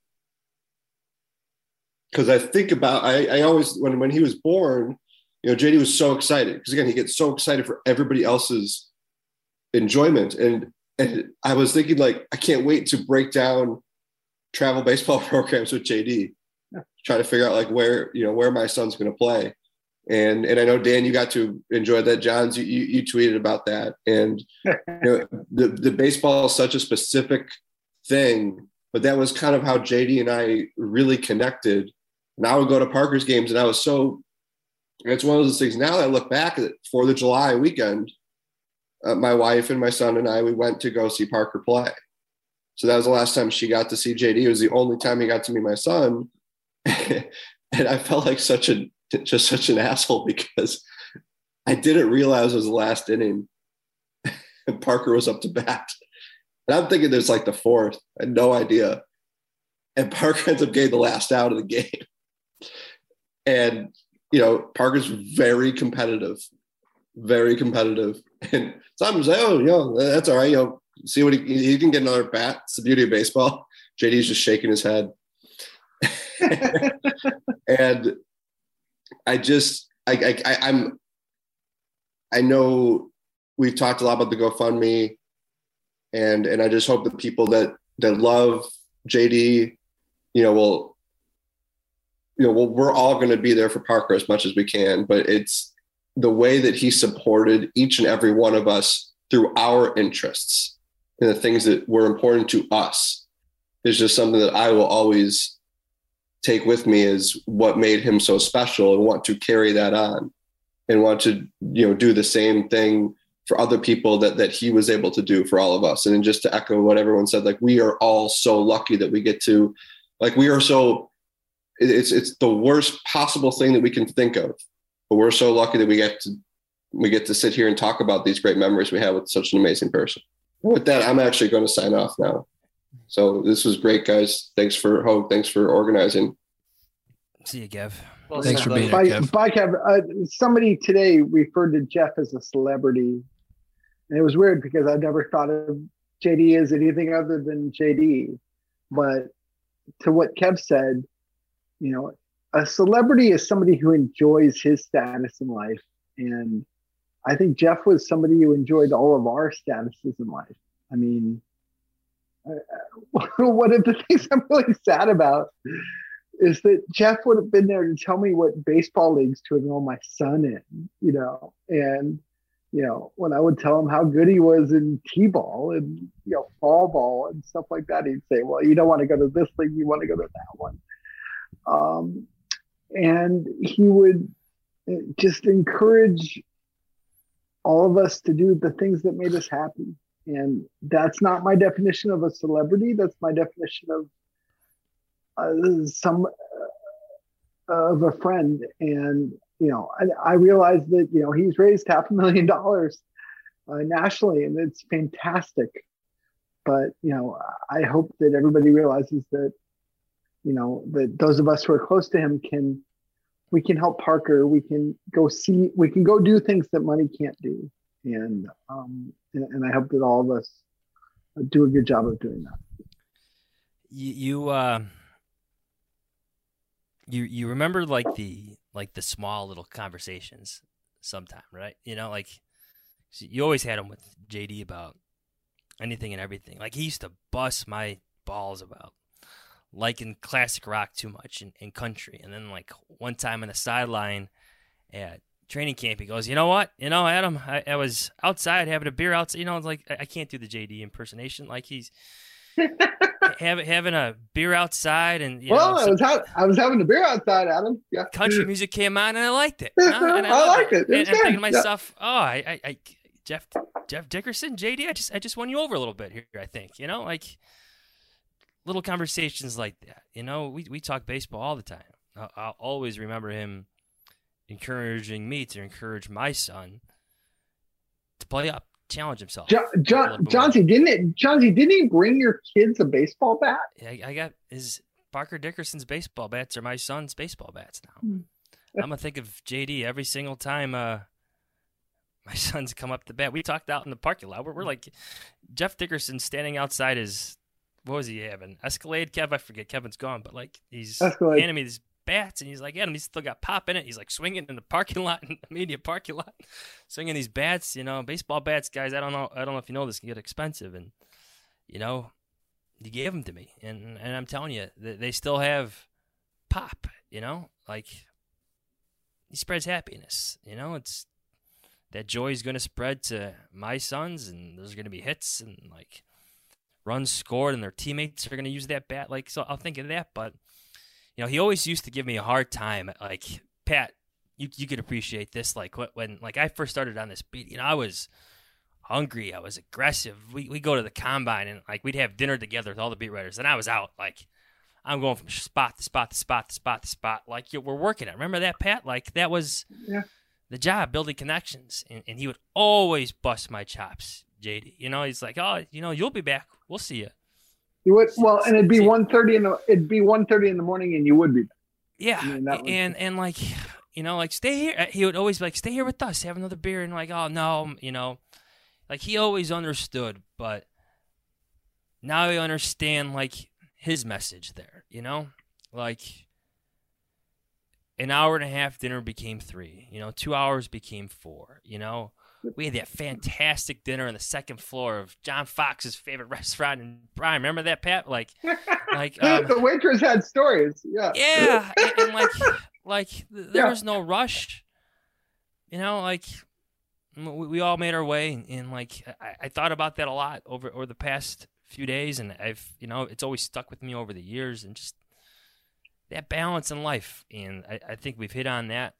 because I think about, I, I always, when, when he was born, you know, J D was so excited because, again, he gets so excited for everybody else's enjoyment. And, and I was thinking, like, I can't wait to break down travel baseball programs with J D, try to figure out, like, where, you know, where my son's going to play. And and I know, Dan, you got to enjoy that. Johns, you, you, you tweeted about that. And you know, the, the baseball is such a specific thing, but that was kind of how J D and I really connected. And I would go to Parker's games, and I was so, it's one of those things now that I look back at Fourth of July weekend, uh, my wife and my son and I, we went to go see Parker play. So that was the last time she got to see J D. It was the only time he got to meet my son. And I felt like such a, just such an asshole because I didn't realize it was the last inning and Parker was up to bat. And I'm thinking there's like the fourth. I had no idea. And Parker ends up getting the last out of the game. And, you know, Parker's very competitive, very competitive. And sometimes like, oh, you know, that's all right. You know, see what he, he can get another bat. It's the beauty of baseball. J D's just shaking his head. And I just, I, I, I, I'm, I know we've talked a lot about the GoFundMe, and and I just hope that people that that love J D, you know, will, you know, well, we're all going to be there for Parker as much as we can, but it's the way that he supported each and every one of us through our interests and the things that were important to us is just something that I will always take with me as what made him so special, and want to carry that on and want to, you know, do the same thing for other people that, that he was able to do for all of us. And just to echo what everyone said, like, we are all so lucky that we get to, like, we are so, it's, it's the worst possible thing that we can think of, but we're so lucky that we get to, we get to sit here and talk about these great memories we have with such an amazing person. And with that, I'm actually going to sign off now. So this was great, guys. Thanks for Hogue. Thanks for organizing. See you, Kev. Well, Thanks for being by, here, Kev. Bye, Kev. Uh, somebody today referred to Jeff as a celebrity. And it was weird because I never thought of J D as anything other than J D. But to what Kev said, you know, a celebrity is somebody who enjoys his status in life. And I think Jeff was somebody who enjoyed all of our statuses in life. I mean, one of the things I'm really sad about is that Jeff would have been there to tell me what baseball leagues to enroll my son in, you know, and, you know, when I would tell him how good he was in T-ball and, you know, fall ball and stuff like that, he'd say, well, you don't want to go to this league, you want to go to that one. Um, and he would just encourage all of us to do the things that made us happy. And that's not my definition of a celebrity. That's my definition of uh, some uh, of a friend. And, you know, I, I realized that, you know, he's raised half a million dollars uh, nationally, and it's fantastic. but you know, I hope that everybody realizes that, you know, that those of us who are close to him can, we can help Parker. We can go see, we can go do things that money can't do. And, um, and, and I hope that all of us do a good job of doing that. You, you, uh, you, you remember like the, like the small little conversations sometime, right? You know, like you always had them with J D about anything and everything. Like he used to bust my balls about liking classic rock too much in, in country. And then like one time on the sideline at training camp, he goes, you know what? You know, Adam, I, I was outside having a beer outside. You know, it's like I, I can't do the J D impersonation. Like he's having having a beer outside, and you well, know, I was ha- I was having a beer outside, Adam. Yeah, country music came on, and I liked it. You know? And I, I liked it. it. And I'm thinking to yeah. myself, oh, I, I, I, Jeff, Jeff Dickerson, J D, I just, I just won you over a little bit here. I think, you know, like little conversations like that. You know, we we talk baseball all the time. I'll, I'll always remember him encouraging me to encourage my son to play up, challenge himself. John, John, Johnsy, didn't it? Johnsy, didn't he bring your kids a baseball bat? I, I got his Parker Dickerson's baseball bats are my son's baseball bats now. Hmm. I'm gonna think of J D every single time uh, my son's come up to bat. We talked out in the parking lot. We're, we're like Jeff Dickerson standing outside his, what was he having? Escalade, Kev? I forget. Kevin's gone, but like he's Escalade. handing me these bats, and he's like, Adam, he's still got pop in it. He's like swinging in the parking lot, in the media parking lot, swinging these bats. You know, baseball bats, guys. I don't know. I don't know if you know this, can get expensive, and you know, he gave them to me, and and I'm telling you, they still have pop. You know, like he spreads happiness. You know, it's that joy is going to spread to my sons, and there's going to be hits and like runs scored, and their teammates are going to use that bat. Like, so I'll think of that, but. You know, he always used to give me a hard time. Like, Pat, you you could appreciate this. Like, when like I first started on this beat, you know, I was hungry. I was aggressive. We we go to the combine, and, like, we'd have dinner together with all the beat writers. And I was out. Like, I'm going from spot to spot to spot to spot to spot. Like, we're working it. Remember that, Pat? Like, that was yeah. the job, building connections. And, and he would always bust my chops, J D. You know, he's like, oh, you know, you'll be back. We'll see you. You would, well, and it'd be one thirty in the it'd be one thirty in the morning, and you would be. Yeah, I mean, that was, and and like, you know, like stay here. He would always be like, stay here with us, have another beer, and like, oh no, you know, like he always understood, but now I understand like his message there. You know, like an hour and a half dinner became three. You know, two hours became four. You know. We had that fantastic dinner on the second floor of John Fox's favorite restaurant in Bryan. Remember that, Pat? Like, like um, the waitress had stories. Yeah, yeah, and, and like, like there yeah. was no rush. You know, like we, we all made our way, and, and like I, I thought about that a lot over over the past few days, and I've, you know, it's always stuck with me over the years, and just that balance in life, and I, I think we've hit on that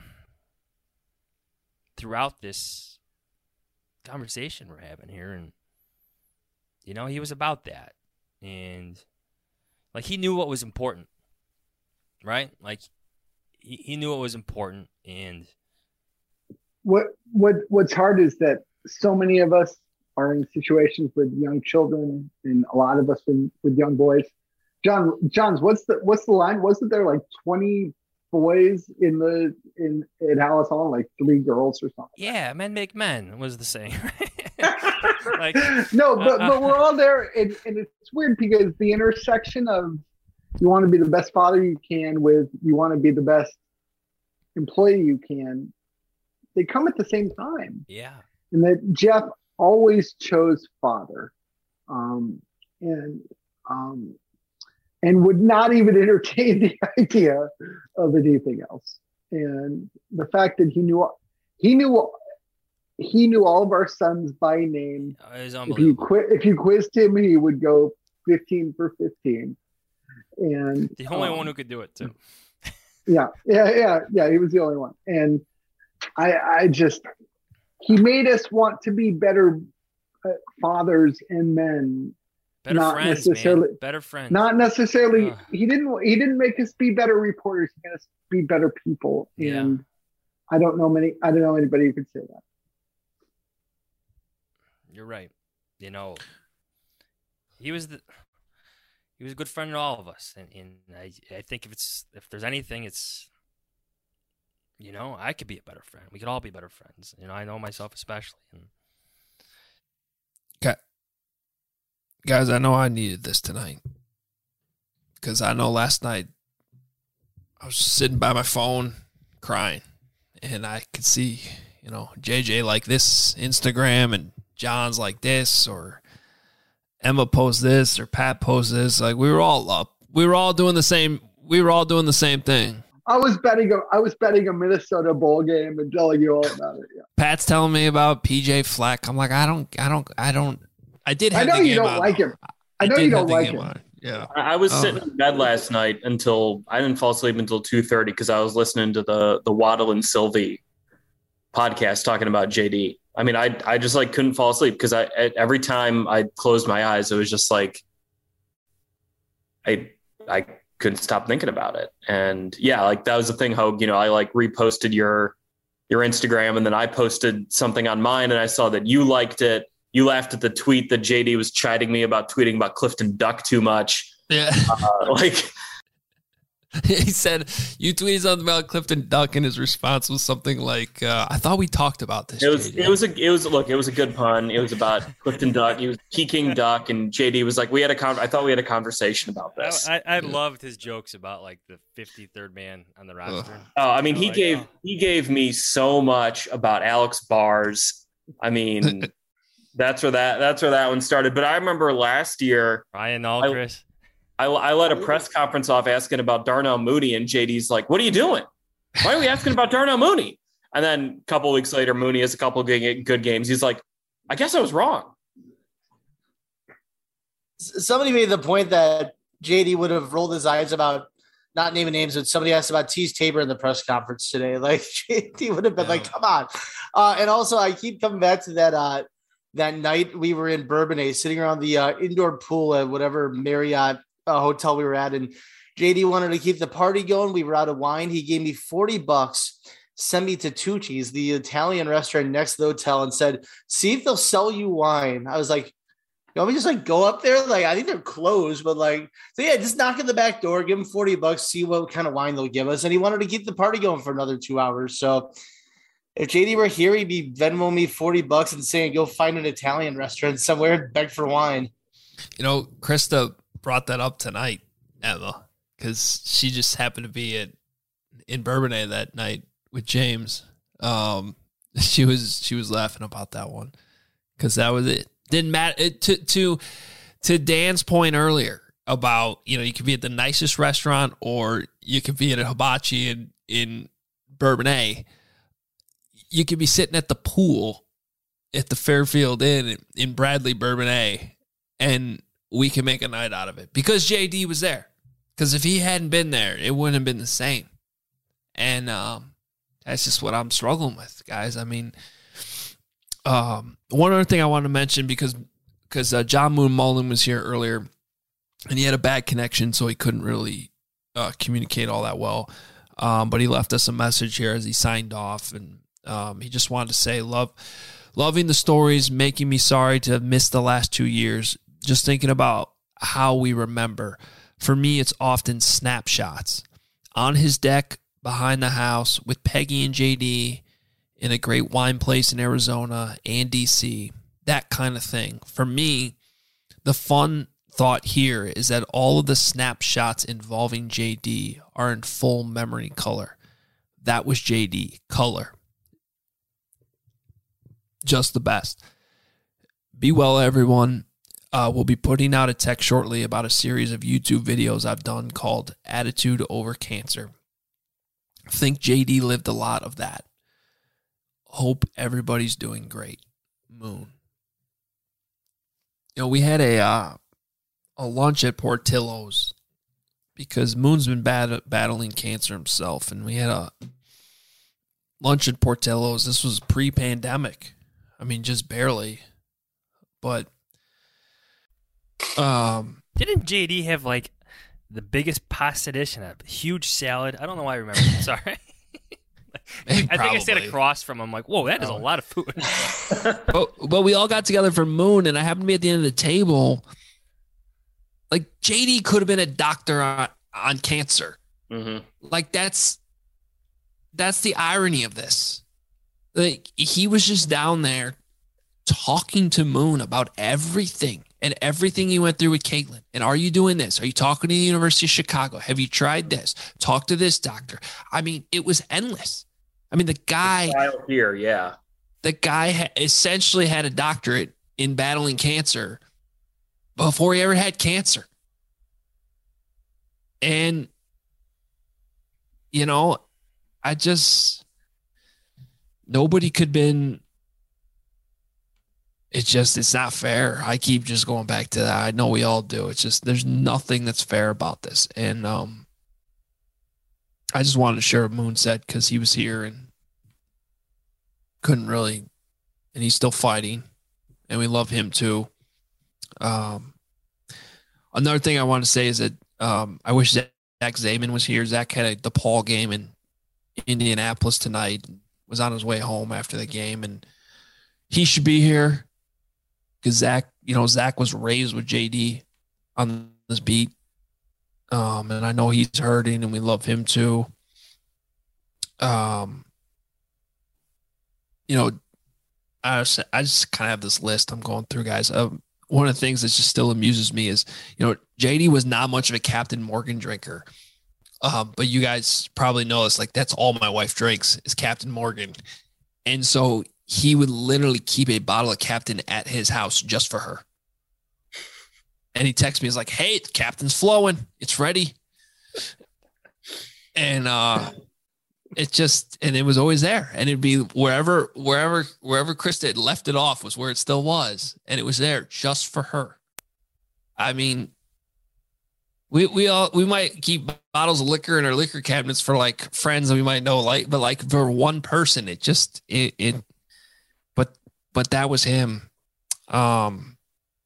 throughout this conversation we're having here. And you know, he was about that, and like he knew what was important, right? Like he, he knew what was important. And what what what's hard is that so many of us are in situations with young children, and a lot of us with, with young boys. John Johns, what's the what's the line? Wasn't there like twenty boys in the in at Alice Hall, like three girls or something? Yeah, men make men was the saying. Like, no, but uh, but we're all there, and, and it's weird because the intersection of you want to be the best father you can with you want to be the best employee you can, they come at the same time. Yeah, and that Jeff always chose father, um, and um. and would not even entertain the idea of anything else. And the fact that he knew, he knew, he knew all of our sons by name. Oh, it was if you quit, if you quizzed him, he would go fifteen for fifteen. And the only um, one who could do it too. Yeah, yeah, yeah, yeah. He was the only one. And I, I just, he made us want to be better uh, fathers and men. Better not friends, necessarily, man. Better friends. Not necessarily. Ugh. He didn't. He didn't make us be better reporters. He made us be better people. Yeah. And I don't know many. I don't know anybody who could say that. You're right. You know, he was the he was a good friend to all of us, and, and I I think if it's if there's anything, it's you know I could be a better friend. We could all be better friends. You know, I know myself especially. And... Okay. Guys, I know I needed this tonight because I know last night I was sitting by my phone crying, and I could see, you know, J J like this Instagram, and John's like this, or Emma posts this, or Pat posts this. Like we were all up, we were all doing the same. We were all doing the same thing. I was betting a I was betting a Minnesota bowl game and telling you all about it. Yeah. Pat's telling me about P J Fleck. I'm like, I don't, I don't, I don't. I did. Have I know the you game don't on. like him. I know I you did don't have the like game him. on. Yeah. I was Oh. sitting in bed last night until I didn't fall asleep until two thirty because I was listening to the the Waddle and Sylvie podcast talking about J D. I mean, I I just like couldn't fall asleep because I every time I closed my eyes, it was just like I I couldn't stop thinking about it. And yeah, like that was the thing, Hogue, you know, I like reposted your your Instagram, and then I posted something on mine, and I saw that you liked it. You laughed at the tweet that J D was chiding me about tweeting about Clifton Duck too much. Yeah. Uh, like he said you tweeted something about Clifton Duck, and his response was something like, uh, "I thought we talked about this." it was, J D. it was a, it was look, it was a good pun. It was about Clifton Duck. He was Peking Duck, and J D was like, "We had a con- I thought we had a conversation about this." I, I, I loved his jokes about like the fifty-third man on the roster. Oh, I mean, he Like, gave oh. he gave me so much about Alex Bars. I mean, that's where that that's where that one started. But I remember last year, Ryan Alcris. I, I let a press conference off asking about Darnell Mooney, and J D's like, "What are you doing? Why are we asking about Darnell Mooney?" And then a couple of weeks later, Mooney has a couple of good, good games. He's like, "I guess I was wrong." Somebody made the point that J D would have rolled his eyes about not naming names, but somebody asked about Tease Tabor in the press conference today. Like J D would have been like, "Come on!" Uh, and also, I keep coming back to that. Uh, that night we were in Bourbonnais, sitting around the uh, indoor pool at whatever Marriott uh, hotel we were at, and J D wanted to keep the party going. We were out of wine. He gave me forty bucks, sent me to Tucci's, the Italian restaurant next to the hotel, and said, "See if they'll sell you wine." I was like, "You want me to just like go up there? Like, I think they're closed, but like, so yeah, just knock at the back door, give them forty bucks, see what kind of wine they'll give us." And he wanted to keep the party going for another two hours. So if J D were here, he'd be Venmo me forty bucks and saying, "Go find an Italian restaurant somewhere and beg for wine." You know, Krista brought that up tonight, Emma, because she just happened to be at in Bourbonnais that night with James. Um, she was she was laughing about that one because that was it. Didn't matter it, to to to Dan's point earlier about, you know, you could be at the nicest restaurant or you could be at a hibachi in in Bourbonnais. You could be sitting at the pool at the Fairfield Inn in Bradley, Bourbonnais, and we can make a night out of it because J D was there. Because if he hadn't been there, it wouldn't have been the same. And um, that's just what I'm struggling with, guys. I mean, um, one other thing I wanted to mention, because because uh, John Moon Mullen was here earlier, and he had a bad connection, so he couldn't really uh, communicate all that well. Um, but he left us a message here as he signed off, and um, he just wanted to say, love, loving the stories, making me sorry to have missed the last two years. Just thinking about how we remember. For me, it's often snapshots. On his deck, behind the house, with Peggy and J D, in a great wine place in Arizona and D C, that kind of thing. For me, the fun thought here is that all of the snapshots involving J D are in full memory color. That was J D, color. Just the best. Be well, everyone. Uh, we'll be putting out a text shortly about a series of YouTube videos I've done called Attitude Over Cancer. I think J D lived a lot of that. Hope everybody's doing great. Moon. You know, we had a uh, a lunch at Portillo's because Moon's been bad, battling cancer himself, and we had a lunch at Portillo's. This was pre-pandemic. I mean, just barely. But um, didn't J D have like the biggest pasta dish and a huge salad? I don't know why I remember that. Sorry. I think I sat across from him like, whoa, that is a lot of food. but, but we all got together for Moon, and I happened to be at the end of the table, Like J D could have been a doctor on, on cancer. Mm-hmm. Like that's that's the irony of this. Like he was just down there talking to Moon about everything and everything he went through with Caitlin. And are you doing this? Are you talking to the University of Chicago? Have you tried this? Talk to this doctor. I mean, it was endless. I mean, the guy here, yeah. The guy ha- essentially had a doctorate in battling cancer before he ever had cancer. And, you know, I just, nobody could have been, it's just, it's not fair. I keep just going back to that. I know we all do. It's just, there's nothing that's fair about this. And um, I just wanted to share what Moon said because he was here and couldn't really, and he's still fighting. And we love him too. Um, another thing I want to say is that um, I wish Zach Zaman was here. Zach had a DePaul game in Indianapolis tonight, was on his way home after the game, and he should be here because Zach, you know, Zach was raised with J D on this beat. Um, and I know he's hurting and we love him too. Um, you know, I just, I just kind of have this list I'm going through, guys. Um, one of the things that just still amuses me is, you know, J D was not much of a Captain Morgan drinker. Um, but you guys probably know this, like that's all my wife drinks is Captain Morgan. And so he would literally keep a bottle of Captain at his house just for her. And he texts me, he's like, hey, the Captain's flowing. It's ready. And uh, it just, and it was always there. And it'd be wherever, wherever, wherever Krista had left it off was where it still was. And it was there just for her. I mean, we, we all, we might keep bottles of liquor in our liquor cabinets for like friends that we might know, like, but like for one person, it just, it, it but, but that was him. Um,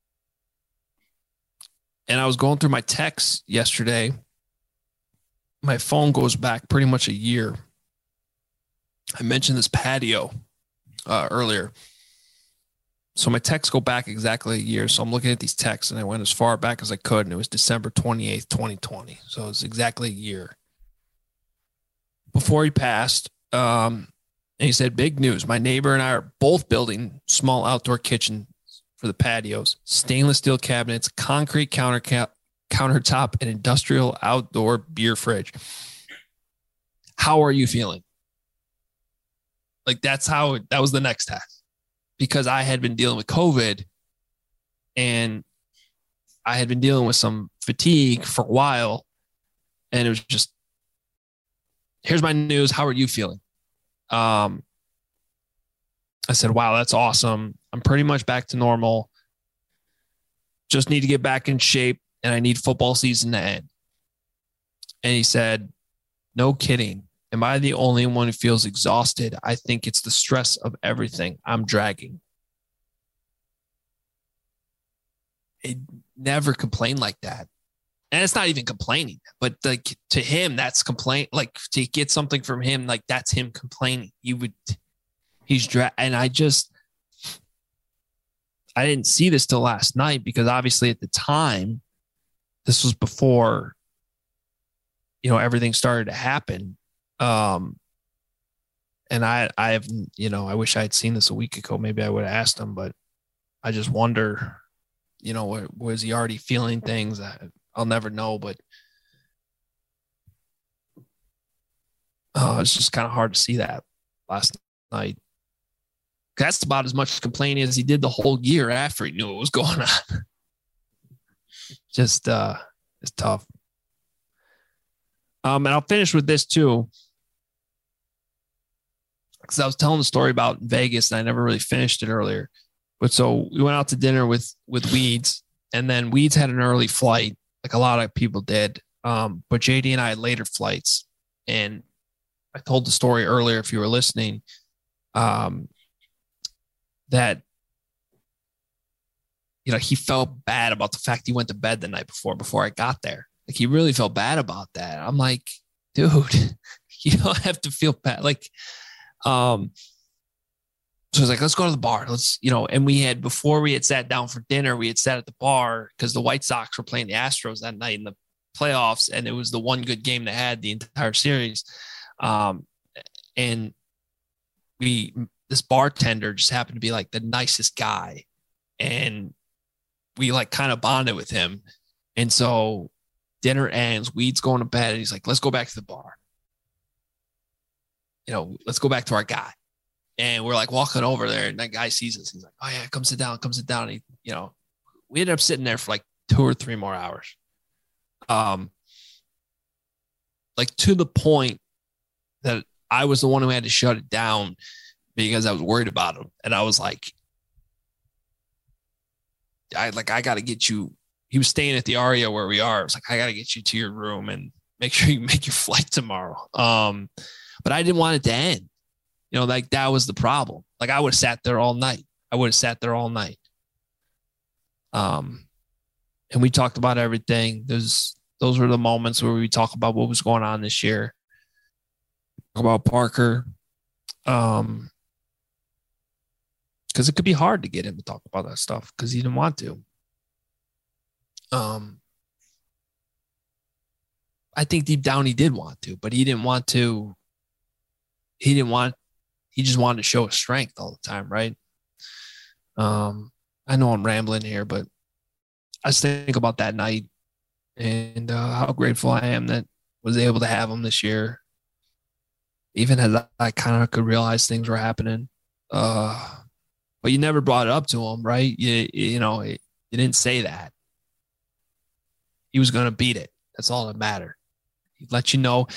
And I was going through my texts yesterday. My phone goes back pretty much a year. I mentioned this patio uh, earlier. So my texts go back exactly a year. So I'm looking at these texts and I went as far back as I could. And it was December twenty-eighth, twenty twenty. So it's exactly a year. Before he passed, um, and he said, big news. My neighbor and I are both building small outdoor kitchen for the patios, stainless steel cabinets, concrete counter cap, countertop, and industrial outdoor beer fridge. How are you feeling? Like that's how, that was the next task because I had been dealing with COVID and I had been dealing with some fatigue for a while. And it was just, here's my news. How are you feeling? Um, I said, wow, that's awesome. I'm pretty much back to normal. Just need to get back in shape and I need football season to end. And he said, no kidding. Am I the only one who feels exhausted? I think it's the stress of everything I'm dragging. It never complained like that. And it's not even complaining, but like to him, that's complaint. Like to get something from him, like that's him complaining. You would, he's dra- and I just, I didn't see this till last night because obviously at the time, this was before, you know, everything started to happen. Um, and I, I have, you know, I wish I had seen this a week ago. Maybe I would have asked him, but I just wonder, you know, was he already feeling things? I, I'll never know, but oh, it's just kind of hard to see that last night. That's about as much complaining as he did the whole year after he knew what was going on. Just, uh, it's tough. Um, and I'll finish with this too. Because I was telling the story about Vegas and I never really finished it earlier. But so we went out to dinner with, with Weeds and then Weeds had an early flight, like a lot of people did. Um, but J D and I had later flights. And I told the story earlier, if you were listening, um, that, you know, he felt bad about the fact he went to bed the night before, before I got there. Like he really felt bad about that. I'm like, dude, you don't have to feel bad. Like, um, So he's like, let's go to the bar. Let's, you know, and we had, before we had sat down for dinner, we had sat at the bar because the White Sox were playing the Astros that night in the playoffs. And it was the one good game they had the entire series. Um, and we, this bartender just happened to be like the nicest guy. And we like kind of bonded with him. And so dinner ends, Weed's going to bed, and he's like, let's go back to the bar. You know, let's go back to our guy. And we're like walking over there, and that guy sees us. He's like, oh yeah, come sit down, come sit down. And he, you know, we ended up sitting there for like two or three more hours. Um, like to the point that I was the one who had to shut it down because I was worried about him. And I was like, I like, I got to get you. He was staying at the Aria where we are. I was like, I got to get you to your room and make sure you make your flight tomorrow. Um, but I didn't want it to end. You know, like that was the problem. Like I would have sat there all night. I would have sat there all night. Um, and we talked about everything. Those those were the moments where we talk about what was going on this year. About Parker. Um, because it could be hard to get him to talk about that stuff because he didn't want to. Um, I think deep down he did want to, but he didn't want to. He didn't want. He just wanted to show his strength all the time, right? Um, I know I'm rambling here, but I just think about that night and uh, how grateful I am that was able to have him this year. Even as I, I kind of could realize things were happening. Uh, but you never brought it up to him, right? You, you know, it, you didn't say that. He was going to beat it. That's all that mattered. He'd let you know.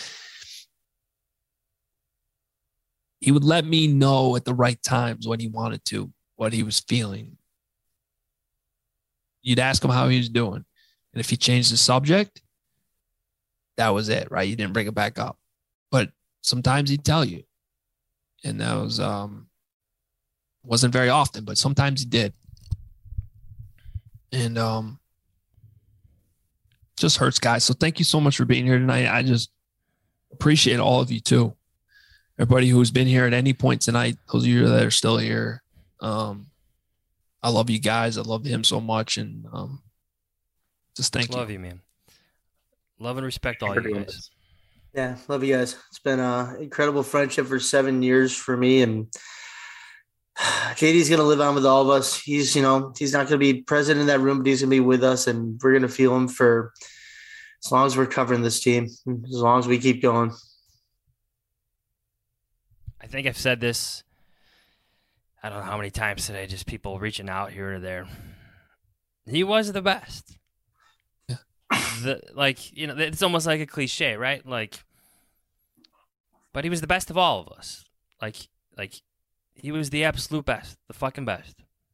He would let me know at the right times when he wanted to, what he was feeling. You'd ask him how he was doing. And if he changed the subject, that was it, right? You didn't bring it back up. But sometimes he'd tell you. And that was, um, wasn't very often, but sometimes he did. And um, just hurts, guys. So thank you so much for being here tonight. I just appreciate all of you too. Everybody who's been here at any point tonight, those of you that are still here. Um, I love you guys. I love him so much. And um, just thank love you. Love you, man. Love and respect all you guys. Yeah, love you guys. It's been an incredible friendship for seven years for me. And J D's going to live on with all of us. He's, you know, he's not going to be present in that room, but he's going to be with us. And we're going to feel him for as long as we're covering this team, as long as we keep going. I think I've said this, I don't know how many times today, just people reaching out here or there. He was the best. Yeah. The, like, you know, it's almost like a cliche, right? Like, but he was the best of all of us. Like, like he was the absolute best, the fucking best.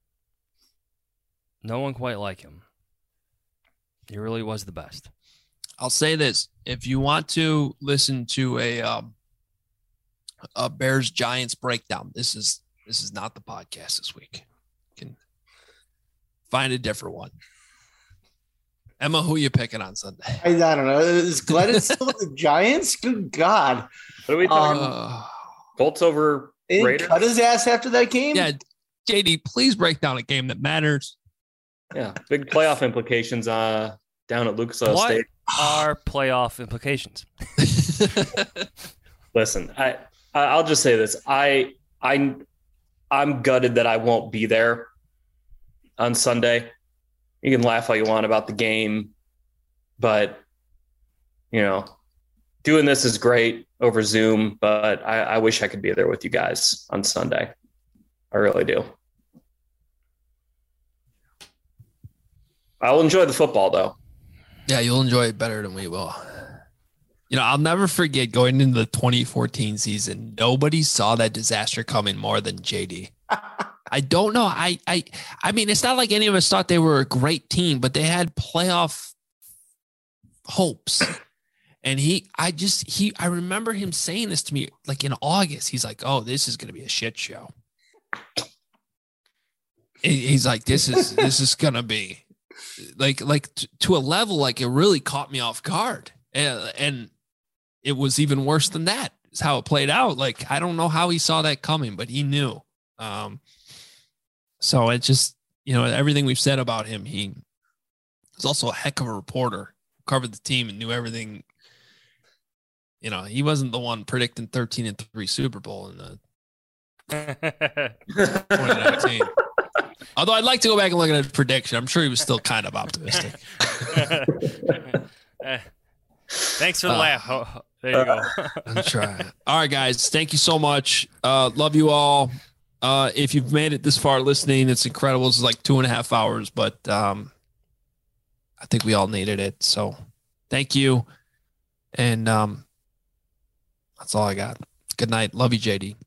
No one quite like him. He really was the best. I'll say this. If you want to listen to a, um, a Bears Giants breakdown, this is this is not the podcast this week. You can find a different one. Emma, who are you picking on Sunday? I, I don't know. Is Glennon still with the Giants? Good God! What are we talking um, about? Colts over Raiders? Cut his ass after that game. Yeah, J D, please break down a game that matters. Yeah, big playoff implications. Uh, down at Lucas Oil what State. are playoff implications? Listen, I. I'll just say this. I, I, I'm gutted that I won't be there on Sunday. You can laugh all you want about the game, but, you know, doing this is great over Zoom, but I, I wish I could be there with you guys on Sunday. I really do. I'll enjoy the football, though. Yeah, you'll enjoy it better than we will. You know, I'll never forget going into the twenty fourteen season. Nobody saw that disaster coming more than J D. I don't know. I, I, I mean, it's not like any of us thought they were a great team, but they had playoff hopes. And he, I just, he, I remember him saying this to me like in August. He's like, "Oh, this is going to be a shit show." He's like, "This is, this is going to be like, like t- to a level like it really caught me off guard." And, and it was even worse than that. Is how it played out. Like, I don't know how he saw that coming, but he knew. Um, so it just, you know, everything we've said about him, he was also a heck of a reporter, covered the team and knew everything. You know, he wasn't the one predicting thirteen and three Super Bowl in the twenty nineteen. Although I'd like to go back and look at his prediction. I'm sure he was still kind of optimistic. Thanks for the Uh, laugh. Oh, there you go. I'm trying. All right, guys. Thank you so much. Uh, love you all. Uh, if you've made it this far listening, it's incredible. This is like two and a half hours, but um, I think we all needed it. So thank you. And um, that's all I got. Good night. Love you, J D.